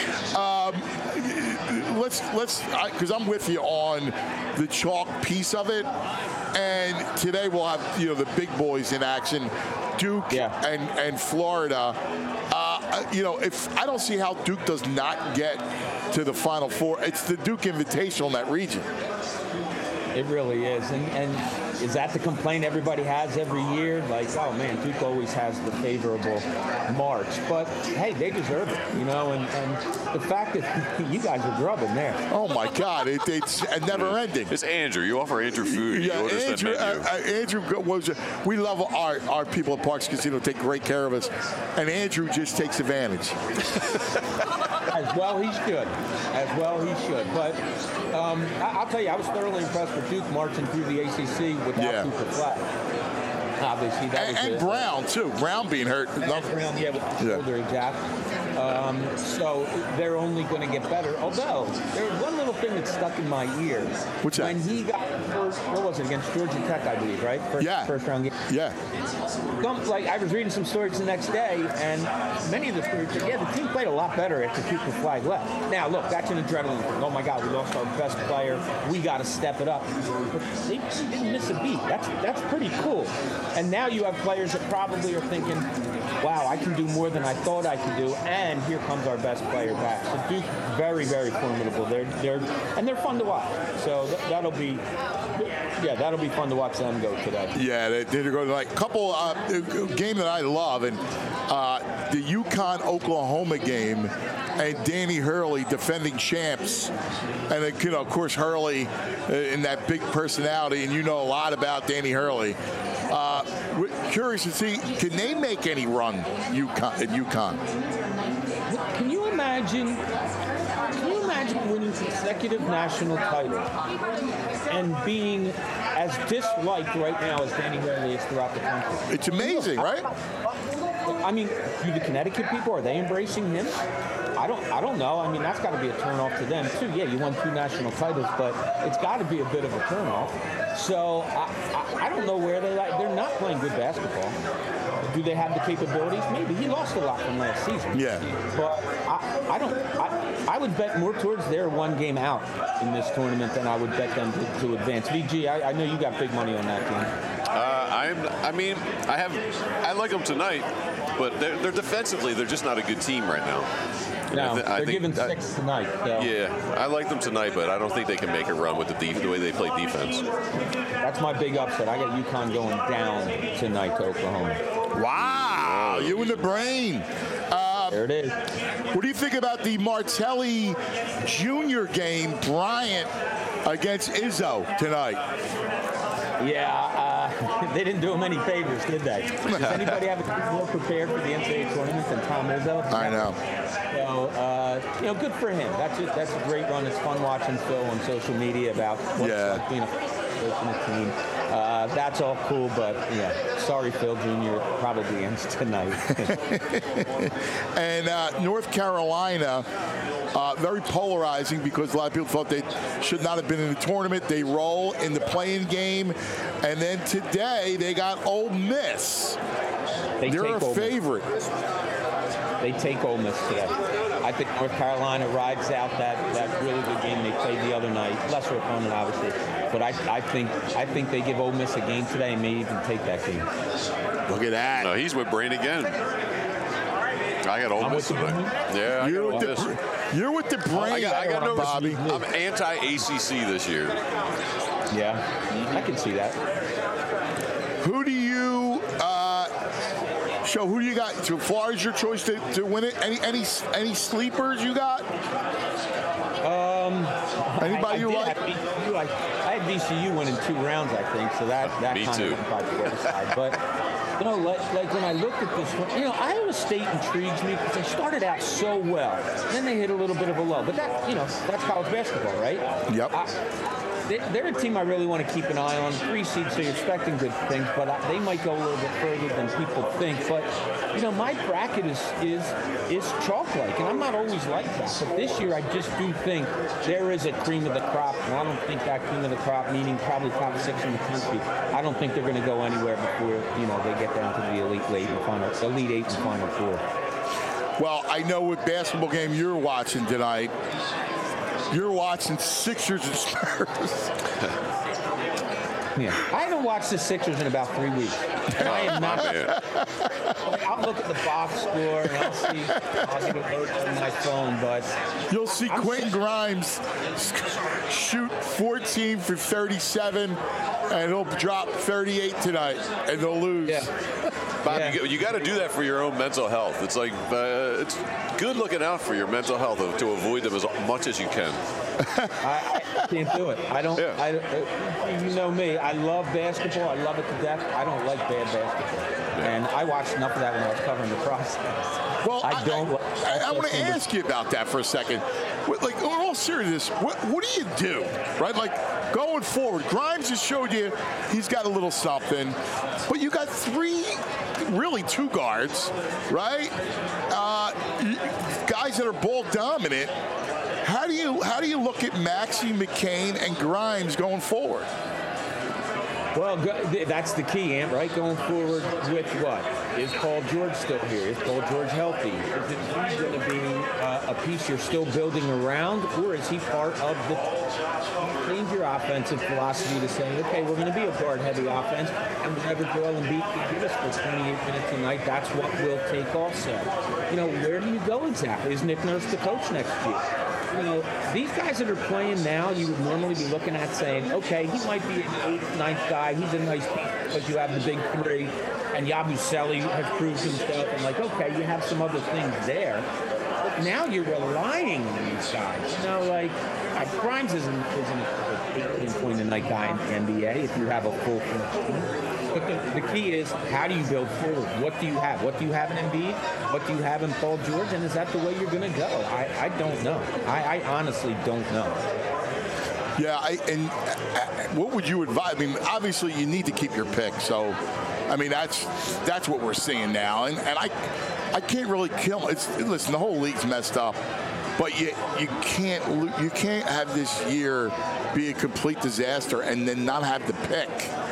let's let's because I'm with you on the chalk piece of it, and today we'll have you know the big boys in action, Duke Yeah. and and Florida. Uh, you know, if I don't see how Duke does not get to the Final Four, it's the Duke Invitational in that region. It really is. And, and is that the complaint everybody has every year? Like, oh, man, Duke always has the favorable march. But, hey, they deserve it, you know, and, and the fact that you guys are grubbing there. Oh, my God. It, it's never ending. It's Andrew. You offer Andrew food. Yeah, you order some Andrew, menu. uh, uh, Andrew was. We love our, our people at Parks Casino, take great care of us. And Andrew just takes advantage. As well he should. As well he should. But um, I, I'll tell you, I was thoroughly impressed with Duke marching through the A C C without Yeah. Cooper Flag. obviously. That And, was and a- Brown, too. Brown being hurt. And Brown, yeah, with the Yeah. shoulder, exactly. Um, so they're only going to get better. Although, there's one little thing that stuck in my ear. What's that? When he got the first, what was it, against Georgia Tech, I believe, right? First, Yeah. First round game. Yeah. Some- Like, I was reading some stories the next day, and many of the stories said, yeah, the team played a lot better after Cooper Flag left. Now, look, that's an adrenaline thing. Oh, my God, we lost our best player. We got to step it up. But they didn't miss a beat. That's, that's pretty cool. And now you have players that probably are thinking, wow, I can do more than I thought I could do, and here comes our best player back. So Duke, very, very formidable. They're, they're, and they're fun to watch. So th- that'll be, yeah, that'll be fun to watch them go today. Yeah, they did go like couple uh, game that I love, and uh, the UConn Oklahoma game, and Danny Hurley defending champs, and uh, you know, of course, Hurley uh, in that big personality, and you know a lot about Danny Hurley. Uh, we're curious to see, can they make any run UConn, at UConn? Can you imagine? Can you imagine winning consecutive national titles and being as disliked right now as Danny Hurley is throughout the country? It's amazing, right? I mean, do the Connecticut people, are they embracing him? I don't I don't know. I mean, that's got to be a turnoff to them, too. Yeah, you won two national titles, but it's got to be a bit of a turnoff. So I, I, I don't know where they like. They're not playing good basketball. Do they have the capabilities? Maybe. He lost a lot from last season. Yeah. But I, I don't. I, I would bet more towards their one game out in this tournament than I would bet them to, to advance. V G, I, I know you got big money on that team. Uh, I'm. I mean, I have. I like them tonight, but they're, they're defensively. They're just not a good team right now. No, I th- I they're think giving that- six tonight. So. Yeah, I like them tonight, but I don't think they can make a run with the, def- the way they play defense. That's my big upset. I got UConn going down tonight to Oklahoma. Wow, you in the brain. Uh, there it is. What do you think about the Martelli Junior game, Bryant against Izzo tonight? Yeah, uh, they didn't do him any favors, did they? Does anybody have a more prepared for the N C double A tournament than Tom Izzo? I know. So, uh, you know, good for him. That's a, that's a great run. It's fun watching Phil on social media about what Yeah. it's like being a coach in a team. Uh, that's all cool, but yeah, sorry, Phil Junior probably ends tonight. And uh, North Carolina, uh, very polarizing because a lot of people thought they should not have been in the tournament. They roll in the play-in game. And then today they got Ole Miss. They They're take a Ole Miss. favorite. They take Ole Miss today. I think North Carolina rides out that, that really good game they played the other night. Lesser opponent, obviously. But I, I think I think they give Ole Miss a game today and may even take that game. Look at that. No, he's with Brain again. I got Ole I'm Miss with the tonight. Yeah, I You're got with, Ole Miss. the, you're with the brain, I got, I got no Bobby. I'm anti-A C C this year. Yeah, I can see that. Who do you uh, show? Who do you got? So Florida's your choice to, to win it. Any any any sleepers you got? Um, Anybody I, I you did like? have B C U. I, I had B C U winning two rounds, I think, so that, that Me kind too. of went by the wayside. But, you know, like, like when I looked at this one, you know, Iowa State intrigues me because they started out so well. Then they hit a little bit of a lull. But that, you know, that's college basketball, right? Yep. I, they, they're a team I really want to keep an eye on. Three seeds, so you're expecting good things, but I, they might go a little bit further than people think. But, you know, my bracket is is is chalk-like, and I'm not always like that. But this year, I just do think there is a cream of the crop, and I don't think that cream of the crop, meaning probably top six in the country, I don't think they're going to go anywhere before, you know, they get down to the elite eight and final, elite eight and final four. Well, I know what basketball game you're watching tonight. You're watching Sixers and Spurs. Yeah, I haven't watched the Sixers in about three weeks. And I am not. I'll look at the box score and I'll see. I'll get a note on my phone, but You'll see I'm Quentin so- Grimes shoot fourteen for thirty-seven, and he'll drop thirty-eight tonight, and they'll lose. Yeah. Bob, Yeah. you, you got to do that for your own mental health. It's like uh, it's good looking out for your mental health to avoid them as much as you can. I, I can't do it. I don't. Yeah. I, uh, you know me. I love basketball. I love it to death. I don't like bad basketball. And I watched enough of that when I was covering the process. Well, I don't. I, I, I want to ask you about that for a second. What, like, in all seriousness, what, what do you do, right? Like, going forward, Grimes has showed you he's got a little something, but you got three, really two guards, right? Uh, guys that are ball dominant. How do you how do you look at Maxey, McCain, and Grimes going forward? Well, that's the key, Ant, right? Going forward with what? Is Paul George still here? Is Paul George healthy? Is it going to be uh, a piece you're still building around, or is he part of the change your offensive philosophy to say, okay, we're going to be a guard-heavy offense, and whatever Joel Embiid can give us for twenty-eight minutes a night, that's what we'll take also. You know, where do you go exactly? Is Nick Nurse the coach next year? You know, these guys that are playing now, you would normally be looking at saying, okay, he might be an eighth, ninth guy. He's a nice piece because you have the big three, and Yabusele has proved himself. And like, okay, you have some other things there. But now you're relying on these guys. You know, like, uh, Grimes isn't, isn't a eighteen-point-a-night guy in the N B A if you have a full team. But the, the key is, how do you build forward? What do you have? What do you have in Embiid? What do you have in Paul George? And is that the way you're going to go? I, I don't know. I, I honestly don't know. Yeah, I, and uh, what would you advise? I mean, obviously you need to keep your pick. So, I mean, that's that's what we're seeing now. And, and I I can't really kill. It's listen, the whole league's messed up. But you you can't you can't have this year be a complete disaster and then not have the pick.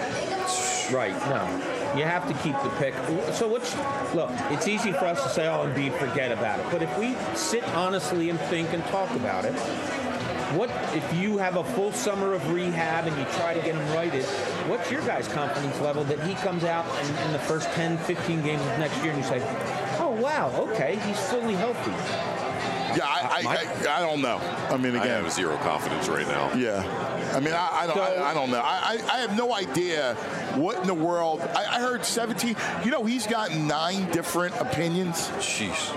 Right, no. You have to keep the pick. So what's, look, it's easy for us to say, oh, Embiid, forget about it. But if we sit honestly and think and talk about it, what if you have a full summer of rehab and you try to get him righted, what's your guy's confidence level that he comes out in, in the first ten, fifteen games of next year and you say, oh, wow, okay, he's fully healthy. Yeah, I, I, I, I don't know. I mean, again, I have zero confidence right now. Yeah, I mean, I, I don't, I, I don't know. I, I have no idea what in the world. I, I heard seventeen. You know, he's got nine different opinions. Jeez.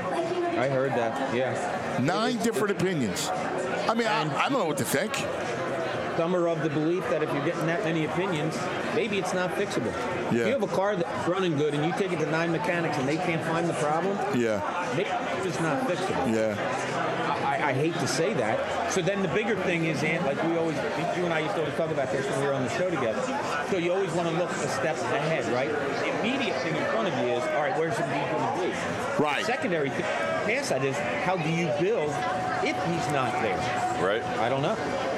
I heard that. Yeah. Nine different opinions. I mean, I, I don't know what to think. Some are of the belief that if you're getting that many opinions, maybe it's not fixable. Yeah. If you have a car that's running good and you take it to nine mechanics and they can't find the problem, yeah, maybe it's just not fixable. Yeah. I, I hate to say that. So then the bigger thing is, Ant, like we always, you and I used to always talk about this when we were on the show together. So you always want to look a step ahead, right? The immediate thing in front of you is, all right, where's Embiid going to be? Right. The secondary thing past that is, how do you build if he's not there? Right. I don't know.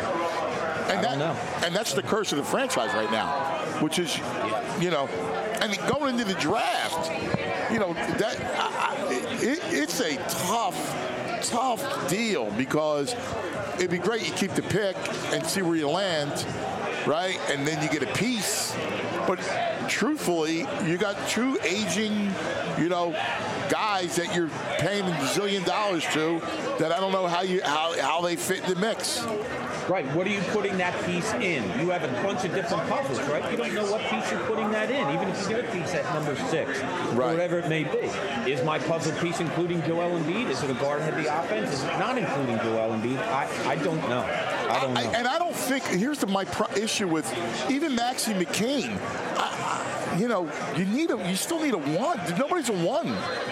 And I that, don't know. And that's the curse of the franchise right now, which is, you know, and going into the draft, you know, that I, I, it, it's a tough, tough deal because it'd be great you keep the pick and see where you land, right? And then you get a piece. But truthfully, you got two aging, you know, guys that you're paying a zillion dollars to that I don't know how you how, how they fit in the mix. Right. What are you putting that piece in? You have a bunch of different puzzles, right? You don't know what piece you're putting that in, even if you get a piece at number six, right, or whatever it may be. Is my puzzle piece including Joel Embiid? Is it a guard-heavy offense? Is it not including Joel Embiid? I, I don't know. I don't know. I, and I don't think, here's the, my pro- issue with even Maxey McCain. I, I, you know, you need a, you still need a one. Nobody's a one.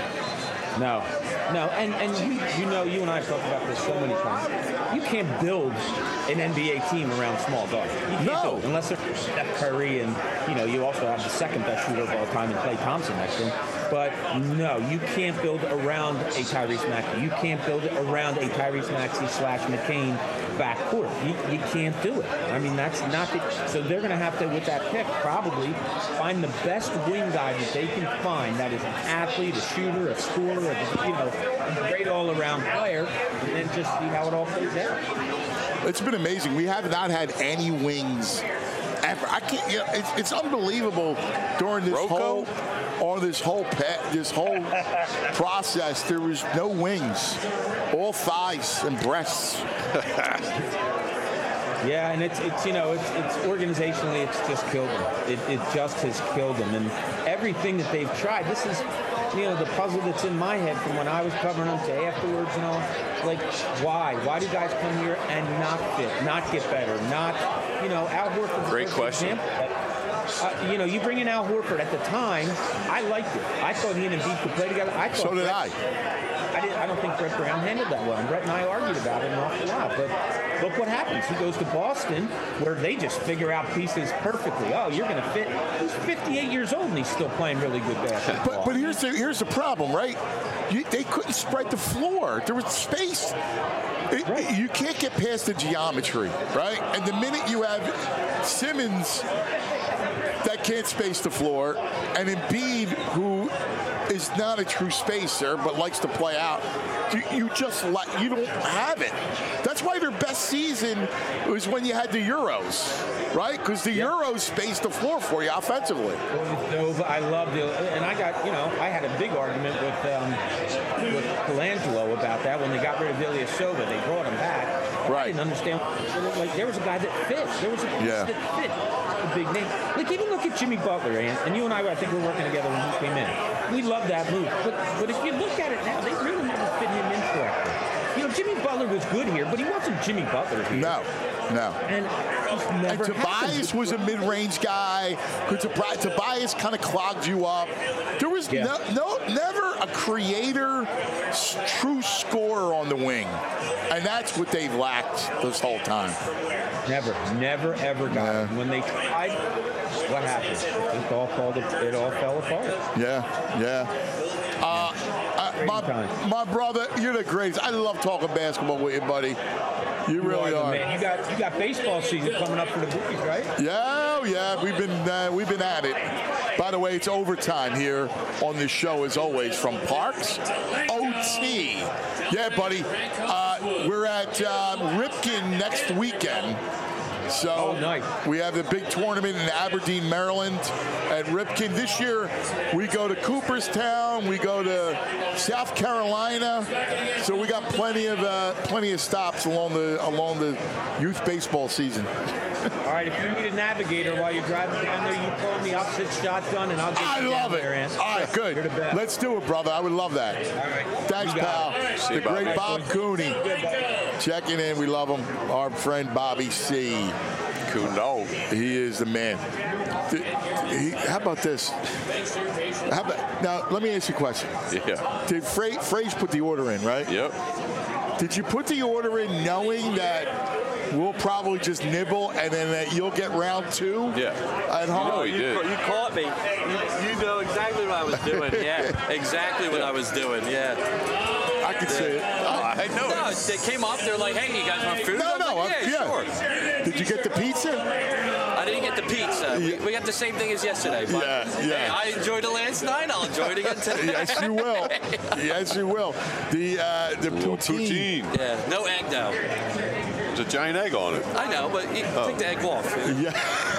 No, no, and and you, you know, you and I have talked about this so many times. You can't build an N B A team around small guards. You can't no. build, unless they're Steph Curry, and you know, you also have the second best shooter of all time in Klay Thompson next to him. But no, you can't build around a Tyrese Maxey. You can't build it around a Tyrese Maxey slash McCain backcourt. You, you can't do it. I mean, that's not the. So they're going to have to, with that pick, probably find the best wing guy that they can find that is an athlete, a shooter, a scorer, a, you know, a great all-around player, and then just see how it all plays out. It's been amazing. We have not had any wings ever. I can't. You know, it's, it's unbelievable during this Rocco? whole. Or this whole pet, this whole process, there was no wings, all thighs and breasts. Yeah, and it's it's you know it's it's organizationally it's just killed them. It it just has killed them, and everything that they've tried. This is, you know, the puzzle that's in my head from when I was covering them to afterwards and all. Like, why? Why do guys come here and not fit, not get better, not, you know, Al Horford? Great question. Example. Uh, you know, you bring in Al Horford. At the time, I liked it. I thought he and Embiid could play together. I thought So did Brett, I. I, didn't, I don't think Brett Brown handled that well. And Brett and I argued about it an awful lot. But look what happens. He goes to Boston, where they just figure out pieces perfectly. Oh, you're going to fit. He's fifty-eight years old, and he's still playing really good basketball. But, but here's the here's the problem, right? You, they couldn't spread the floor. There was space. It, Right. You can't get past the geometry, right? And the minute you have Simmons that can't space the floor, and Embiid, who is not a true spacer but likes to play out, you, you just like you don't have it. That's why their best season was when you had the Euros, right? Because the Euros spaced the floor for you offensively. No, but I loved it, and I got you know I had a big argument with um, with Colangelo about that when they got rid of Ilyasova. They brought him back. Right. I didn't understand. Like there was a guy that fit. There was a piece Yeah. that fit. A big name. Like even look at Jimmy Butler, and, and you and I, I think we're working together when he came in. We love that move, but but if you look at it now, they really never fit him in correctly. You know, Jimmy Butler was good here, but he wasn't Jimmy Butler here. No, no. And he's never And Tobias was a mid-range guy. Who Tobias, Tobias kind of clogged you up. There was Yeah. no, no, never a creator, s- true scorer on the wing, and that's what they've lacked this whole time. Never, never, ever got Yeah. it. When they tried, what happened? It all fell. It all fell apart. Yeah, yeah. Uh, uh, my, time. my brother, you're the greatest. I love talking basketball with you, buddy. You really the are. man. You got you got baseball season coming up for the Bookies, right? Yeah, oh, yeah, we've been uh, we've been at it. By the way, it's overtime here on this show, as always, from Parks O T. Yeah, buddy, uh, we're at uh, Ripken next weekend. So Oh, nice. we have the big tournament in Aberdeen, Maryland, at Ripken. This year, we go to Cooperstown, we go to South Carolina. So we got plenty of uh, plenty of stops along the along the youth baseball season. All right, if you need a navigator while you're driving down there, you call me. I'll sit shotgun and I'll get I you love down it. there, Ant. All right, good. You're the best. Let's do it, brother. I would love that. All right. Thanks, You got pal. it. See The you, Bobby. great Bob Cooney checking in. We love him. Our friend Bobby C. Kuno. He is the man. Th- he- how about this? How about, now, let me ask you a question. Yeah. Did Fra- Frage put the order in, right? Yep. Did you put the order in knowing that we'll probably just nibble and then that you'll get round two? Yeah. At home? know he you, did. ca- you caught me. You, you know exactly what I was doing. Yeah, exactly what I was doing. Yeah. I could see it. I know. No, they came up. They're like, "Hey, you guys want food?" No, I was no, like, I- yeah, yeah. sure. Did you get the pizza? I didn't get the pizza. We, we got the same thing as yesterday. But Yeah, yeah. Hey, I enjoyed it last night. I'll enjoy it again today. Yes, you will. Yes, you will. The uh, the poutine. Poutine. Yeah, no egg though. There's a giant egg on it. I know, but you Oh. take the egg off. Yeah.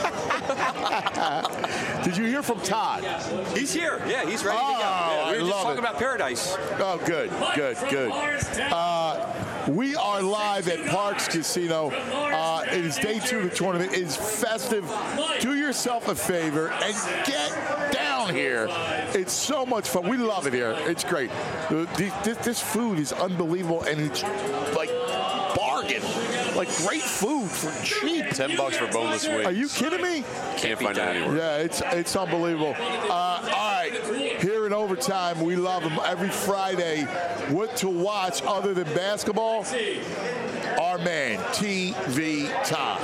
Did you hear from Todd? He's here. Yeah, he's ready to go. Oh, Yeah, we I were just love talking it. about Paradise. Oh, good, good, good. Uh, we are live at Parks Casino. Uh, it is day two of the tournament. It is festive. Do yourself a favor and get down here. It's so much fun. We love it here. It's great. Uh, the- This, this food is unbelievable, and it's like bargain. Like great food for cheap. Ten bucks for boneless wings. Are you kidding me? Can't find it anywhere. Yeah, it's it's unbelievable. Uh, all right, here in overtime, we love them every Friday. What to watch other than basketball? Our man, T V Todd.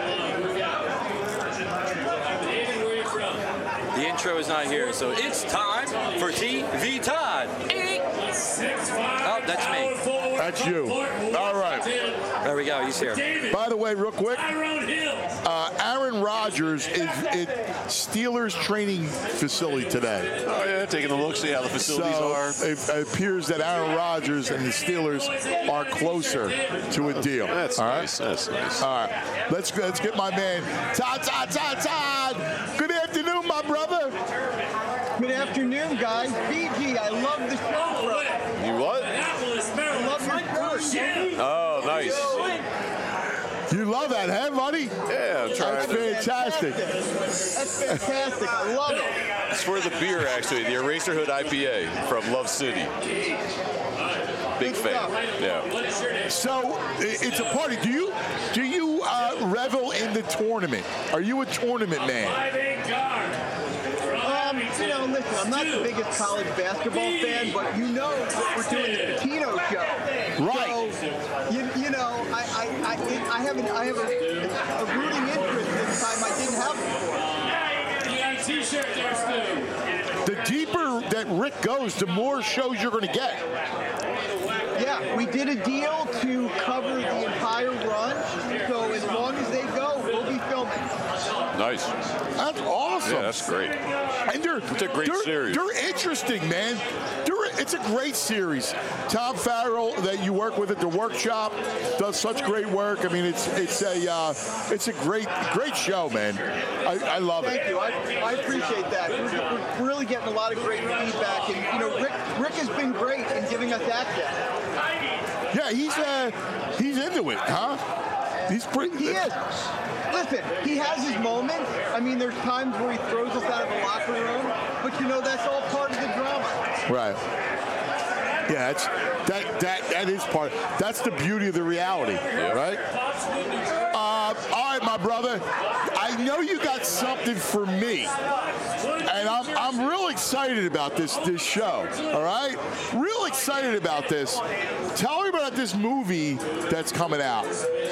The intro is not here, so it's time for T V Todd. Oh, that's me. That's you. All right. There we go. He's here. By the way, real quick, uh, Aaron Rodgers is at Steelers training facility today. Oh yeah, taking a look, see how the facilities So are. it, it appears that Aaron Rodgers and the Steelers are closer to a deal. That's All right? nice. That's nice. All right, let's let's get my man Todd, Todd, Todd, Todd. Good afternoon, my brother. Good afternoon, guys. B G, I love the show, bro. You what? I love your first. Oh, nice. You love that, huh, buddy? Yeah, I'm trying That's to. fantastic. That's fantastic. I love it. It's for the beer, actually, the Eraserhood I P A from Love City. Big fan. Yeah. So i- it's a party. Do you do you you uh, revel in the tournament? Are you a tournament man? Um, you know, listen, I'm not the biggest college basketball fan, but you know what we're doing the Patino show. Right. So, you, you know, I I, I, I have, an, I have a, a rooting interest this time I didn't have before. You got a t-shirt there, Stu. The deeper that Rick goes, the more shows you're going to get. Yeah, we did a deal to cover the entire run, so as long as they go, we'll be filming. Nice. That's awesome. Yeah, that's great. And they're, it's a great they're, series. They're interesting, man. They're, it's a great series. Tom Farrell, that you work with at the workshop, does such great work. I mean, it's it's a uh, it's a great great show, man. I, I love Thank it. you. I, I appreciate that. We're, we're really getting a lot of great feedback, and you know, Rick Rick has been great in giving us access. Yeah, he's uh, he's into it, huh? He's pretty. He is. Listen, he has his moments. I mean, there's times where he throws us out of the locker room, but you know that's all part of the drama. Right. Yeah, that's that that that is part. That's the beauty of the reality, right? Uh, all right, my brother. I know you got something for me, and I'm I'm real excited about this this show. All right, real excited about this. Tell me about this movie that's coming out.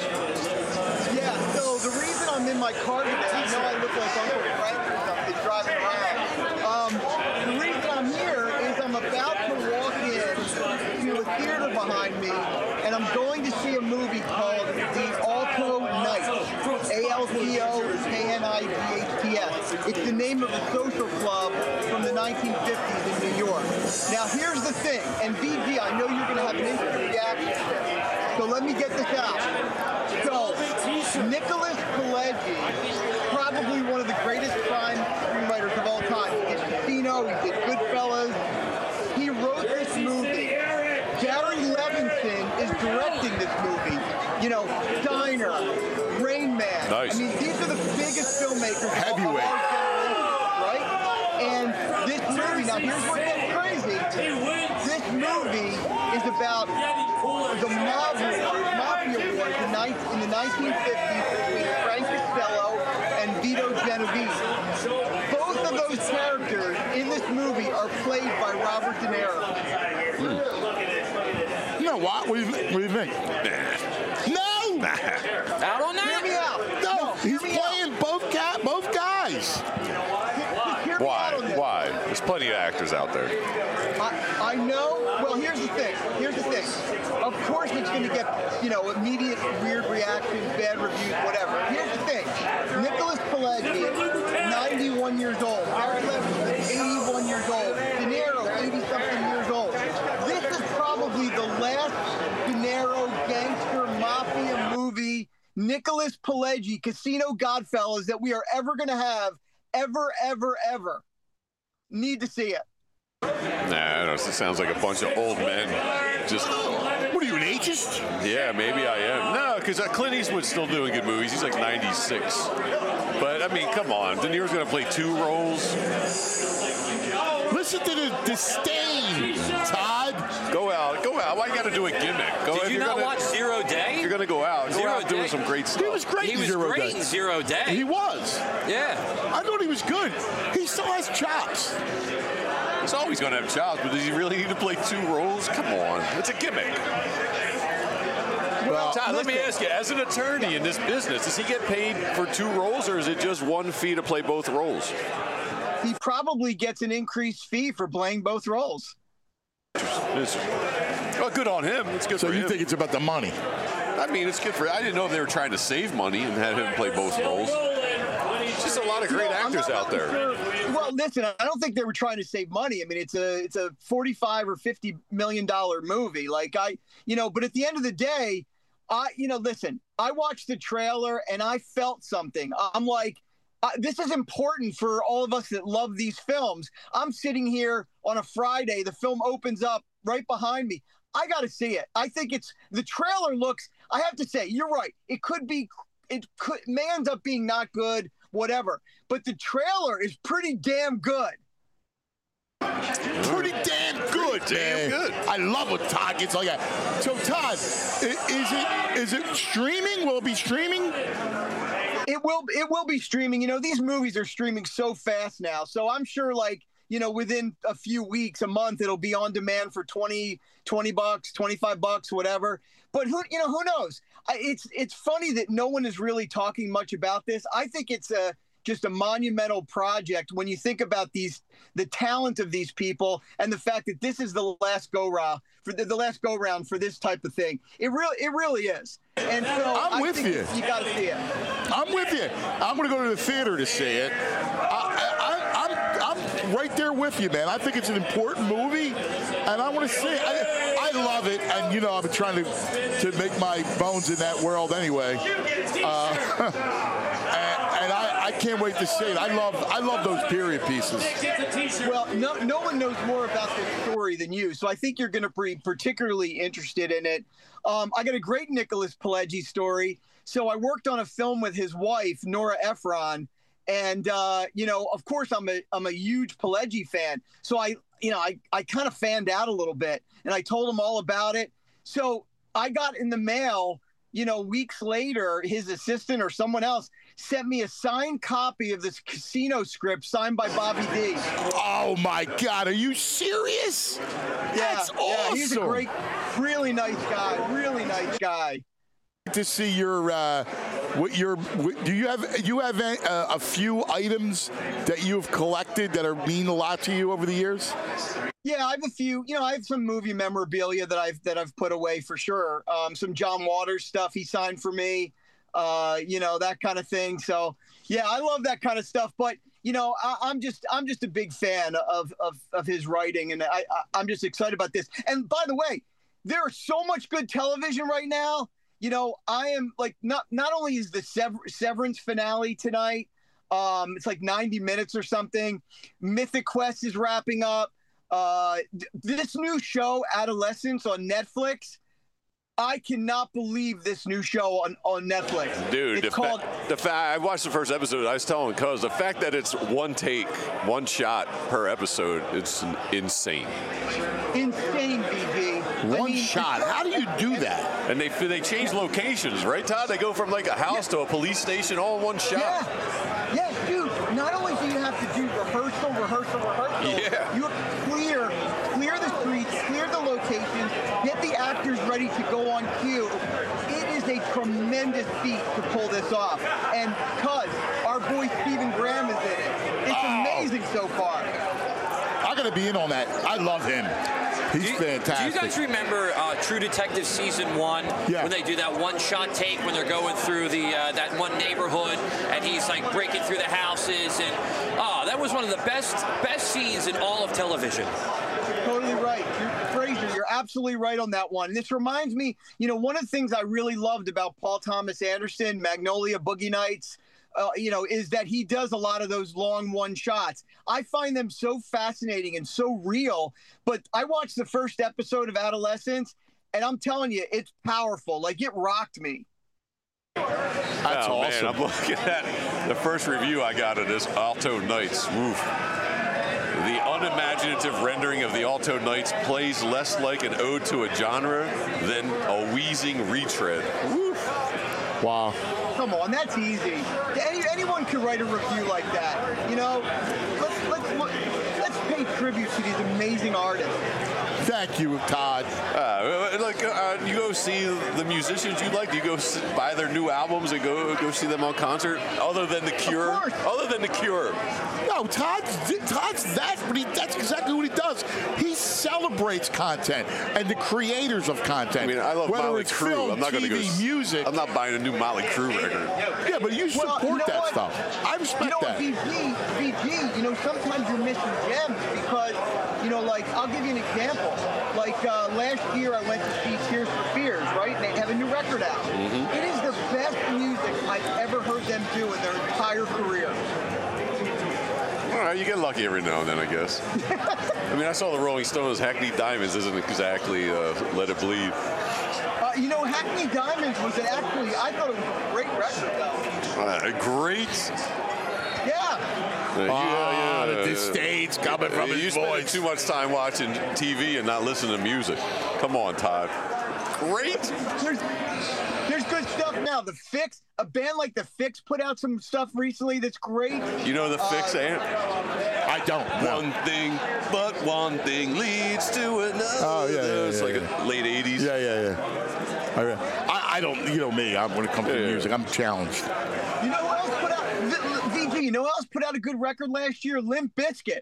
Yeah. So the reason I'm in my car today, I know I look like Uncle Frank or something driving around. Um, the reason I'm here is I'm about to walk in to a theater behind me, and I'm going to see a movie called The Alto Knights. A L T O K N I G H T S. It's the name of a social club from the nineteen fifties in New York. Now, here's the thing, and V G, I know you're going to have an instant reaction, so let me get this out. So, Nicholas Pileggi, probably one of the greatest crime screenwriters of all time. He did Casino, he did Goodfellas. He wrote this movie. Gary Levinson is directing this movie. You know, Diner, Rain Man. Nice. I mean, these are the biggest filmmakers Heavyweight. of our generation, right? And this movie, now here's what gets crazy. This movie is about the mob wars, mafia wars in, in the nineteen fifties between Frank Costello and Vito Genovese. Both of those characters in this movie are played by Robert De Niro. Hmm. You know what? What do you, what do you think? No! I don't know. Hear me out. No, No, he's hear me playing both ga- both guys. Just hear me Why? out on this. Why? There's plenty of actors out there. I, I know. Well, here's the thing. Here's the thing. Of course, it's going to get, you know, immediate weird reactions, bad reviews, whatever. Here's the thing. Nicholas Pileggi, ninety-one years old. Gary Levinson, eighty-one years old. De Niro, eighty-something years old. This is probably the last De Niro gangster mafia movie, Nicholas Pileggi, Casino, Godfellas, that we are ever going to have, ever, ever, ever. Need to see it. Nah, I don't know. It sounds like a bunch of old men. Just. What are you, an ageist? Yeah, maybe I am. No, because Clint Eastwood's still doing good movies. He's like ninety-six. But, I mean, come on. De Niro's going to play two roles. Listen to the disdain, Todd. Go out. Go out. Why you got to do a gimmick? Go, Did if you you're not gonna, watch Zero Day? You're going to go out. Go Zero out doing Day? some great stuff. He was great He in was Zero great Day. in Zero Day. He was. Yeah. I thought he was good. He still has chops. He's always going to have chops, but does he really need to play two roles? Come on. It's a gimmick. Well, Todd, let me ask you, as an attorney in this business, does he get paid for two roles, or is it just one fee to play both roles? He probably gets an increased fee for playing both roles. It's, well, good on him. It's good So for you him. think it's about the money? I mean, it's good for. I didn't know if they were trying to save money and had him play both roles. It's just a lot of great No, I'm actors not out there. sure. Well, listen, I don't think they were trying to save money. I mean, it's a it's a forty-five or fifty million dollar movie. Like I, you know, but at the end of the day, I, you know, listen, I watched the trailer and I felt something. I'm like, uh, this is important for all of us that love these films. I'm sitting here on a Friday. The film opens up right behind me. I got to see it. I think it's the trailer looks. I have to say, you're right. It could be. It could may end up being not good. Whatever. But the trailer is pretty damn good. Pretty damn good, damn man. good. I love what Todd gets like that. So, Todd, i- is it is it streaming? Will it be streaming? It will it will be streaming. You know, these movies are streaming so fast now. So I'm sure like, you know, within a few weeks, a month, it'll be on demand for twenty, twenty bucks, twenty-five bucks, whatever. But who, you know, who knows? I, it's it's funny that no one is really talking much about this. I think it's a just a monumental project when you think about these the talent of these people and the fact that this is the last go round for the, the last go round for this type of thing. It really it really is. And so I'm I with think you. You got to see it. I'm with you. I'm going to go to the theater to see it. I, I, I'm, I'm right there with you, man. I think it's an important movie, and I want to see it. I, I love it, and, you know, I've been trying to, to make my bones in that world anyway. Uh, and and I, I can't wait to see it. I love I love those period pieces. Well, no, no one knows more about this story than you, so I think you're going to be particularly interested in it. Um, I got a great Nicholas Pileggi story. So I worked on a film with his wife, Nora Ephron, and uh, you know, of course, I'm a I'm a huge Pileggi fan. So I, you know, I I kind of fanned out a little bit, and I told him all about it. So I got in the mail, you know, weeks later, his assistant or someone else sent me a signed copy of this Casino script signed by Bobby D. Oh my God, are you serious? Yeah, That's yeah, awesome. he's a great, really nice guy, really nice guy. To see your, uh, what your, what, do you have you have a, a few items that you have collected that are mean a lot to you over the years? Yeah, I have a few. You know, I have some movie memorabilia that I've that I've put away for sure. Um, some John Waters stuff he signed for me. Uh, you know, that kind of thing. So yeah, I love that kind of stuff. But you know, I, I'm just I'm just a big fan of of, of his writing, and I, I I'm just excited about this. And by the way, there is so much good television right now. You know, I am like not not only is the Sever- Severance finale tonight. Um, it's like ninety minutes or something. Mythic Quest is wrapping up. Uh, th- this new show, Adolescence, on Netflix. I cannot believe this new show on, on Netflix. Dude, it's the, called. fa- the fact I watched the first episode, I was telling Cuz the fact that it's one take, one shot per episode, it's insane. Insane, B G. One I mean, shot. How do you do that? And they they change locations, right, Todd? They go from like a house yeah. to a police station all in one shot. Yeah, yeah, dude. Not only do you have to do rehearsal, rehearsal, rehearsal. Yeah. You have to clear, clear the streets, clear the locations, get the actors ready to go on cue. It is a tremendous feat to pull this off. And cuz our boy Stephen Graham is in it. It's oh. amazing so far. I'm gonna be in on that. I love him. He's do you, fantastic. Do you guys remember uh, True Detective season one? Yeah. When they do that one-shot take when they're going through the uh, that one neighborhood and he's like breaking through the houses and oh, that was one of the best best scenes in all of television. Totally right. You're, Fraser, you're absolutely right on that one. This reminds me, you know, one of the things I really loved about Paul Thomas Anderson, Magnolia, Boogie Nights, uh, you know, is that he does a lot of those long one shots. I find them so fascinating and so real. But I watched the first episode of Adolescence, and I'm telling you, it's powerful. Like, it rocked me. That's oh, awesome. Man, I'm looking at the first review I got of this Alto Knights. Woof. The unimaginative rendering of the Alto Knights plays less like an ode to a genre than a wheezing retread. Woof. Wow. Come on, that's easy. Any, anyone can write a review like that. You know, let's let's look, let's pay tribute to these amazing artists. Thank you, Todd. Uh, like, uh, you go see the musicians you like. Do you go see, buy their new albums and go go see them on concert? Other than The Cure. Other than The Cure. No, Todd's Todd's that's what he that's exactly what he does. He celebrates content and the creators of content. I mean, I love whether Motley it's Crue. film, I'm not going to T go. V, music. I'm not buying a new Motley Crue record. Yeah, but you support well, you know that what? stuff. I respect you know that. You know, B G, B G, you know, sometimes you're missing gems because, you know, like, I'll give you an example. Like, uh, last year I went to see Tears for Fears, right? And they have a new record out. Mm-hmm. It is the best music I've ever heard them do in their entire career. All right, you get lucky every now and then, I guess. I mean, I saw the Rolling Stones. Hackney Diamonds isn't exactly uh, Let It Bleed. Uh, you know, Hackney Diamonds was actually, I thought it was a great record, though. Uh, great. Yeah. Uh, Ah, the disdain's coming from you his spend voice. too much time watching T V and not listening to music. Come on, Todd. Great. There's, there's good stuff now. The Fix, a band like The Fix put out some stuff recently that's great. You know the Fix, Uh, Ant? I don't. No. One thing, but one thing leads to another. Oh, yeah, yeah, It's yeah, like yeah. a late eighties. Yeah, yeah, yeah. I, I, I don't, you know me, I, when it comes Yeah, to yeah. music, I'm challenged. You know who else put out, V- VG, you know who else put out a good record last year? Limp Bizkit.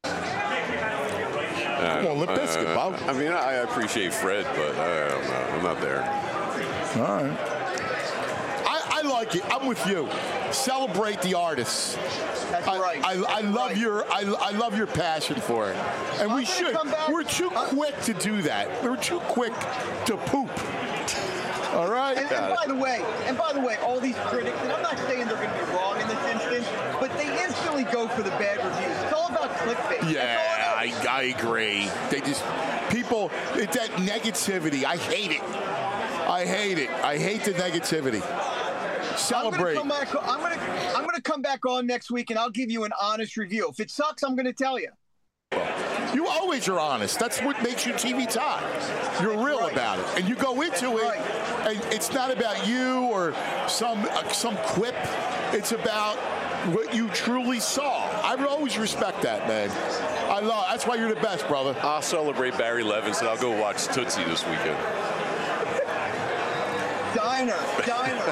Come on, Limp Bizkit, Uh, Bob. I mean, I appreciate Fred, but I don't know. I'm not there. All right. I, I like it. I'm with you. Celebrate the artists. That's I, right. I, I That's love right. your I, I love your passion for it, and I'm we gonna should. come back- We're too quick to do that. We're too quick to poop. All right. And, and by the way, and by the way, all these critics, and I'm not saying they're going to be wrong in this instance, but they instantly go for the bad reviews. It's all about clickbait. That's Yeah, all I, it is. I agree. They just people. It's that negativity. I hate it. I hate it. I hate the negativity. Celebrate. I'm gonna, come back, I'm gonna I'm gonna come back on next week and I'll give you an honest review. If it sucks, I'm gonna tell you. You always are honest. That's what makes you T V Todd. You're real right. about it, and you go into it, right. and it's not about you or some uh, some quip. It's about what you truly saw. I would always respect that, man. I love. That's why you're the best, brother. I'll celebrate Barry Levinson. I'll go watch Tootsie this weekend. Diner, Diner.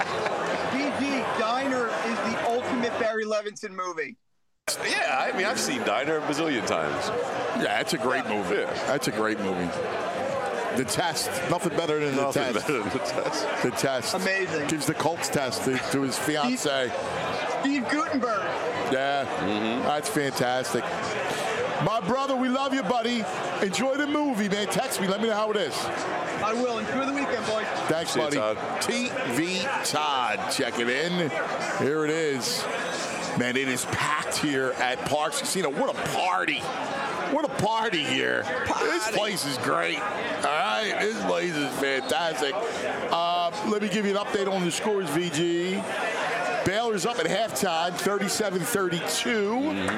B G, Diner is the ultimate Barry Levinson movie. Yeah, I mean, I've seen Diner a bazillion times. Yeah, that's a great movie. Yeah. That's a great movie. The Test. Nothing better than the Nothing test. better than the test. The Test. Amazing. Gives the Colts test to, to his fiance. Steve Gutenberg. Yeah, that's fantastic. My brother, we love you, buddy. Enjoy the movie, man. Text me. Let me know how it is. I will. Enjoy the weekend, boys. Thanks, See you, buddy. Todd. T V Todd, check it in. Here it is. Man, it is packed here at Parks Casino. What a party. What a party here. This place is great. All right, this place is fantastic. Uh, let me give you an update on the scores, V G. Baylor's up at halftime, thirty-seven thirty-two.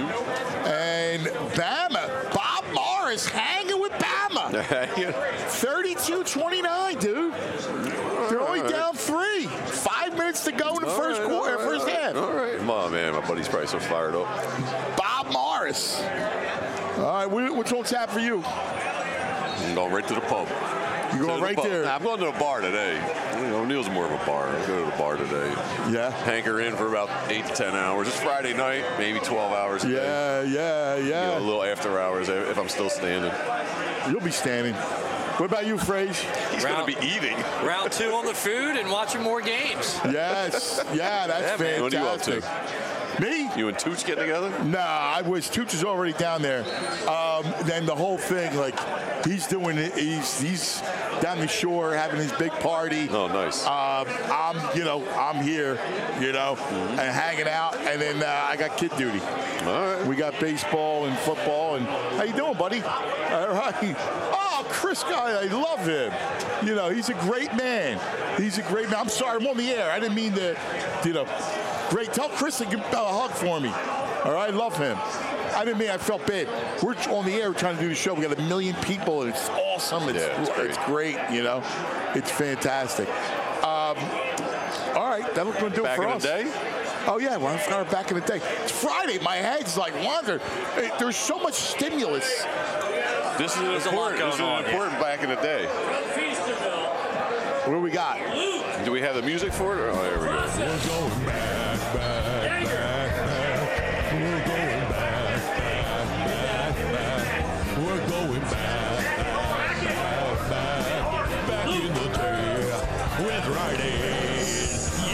And Bama, Bob Morris hanging with Bama. thirty-two twenty-nine, dude. They're only All right. down three. Five minutes to go in the All first right, quarter, all right, first all right, half. All right. Come on, man. My buddy's probably so fired up. Bob Morris. All right, what- what's on tap for you? I'm going right to the pub. You To going the right pub. there? Nah, I'm going to the bar today. You know, Neil's more of a bar. I'll go to the bar today. Yeah. Hanker in for about eight to ten hours. It's Friday night, maybe twelve hours a day. Yeah, yeah, You know, yeah. a little after hours if I'm still standing. You'll be standing. What about you, Frage? He's going to be eating. Round two on the food and watching more games. Yes. Yeah, that's Yeah, man. What are you up fantastic. to? Me? You and Tooch getting together? Nah, I was. Tooch is already down there. Um, then the whole thing, like, he's doing it. He's he's down the shore having his big party. Oh, nice. Um, I'm, you know, I'm here, you know, and hanging out. And then uh, I got kid duty. All right. We got baseball and football. And how you doing, buddy? All right. Oh, Chris guy, I love him. You know, he's a great man. He's a great man. I'm sorry, I'm on the air. I didn't mean to, you know. Great. Tell Chris to give a hug for me. All right, love him. I didn't mean I felt bad. We're on the air we're trying to do the show. We got a million people, and it's awesome. It's, Yeah, it's great. it's great, you know. It's fantastic. Um, all right, that's going to do Back it for in us. the day? Oh, yeah, well, I'm starting back in the day. It's Friday. My head's like wandering. Hey, there's so much stimulus. This is an There's a lot important, going this is an on, yeah. important back in the day. What do we got? Do we have the music for it? Oh, there we go. We're going back, back, back, back. We're going back, back, back, back. We're going back, back, back, back in the day with Riding.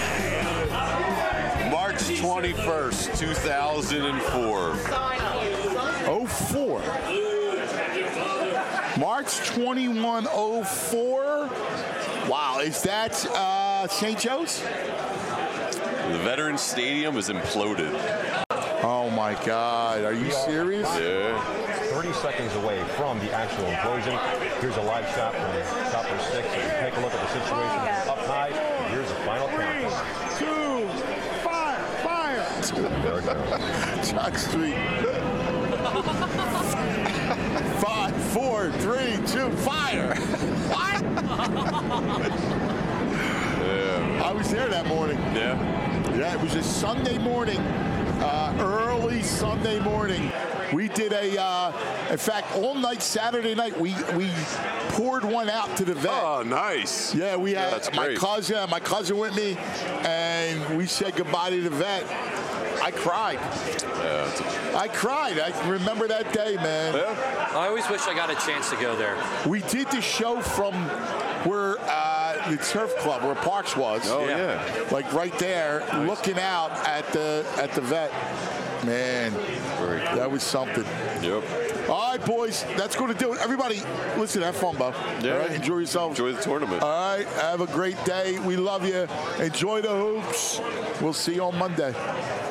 Yeah. March twenty-first, two thousand four. oh four. March twenty-first, oh four. Wow, is that uh, Saint Joe's? The Veterans Stadium is imploded. Oh my God, are you serious? Yeah. thirty seconds away from the actual implosion. Here's a live shot from Chopper six. If you take a look at the situation up high, here's the final count. Two, five, fire. There it John Street. Five, four, three, two, fire. What? Yeah. I was there that morning. Yeah. Yeah, it was a Sunday morning, uh, early Sunday morning. We did a, uh, in fact, all night Saturday night, we we poured one out to the vet. Oh, nice. Yeah, we had Yeah, that's my great. cousin, my cousin with me, and we said goodbye to the vet. I cried. Yeah, it's a- I cried. I remember that day, man. yeah. I always wish I got a chance to go there. We did the show from where uh, the surf club, where Parks was. Oh, yeah. Like right there, looking out at the at the vet. Man, Very cool. that was something. Yep. All right, boys, that's going to do it. Everybody, listen, have fun, Bo. Yeah. All right, enjoy yourselves. Enjoy the tournament. All right, have a great day. We love you. Enjoy the hoops. We'll see you on Monday.